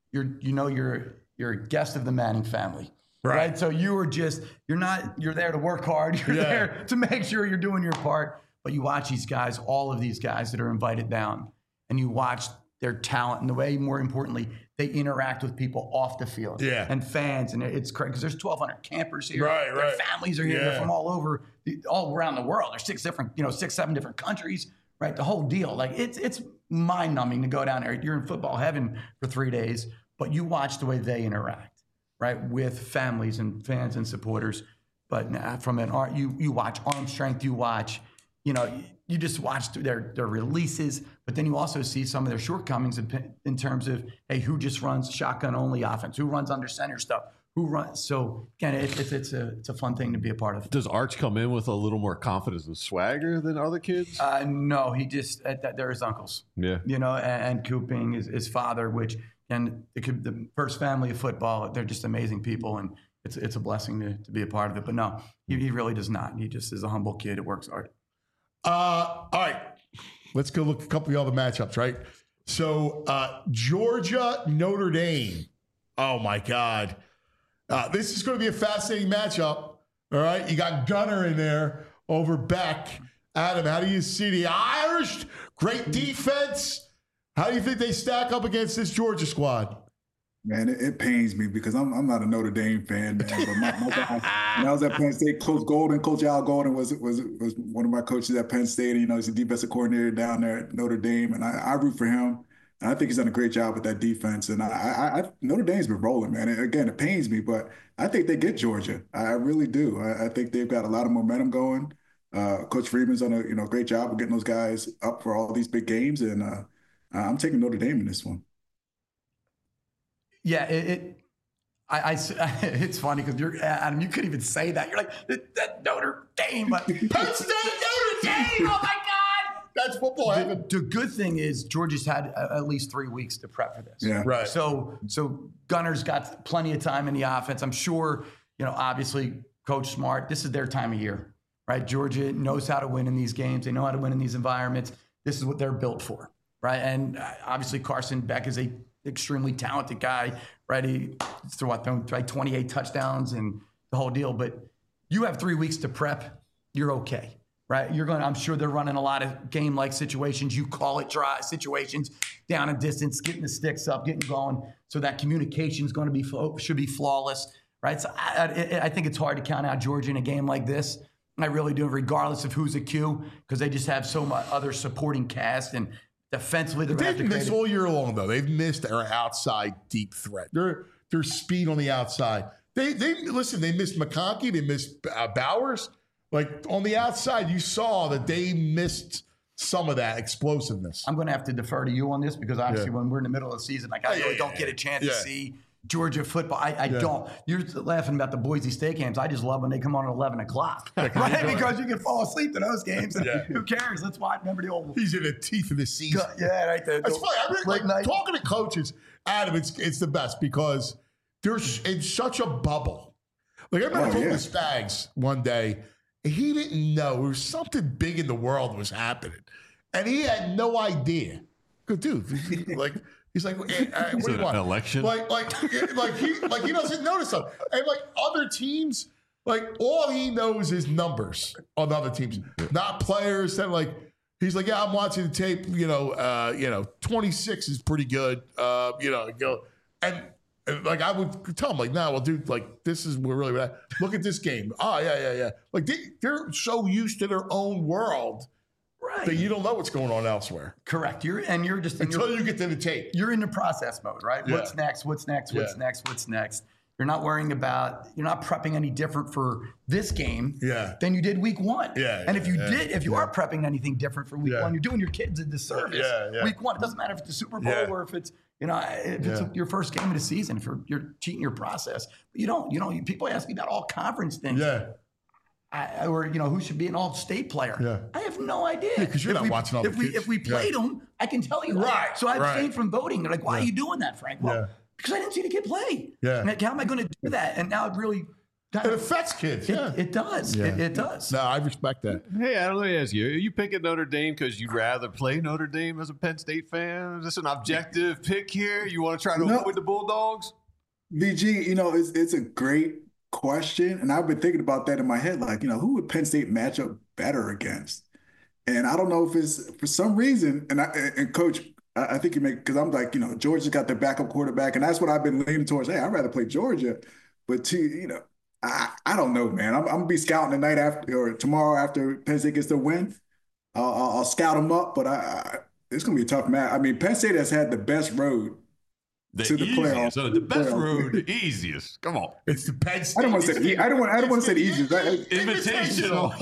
you're a guest of the Manning family, right? So you're there to work hard. You're there to make sure you're doing your part. But you watch these guys, all of these guys that are invited down, and you watch their talent and the way, more importantly, they interact with people off the field and fans. And it's crazy because there's 1,200 campers here. Their families are here. They're from all around the world. There's 6-7 different countries, right? The whole deal. Like it's mind numbing to go down there. You're in football heaven for 3 days, but you watch the way they interact, right? With families and fans and supporters. But from an art, you watch arm strength, you watch, you just watch their releases, but then you also see some of their shortcomings in terms of, hey, who just runs shotgun only offense, who runs under center stuff, who runs. So again, it's a fun thing to be a part of. Does Arch come in with a little more confidence and swagger than other kids? No, he just they're his uncles. Yeah, and Coop being his father, which the first family of football. They're just amazing people, and it's a blessing to be a part of it. But no, he really does not. He just is a humble kid who works hard. All right, let's go look at a couple of the other matchups, right? So Georgia, Notre Dame. Oh, my God. This is going to be a fascinating matchup, all right? You got Gunner in there over Beck. Adam, how do you see the Irish? Great defense. How do you think they stack up against this Georgia squad? Man, it pains me because I'm not a Notre Dame fan, man. But my guy, when I was at Penn State, Coach Al Golden was one of my coaches at Penn State. He's a defensive coordinator down there at Notre Dame, and I root for him. And I think he's done a great job with that defense. And Notre Dame's been rolling, man. And again, it pains me, but I think they get Georgia. I really do. I think they've got a lot of momentum going. Coach Freeman's done a great job of getting those guys up for all these big games, and I'm taking Notre Dame in this one. Yeah, it's funny because Adam, you couldn't even say that. You're like, that Notre Dame, but Penn State, Notre game. Oh, my God. That's football heaven. The good thing is Georgia's had at least 3 weeks to prep for this. Yeah. Right. So Gunner's got plenty of time in the offense. I'm sure, obviously Coach Smart, this is their time of year, right? Georgia knows how to win in these games. They know how to win in these environments. This is what they're built for, right? And obviously Carson Beck is a extremely talented guy, right? He threw 28 touchdowns and the whole deal. But you have 3 weeks to prep, you're okay. Right, I'm sure they're running a lot of game-like situations. You call it dry situations, down and distance, getting the sticks up, getting going. So that communication is going to should be flawless, right? So I think it's hard to count out Georgia in a game like this. I really do, regardless of who's a Q, because they just have so much other supporting cast and defensively. They've missed all year long though. They've missed their outside deep threat. Their speed on the outside. They missed McConkey. They missed Bowers. Like on the outside, you saw that they missed some of that explosiveness. I'm going to have to defer to you on this because obviously when we're in the middle of the season, like I really don't get a chance to see Georgia football. I don't. You're laughing about the Boise State games. I just love when they come on at 11 o'clock, right? Because you can fall asleep to those games. And who cares? Let's watch. Remember the old. He's in the teeth of the season. Yeah, right there. That's funny. Like, talking to coaches, Adam, it's the best because they're in such a bubble. Like I remember talking to Spags one day. He didn't know there was something big in the world was happening, and he had no idea. Good dude. He's like, what do you want? An election? He doesn't notice them. And like other teams, like all he knows is numbers on other teams, not players. That like he's like, yeah, I'm watching the tape. 26 is pretty good. And like I would tell him, like, nah, well, dude, like this is where really at. Look at this game. Oh, yeah. Like they're so used to their own world, right? That you don't know what's going on elsewhere. Correct. You're just until you get to the tape. You're in the process mode, right? Yeah. What's next? What's next? What's next? What's next? You're not worrying about. You're not prepping any different for this game than you did week one. Yeah. And if you are prepping anything different for week one, you're doing your kids a disservice. Yeah. Week one, it doesn't matter if it's the Super Bowl or if it's. If it's your first game of the season, if you're cheating your process, but you don't. People ask me about all conference things. Yeah. Or who should be an all-state player. Yeah. I have no idea. Because you're not watching all the kids. If we played them, I can tell you. Right. So I abstained from voting. They're like, why are you doing that, Frank? Well, because I didn't see the kid play. Yeah. Like, how am I going to do that? And now it really. It affects kids. It does. Yeah. It does. No, I respect that. Hey, Adam, let me ask you. Are you picking Notre Dame because you'd rather play Notre Dame as a Penn State fan? Is this an objective pick here? You want to try to avoid the Bulldogs? VG, it's a great question. And I've been thinking about that in my head. Like, who would Penn State match up better against? And I don't know if it's for some reason. And Coach, I think because I'm like, Georgia's got their backup quarterback. And that's what I've been leaning towards. Hey, I'd rather play Georgia. But I don't know, man. I'm gonna be scouting tonight or tomorrow after Penn State gets the win. I'll scout them up, but it's gonna be a tough match. I mean, Penn State has had the best road to the playoffs. So the best road, the easiest. Come on, it's the Penn State. I don't want to say the easiest. Invitational.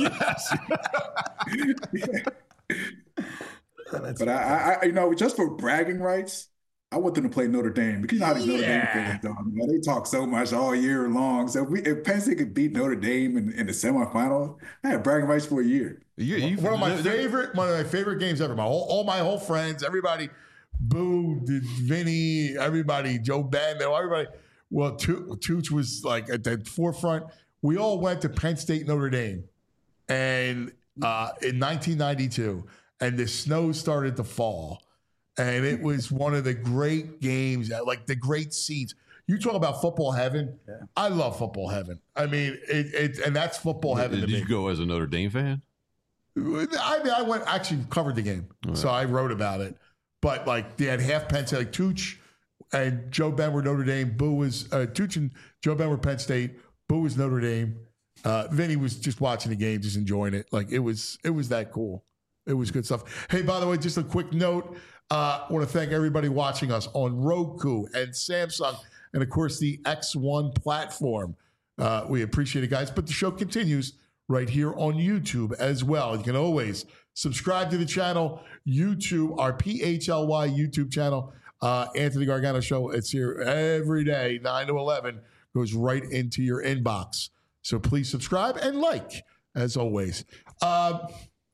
Yes. But I just for bragging rights. I want them to play Notre Dame because you know how these Notre Dame fans do. They talk so much all year long. So if Penn State could beat Notre Dame in the semifinals, I had bragging rights for a year. One of my favorite games ever. All my whole friends, everybody, Boo, Vinny, everybody, Joe Ben, everybody. Well, Tooch was like at the forefront. We all went to Penn State Notre Dame, and in 1992, and the snow started to fall. And it was one of the great games, like the great seats. You talk about football heaven. Yeah. I love football heaven. I mean, and that's football heaven. Did you go as a Notre Dame fan? I went actually covered the game, so I wrote about it. But like they had half Penn State, like Tooch and Joe Ben were Notre Dame. Boo was Tooch and Joe Ben were Penn State. Boo was Notre Dame. Vinny was just watching the game, just enjoying it. Like it was that cool. It was good stuff. Hey, by the way, just a quick note. I want to thank everybody watching us on Roku and Samsung and, of course, the X1 platform. We appreciate it, guys. But the show continues right here on YouTube as well. You can always subscribe to the channel, YouTube, our PHLY YouTube channel, Anthony Gargano Show. It's here every day, 9 to 11, goes right into your inbox. So please subscribe and like, as always.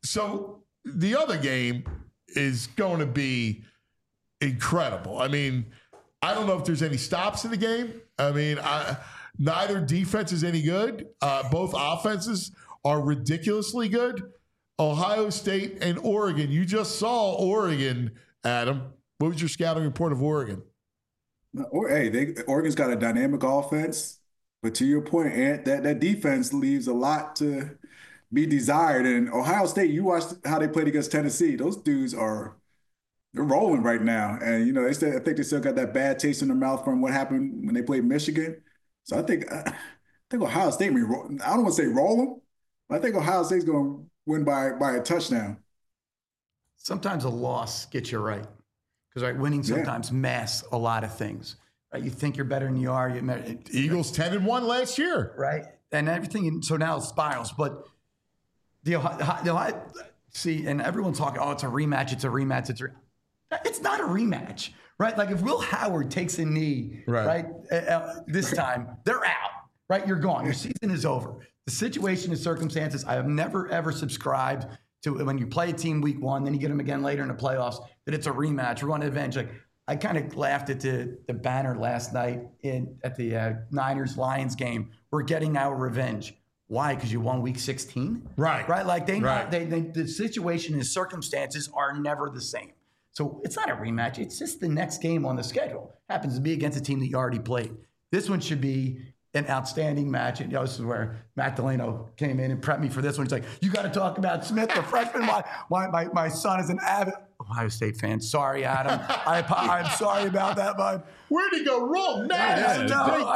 So the other game is going to be incredible. I mean, I don't know if there's any stops in the game. I mean, neither defense is any good. Both offenses are ridiculously good. Ohio State and Oregon. You just saw Oregon, Adam. What was your scouting report of Oregon? Hey, Oregon's got a dynamic offense, but to your point, Ant, that defense leaves a lot to be desired. And Ohio State, you watched how they played against Tennessee. Those dudes they're rolling right now. And, you know, I think they still got that bad taste in their mouth from what happened when they played Michigan. So I think Ohio State, I don't want to say roll them, but I think Ohio State's going to win by a touchdown. Sometimes a loss gets you right. Because winning sometimes masks a lot of things. Right? You think you're better than you are. Eagles 10-1 last year. Right. And everything, so now it spirals. But the Ohio, see, and everyone's talking, it's a rematch, it's not a rematch, right? Like if Will Howard takes a knee, right, this time, they're out, right? You're gone. Your season is over. The situation and circumstances, I have never, ever subscribed to when you play a team week one, then you get them again later in the playoffs, that it's a rematch. We're going to avenge. Like I kind of laughed at the banner last night at the Niners-Lions game. We're getting our revenge. Why? Because you won week 16? Right. Like the situation and circumstances are never the same. So it's not a rematch. It's just the next game on the schedule. Happens to be against a team that you already played. This one should be an outstanding match. And this is where Matt Delano came in and prepped me for this one. He's like, you got to talk about Smith, the freshman. My son is an avid Ohio State fan. Sorry, Adam. I'm sorry about that, bud. Where'd he go wrong? I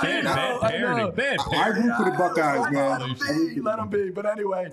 root for the Buckeyes, man. Let him be. But anyway,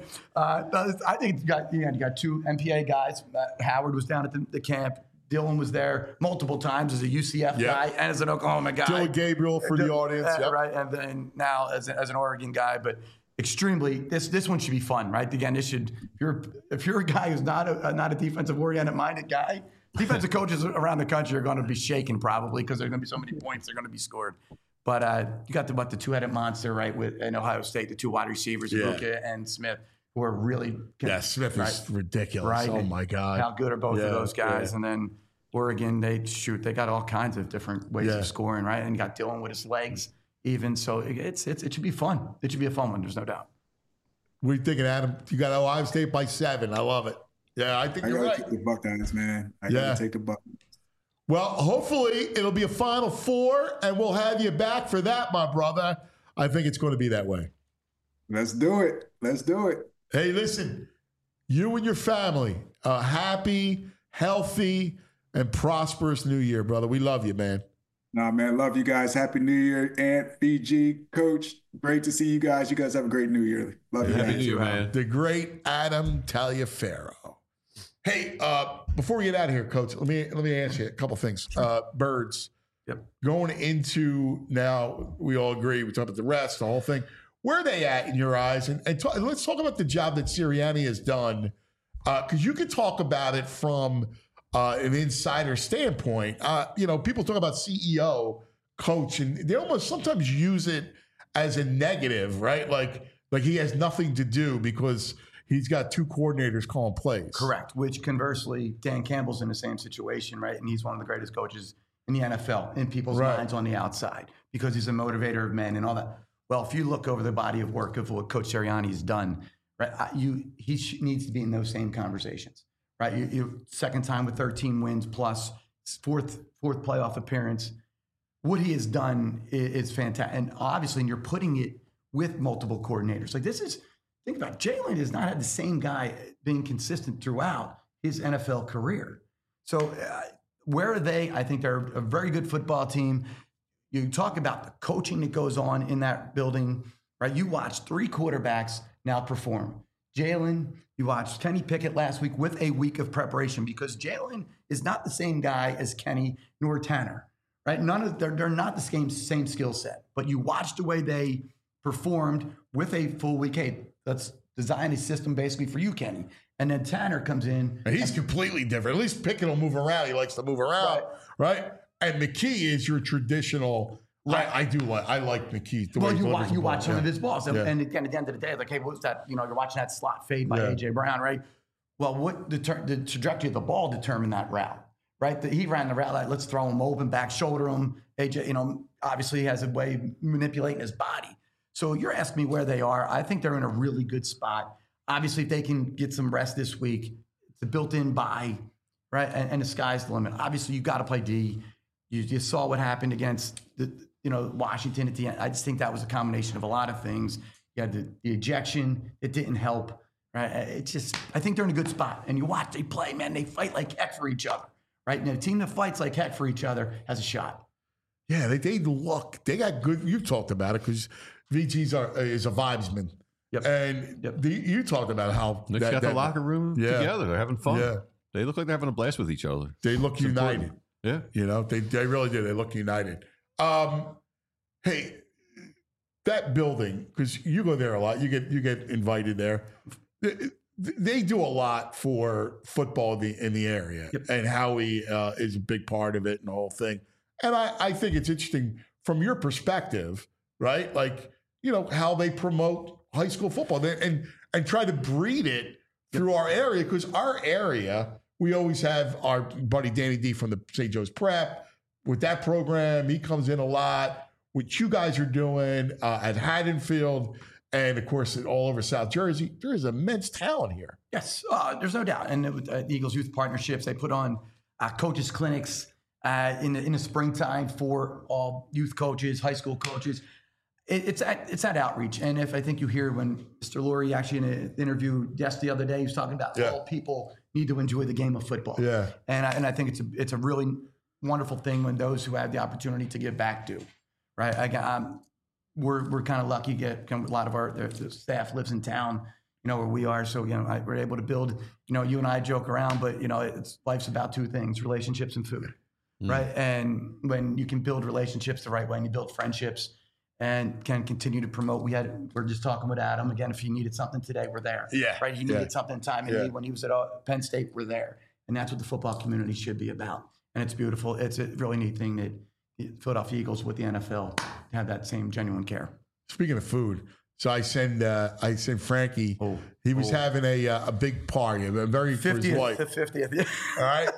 I think you got two MPA guys. Howard was down at the camp. Dylan was there multiple times as a UCF guy and as an Oklahoma guy. Dylan Gabriel for the audience. Right. And then now as an Oregon guy. But extremely, this one should be fun, right? Again, this should, if you're a guy who's not a defensive oriented minded guy, defensive coaches around the country are going to be shaken probably because there's going to be so many points that are going to be scored. But you got the two-headed monster, right, in Ohio State, the two wide receivers, Ibuka and Smith, who are really Smith is ridiculous. Right? Oh my God. How good are both of those guys? And then Oregon, they got all kinds of different ways of scoring, right? And you got Dylan with his legs even. So it should be fun. It should be a fun one. There's no doubt. What are you thinking, Adam? You got Ohio State by 7. I love it. Yeah, I think you're right. I gotta take the Buckeyes, man. I gotta take the Buckeyes. Well, hopefully it'll be a Final Four, and we'll have you back for that, my brother. I think it's going to be that way. Let's do it. Hey, listen, you and your family, a happy, healthy, and prosperous New Year, brother. We love you, man. Nah, man, love you guys. Happy New Year, Ant, BG, Coach. Great to see you guys. You guys have a great New Year. Love you, Happy New Year, man. The great Adam Taliaferro. Hey, before we get out of here, Coach, let me ask you a couple things. Birds. Yep. Going into now, we all agree. We talk about the rest, the whole thing. Where are they at in your eyes? And let's talk about the job that Sirianni has done, because you can talk about it from an insider standpoint. People talk about CEO, coach, and they almost sometimes use it as a negative, right? Like he has nothing to do because he's got two coordinators calling plays. Correct. Which conversely, Dan Campbell's in the same situation, right? And he's one of the greatest coaches in the NFL, in people's minds on the outside, because he's a motivator of men and all that. Well, if you look over the body of work of what Coach Sirianni's done, right, he needs to be in those same conversations, right? You second time with 13 wins plus fourth playoff appearance. What he has done is fantastic, and obviously, you're putting it with multiple coordinators. Like think about it, Jalen has not had the same guy being consistent throughout his NFL career. So where are they? I think they're a very good football team. You talk about the coaching that goes on in that building, right? You watch 3 quarterbacks now perform. Jalen, you watched Kenny Pickett last week with a week of preparation, because Jalen is not the same guy as Kenny nor Tanner, right? They're not the same skill set, but you watch the way they performed with a full week. Hey, let's design a system basically for you, Kenny. And then Tanner comes in. And he's completely different. At least Pickett will move around. He likes to move around, right? And McKee is your traditional. Right. I like McKee. You watch some of his balls. And again, at the end of the day, like, hey, what's that? You're watching that slot fade by A.J. Brown, right? Well, what the trajectory of the ball determined that route, right? He ran the route like, let's throw him open, back shoulder him. AJ, obviously he has a way of manipulating his body. So you're asking me where they are. I think they're in a really good spot. Obviously, if they can get some rest this week, it's a built-in bye, right? And the sky's the limit. Obviously, you got to play D. You saw what happened against Washington at the end. I just think that was a combination of a lot of things. You had the ejection. It didn't help, right? I think they're in a good spot. And you watch, they play, man, they fight like heck for each other, right? And a team that fights like heck for each other has a shot. Yeah, they look. They got good. You've talked about it because VG's is a vibesman. Yep. And you talked about how they got the locker room together. They're having fun. Yeah. They look like they're having a blast with each other. They look united. Yeah. They really do. They look united. Hey, that building, because you go there a lot, you get invited there. They do a lot for football in the area, and Howie is a big part of it and the whole thing. And I think it's interesting from your perspective, right? Like, how they promote high school football and try to breed it through our area, because our area, we always have our buddy Danny D from the St. Joe's Prep with that program. He comes in a lot. What you guys are doing at Haddonfield, and of course all over South Jersey, there is immense talent here. Yes, there's no doubt. And the Eagles Youth Partnerships, they put on coaches clinics in the springtime for all youth coaches, high school coaches. It's that outreach. And if I think you hear when Mr. Lurie actually in an interview the other day, he was talking about all people need to enjoy the game of football. Yeah. And I think it's a really wonderful thing when those who have the opportunity to give back do, right? We're kind of lucky. A lot of the staff lives in town, where we are. So, we're able to build, you and I joke around, but, life's about two things, relationships and food, right? And when you can build relationships the right way and you build friendships and can continue to promote. We're just talking with Adam again. If he needed something today, we're there. Yeah. Right. He needed something time and need when he was at Penn State, we're there. And that's what the football community should be about. And it's beautiful. It's a really neat thing that the Philadelphia Eagles with the NFL have that same genuine care. Speaking of food, so I send Frankie. He was having a big party, a very 50th, for his wife. The 50th. Yeah. All right.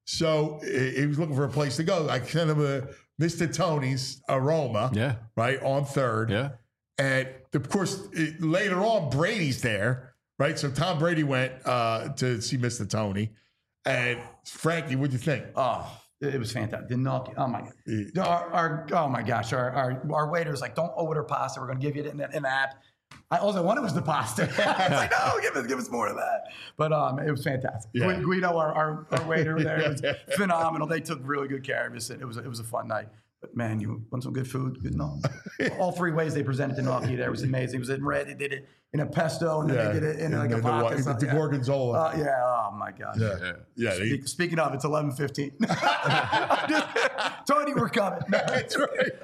So he was looking for a place to go. I sent him a Mr. Tony's Aroma, right, on 3rd. Yeah. And, of course, later on, Brady's there, right? So Tom Brady went to see Mr. Tony. And, Frankie, what'd you think? Oh, it was fantastic. The gnocchi, oh, my God. Oh, my gosh. Our waiter's like, don't order pasta. We're going to give you it in the app. All I wanted was the pasta. I was like, no, give us more of that. But it was fantastic. Yeah. Guido, our waiter there, was phenomenal. They took really good care of us. It was a fun night. But man, you want some good food? Good gnocchi. All three ways they presented the gnocchi there was amazing. It was in red. They did it in a pesto, and then they did it in like a vodka. The gorgonzola. Oh my gosh. Yeah. Speaking of, it's 11:15. Tony, we're coming. That's right.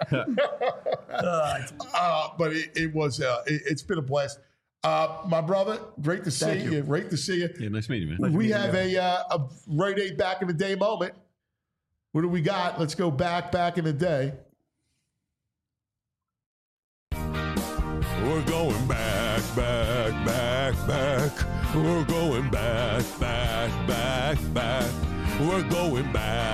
But it was. It's been a blast. My brother, great to see you. Great to see you. Yeah, nice meeting you, man. We have a Rite Aid back in the day moment. What do we got? Let's go back in the day. We're going back. We're going back. We're going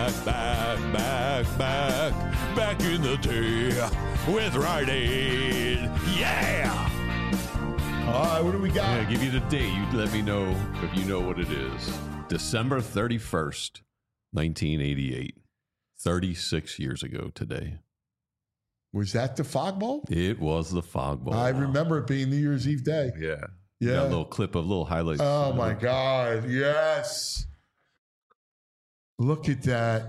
back in the day with Rite Aid. Yeah! All right, what do we got? I'm going to give you the date. You let me know if you know what it is. December 31st, 1988. 36 years ago today. Was that the Fog Bowl? It was the Fog Bowl. I remember it being New Year's Eve day. Yeah. Got a little clip of little highlights. Oh, my God. Yes. Look at that.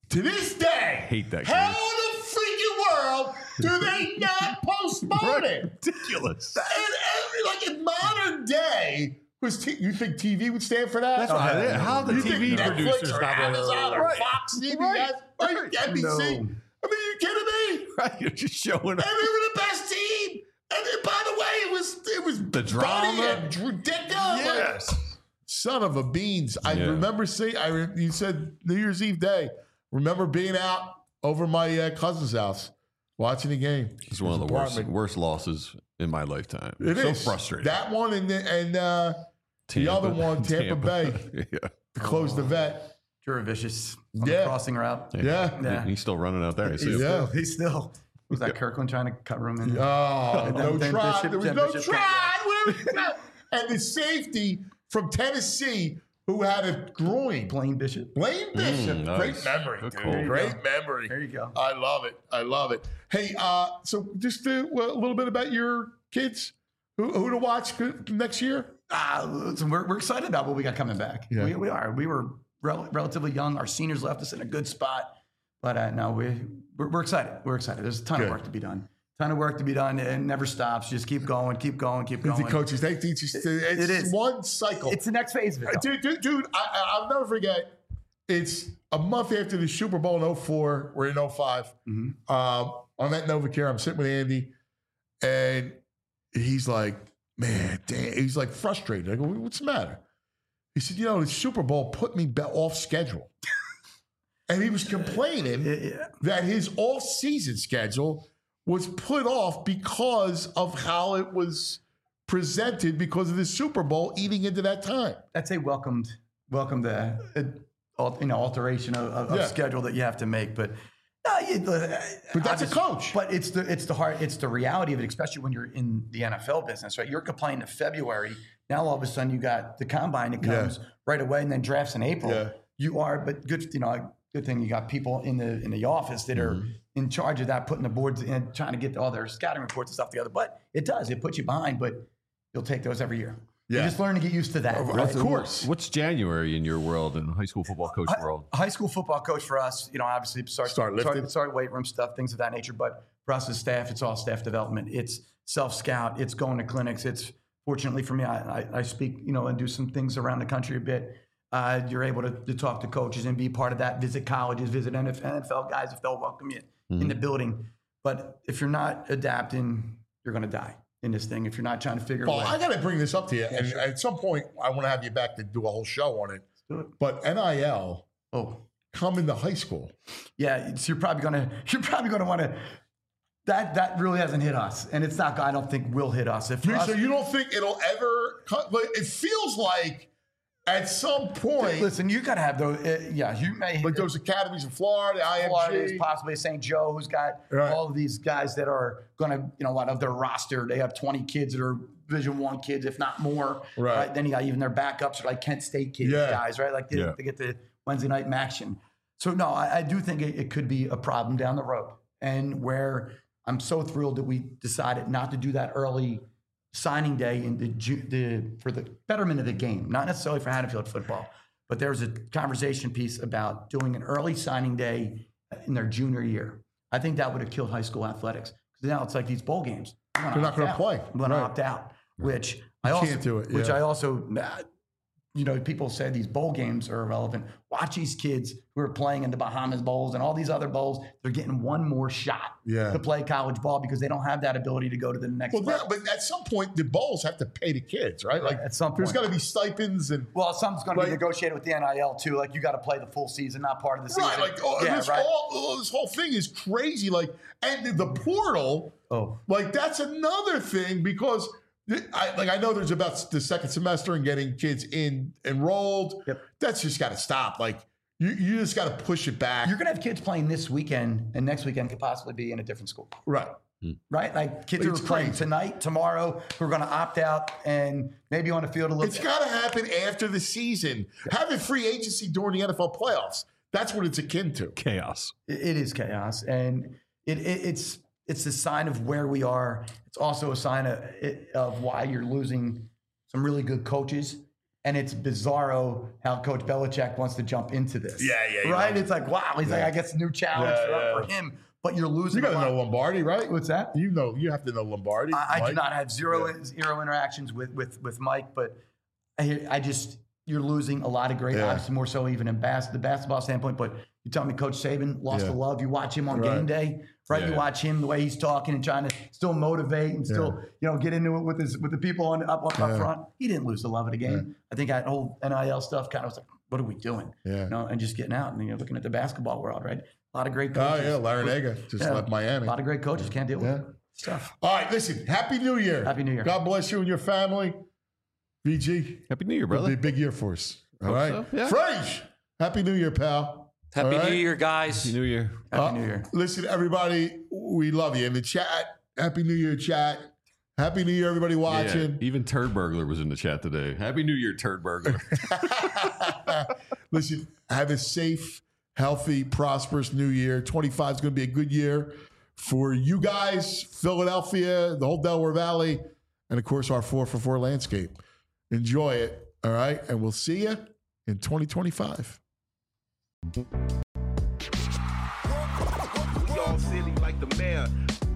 To this day, hate that how game. in the freaking world do they not postpone it? Ridiculous. And in modern day, you think TV would stand for that? That's right. How the TV producers or Amazon or Fox, CBS, NBC? No. I mean, are you kidding me? Right, you're just showing up. And they were the best team. And then, by the way, it was the drama and ridiculous. Yes. Like, son of a beans. I remember seeing. You said New Year's Eve day. Remember being out over my cousin's house watching the game. It's one of the worst losses in my lifetime. It so is frustrating. That one and the other one, Tampa Bay, to close the vet. Jura Vicious on the crossing route. Yeah. He's still running out there. He's still. Was that Kirkland trying to cover him in? Oh, no try. There was no try. And the safety from Tennessee who had a groin. Blaine Bishop. Nice. Great memory, dude. Cool. Great memory. There you go. I love it. Hey, so just a little bit about your kids. Who to watch next year? We're excited about what we got coming back. Yeah. We are. We were relatively young. Our seniors left us in a good spot. But no, we're excited. We're excited. There's a ton of work to be done. And it never stops. Just keep going. The coaches, they teach us. It is one cycle. It's the next phase of it. Dude, I'll never forget. It's a month after the Super Bowl in 2004. We're in 2005. Mm-hmm. I'm at NovaCare. I'm sitting with Andy, and he's like, man, damn. He's like frustrated. I go, what's the matter? He said, the Super Bowl put me off schedule. And he was complaining that his off-season schedule was put off because of how it was presented because of the Super Bowl eating into that time. That's a welcomed alteration of schedule that you have to make. But that's a coach. But it's the reality of it, especially when you're in the NFL business, right? You're complaining in February. Now all of a sudden you got the combine that comes right away, and then drafts in April. Yeah. You are, but good thing you got people in the office that are in charge of that, putting the boards and trying to get all their scouting reports and stuff together. But it puts you behind, but you'll take those every year. Yeah. You just learn to get used to that. Of course. What's January in your world, in high school football coach world? High school football coach for us, obviously start weight room stuff, things of that nature. But for us as staff, it's all staff development. It's self-scout. It's going to clinics. It's fortunately for me, I speak, and do some things around the country a bit. You're able to talk to coaches and be part of that, visit colleges, visit NFL guys if they'll welcome you in the building. But if you're not adapting, you're going to die in this thing if you're not trying to figure it out. I got to bring this up to you. And at some point, I want to have you back to do a whole show on it. Let's do it. But NIL come into high school. Yeah, so you're probably going to want to. That really hasn't hit us, and it's not. I don't think will hit us. So you don't think it'll ever? It feels like. At some point, listen, you got to have those. You may like those academies in Florida, IMG, possibly St. Joe, who's got all of these guys that are going to, out of their roster, they have 20 kids that are Division I kids, if not more. Right. Then you got even their backups are like Kent State kids, guys, right? Like they get the Wednesday night action. So no, I do think it could be a problem down the road, and where I'm so thrilled that we decided not to do that early signing day in for the betterment of the game, not necessarily for Haddonfield football, but there was a conversation piece about doing an early signing day in their junior year. I think that would have killed high school athletics because now it's like these bowl games. They're not going to play. I'm going to opt out, which I also people say these bowl games are irrelevant. Watch these kids who are playing in the Bahamas Bowls and all these other bowls. They're getting one more shot to play college ball because they don't have that ability to go to the next level. But at some point, the bowls have to pay the kids, right? Like at some point. There's got to be stipends. Something's going to be negotiated with the NIL too. Like you got to play the full season, not part of the season. Right, this whole thing is crazy. Like, and the portal, that's another thing because I know there's about the second semester and getting kids enrolled. Yep. That's just got to stop. Like you just got to push it back. You're going to have kids playing this weekend, and next weekend could possibly be in a different school. Right. Right? Like kids who are playing tonight, tomorrow, who are going to opt out and maybe on the field a little bit. It's got to happen after the season. Having free agency during the NFL playoffs, that's what it's akin to. Chaos. It is chaos. And it's a sign of where we are. It's also a sign of why you're losing some really good coaches And it's bizarro how Coach Belichick wants to jump into this. Yeah. Right? It's like, wow. He's like, I guess a new challenge for him. But you're losing. You got to know Lombardi, right? What's that? You have to know Lombardi. I do not have zero interactions with Mike, but you're losing a lot of great, obviously more so even in the basketball standpoint. But you tell me Coach Saban lost the love. You watch him on game day, right? You watch him, the way he's talking and trying to still motivate and still, get into it with the people up front. He didn't lose the love of the game. I think that whole NIL stuff kind of was like, what are we doing? And just getting out and looking at the basketball world, right? A lot of great coaches. Oh, yeah, Larinaga just left Miami. A lot of great coaches can't deal with stuff. All right, listen, Happy New Year. Happy New Year. God bless you and your family. VG. Happy New Year, brother. It'll be a big year for us. All right. So, yeah. Frage, Happy New Year, pal. Happy New Year, guys. Happy New Year. Happy New Year. Listen, everybody, we love you. In the chat, Happy New Year, chat. Happy New Year, everybody watching. Yeah, even Turd Burglar was in the chat today. Happy New Year, Turd Burglar. Listen, have a safe, healthy, prosperous new year. 25 is going to be a good year for you guys, Philadelphia, the whole Delaware Valley, and of course our 4for4 landscape. Enjoy it, all right? And we'll see you in 2025. We all silly like the mayor.